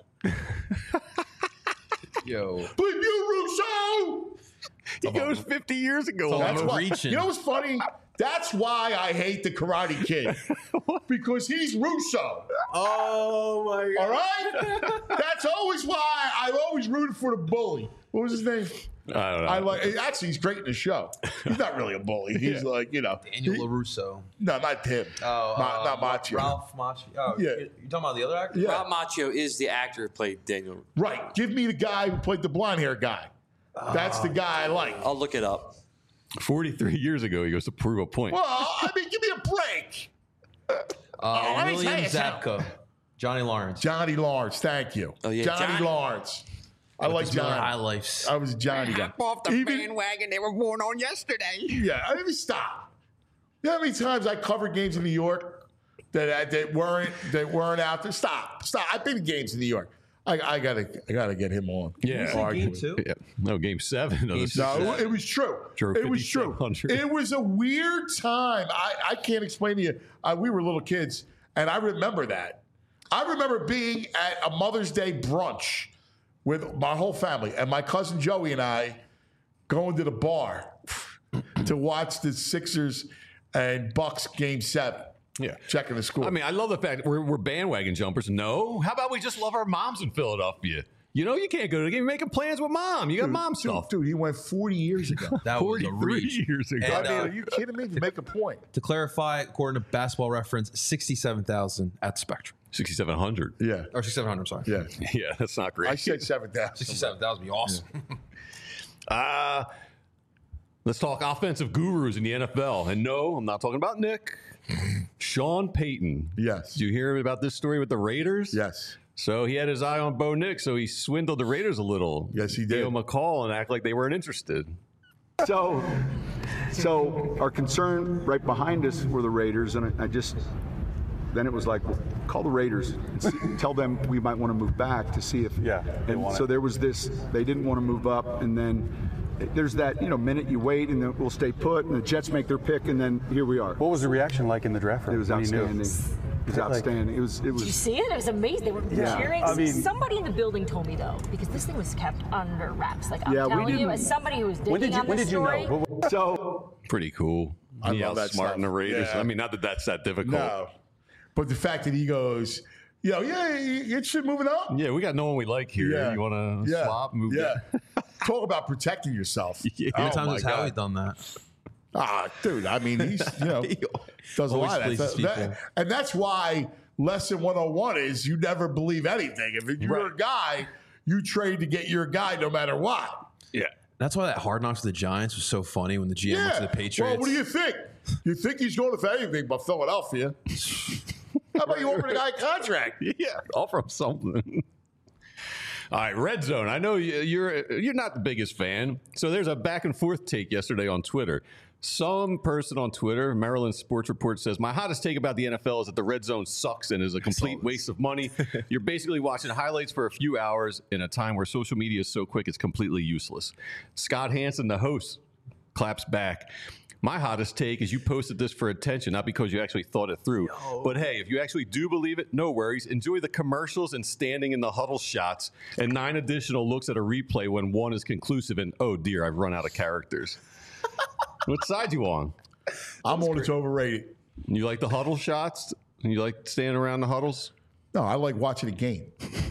Yo. Bleep you, Russo! He goes 50 years ago. That's why, you know what's funny? That's why I hate the Karate Kid. Because he's Russo. Oh, my God. All right? That's always why I've always rooted for the bully. What was his name? I don't know. Actually, he's great in the show. He's not really a bully. He's Daniel LaRusso. No, not him. Not Macchio. Ralph Macchio. Oh, yeah. You're talking about the other actor? Yeah. Ralph Macchio is the actor who played Daniel. Right. Give me the guy who played the blonde hair guy. That's the guy I like. I'll look it up. 43 years ago, he goes to prove a point. Well, give me a break. William Zabka. Johnny Lawrence. Johnny Lawrence, thank you. Oh, yeah, Johnny Lawrence. I like Johnny. High Lifes. I was a Johnny guy. Hop off the bandwagon they were born on yesterday. Yeah, I mean, stop. You know how many times I covered games in New York that weren't out there? Stop. I've been to games in New York. I gotta get him on. Yeah. Game 2? Yeah. No, game 7. No, it was true. It was true. It was a weird time. I can't explain to you. We were little kids, and I remember that. I remember being at a Mother's Day brunch with my whole family, and my cousin Joey and I going to the bar to watch the Sixers and Bucks game 7. Yeah. Checking the score. I mean, I love the fact we're bandwagon jumpers. No. How about we just love our moms in Philadelphia? You know, you can't go to the game. You're making plans with mom. You got mom stuff. Dude, he went 40 years ago. That was a reach. years ago. And, are you kidding me? To make a point. To clarify, according to Basketball Reference, 67,000 at Spectrum. 6,700. Yeah. Or 6,700, I'm sorry. Yeah. Yeah, that's not great. I said 7,000. 67,000 would be awesome. Yeah. Let's talk offensive gurus in the NFL. And no, I'm not talking about Nick. Sean Payton. Yes. Did you hear about this story with the Raiders? Yes. So he had his eye on Bo Nix, so he swindled the Raiders a little. Yes, he did. Gave him a call and act like they weren't interested. So our concern right behind us were the Raiders, and then it was like, well, call the Raiders and tell them we might want to move back to see if. Yeah. And so there was this. They didn't want to move up, and then there's that minute you wait, and then we'll stay put, and the Jets make their pick, and then here we are. What was the reaction like in the draft room? It was outstanding. It was outstanding. It was. Did you see it? It was amazing. They were cheering. I mean, somebody in the building told me though, because this thing was kept under wraps. Like I'm Yeah, we telling you, didn't- as somebody who was digging on this story. So Pretty cool. I He love that outsmarting stuff. the Raiders. Yeah. I mean, not that that's that difficult. No. But the fact that he goes, you interested in moving up? Yeah, we got no one we like here. Yeah. You want to Yeah. swap? Move Yeah. Talk about protecting yourself. Yeah. How many Oh, times my has God. Howie done that? Dude, I mean, he's, does a Always lot of pleases that. people. And that's why lesson 101 is you never believe anything. If you're a guy, you trade to get your guy no matter what. Yeah. That's why that Hard Knocks with the Giants was so funny when the GM went to the Patriots. Well, what do you think? You think he's going for anything but Philadelphia? How about you offer the guy a contract? Yeah, offer him something. All right, Red Zone. I know you're not the biggest fan, so there's a back and forth take yesterday on Twitter. Some person on Twitter, Maryland Sports Report, says, my hottest take about the NFL is that the Red Zone sucks and is a complete waste of money. You're basically watching highlights for a few hours in a time where social media is so quick it's completely useless. Scott Hansen, the host, claps back. My hottest take is you posted this for attention, not because you actually thought it through. But hey, if you actually do believe it, no worries. Enjoy the commercials and standing in the huddle shots and 9 additional looks at a replay when one is conclusive and, oh dear, I've run out of characters. What side you on? I'm on it's overrated. You like the huddle shots? You like standing around the huddles? No, I like watching a game.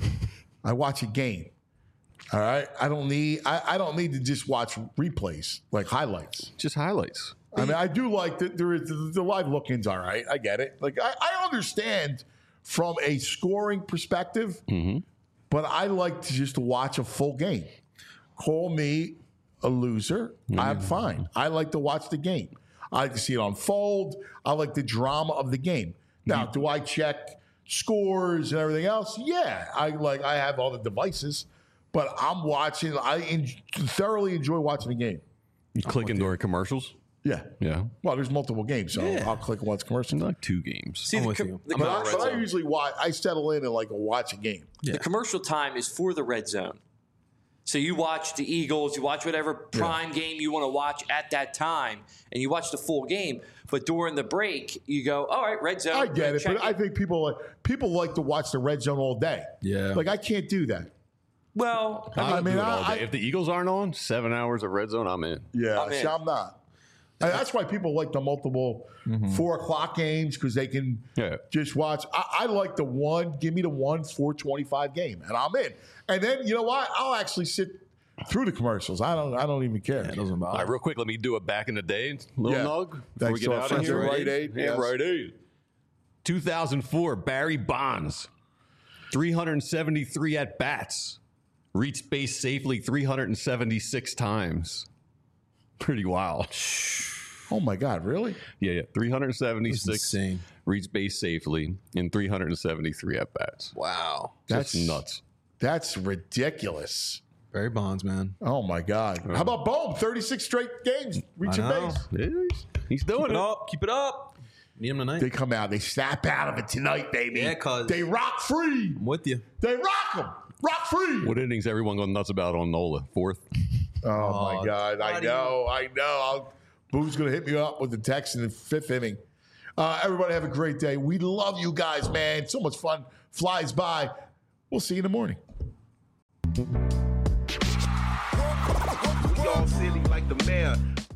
I watch a game. All right. I don't need to just watch replays, like highlights. Just highlights. I mean, I do like that the live look-ins. All right, I get it. Like I understand from a scoring perspective, but I like to just watch a full game. Call me a loser. I'm fine. I like to watch the game. I like to see it unfold. I like the drama of the game. Now, do I check scores and everything else? Yeah, I have all the devices, but I'm watching. I thoroughly enjoy watching the game. You clicking during commercials? Yeah. Yeah. Well, there's multiple games, so I'll click once commercial. Like 2 games. See, I'm with you. But I usually watch. I settle in and watch a game. The commercial time is for the red zone. So you watch the Eagles, you watch whatever prime game you want to watch at that time, and you watch the full game. But during the break, you go, all right, red zone. I get it, but I think people like to watch the red zone all day. Yeah. Like I can't do that. Well, I mean, if the Eagles aren't on, 7 hours of red zone, I'm in. Yeah, I'm not. And that's why people like the multiple 4 o'clock games because they can just watch. I like the one. Give me the 4:25 game, and I'm in. And then you know what? I'll actually sit through the commercials. I don't even care. It doesn't bother. All right, real quick, let me do it back in the day. Little nug before Thanks we get to our out of friends here. at Rite Aid. Yeah, Yes. Rite Aid. 2004, Barry Bonds, 373 at bats, reached base safely 376 times. Pretty wild. Oh, my God. Really? Yeah. 376 insane. reached base safely in 373 at-bats. Wow. That's nuts. That's ridiculous. Barry Bonds, man. Oh, my God. How about Bohm? 36 straight games reaching base. Yeah, he's doing it. Keep it up. Need him tonight. They come out. They snap out of it tonight, baby. Yeah, cuz. They rock free. I'm with you. They rock them. Rock free. What innings everyone going nuts about on Nola? 4th? Oh, my God. I know. Boo's going to hit me up with the text in the 5th inning. Everybody have a great day. We love you guys, man. So much fun. Flies by. We'll see you in the morning. We all silly like the mayor.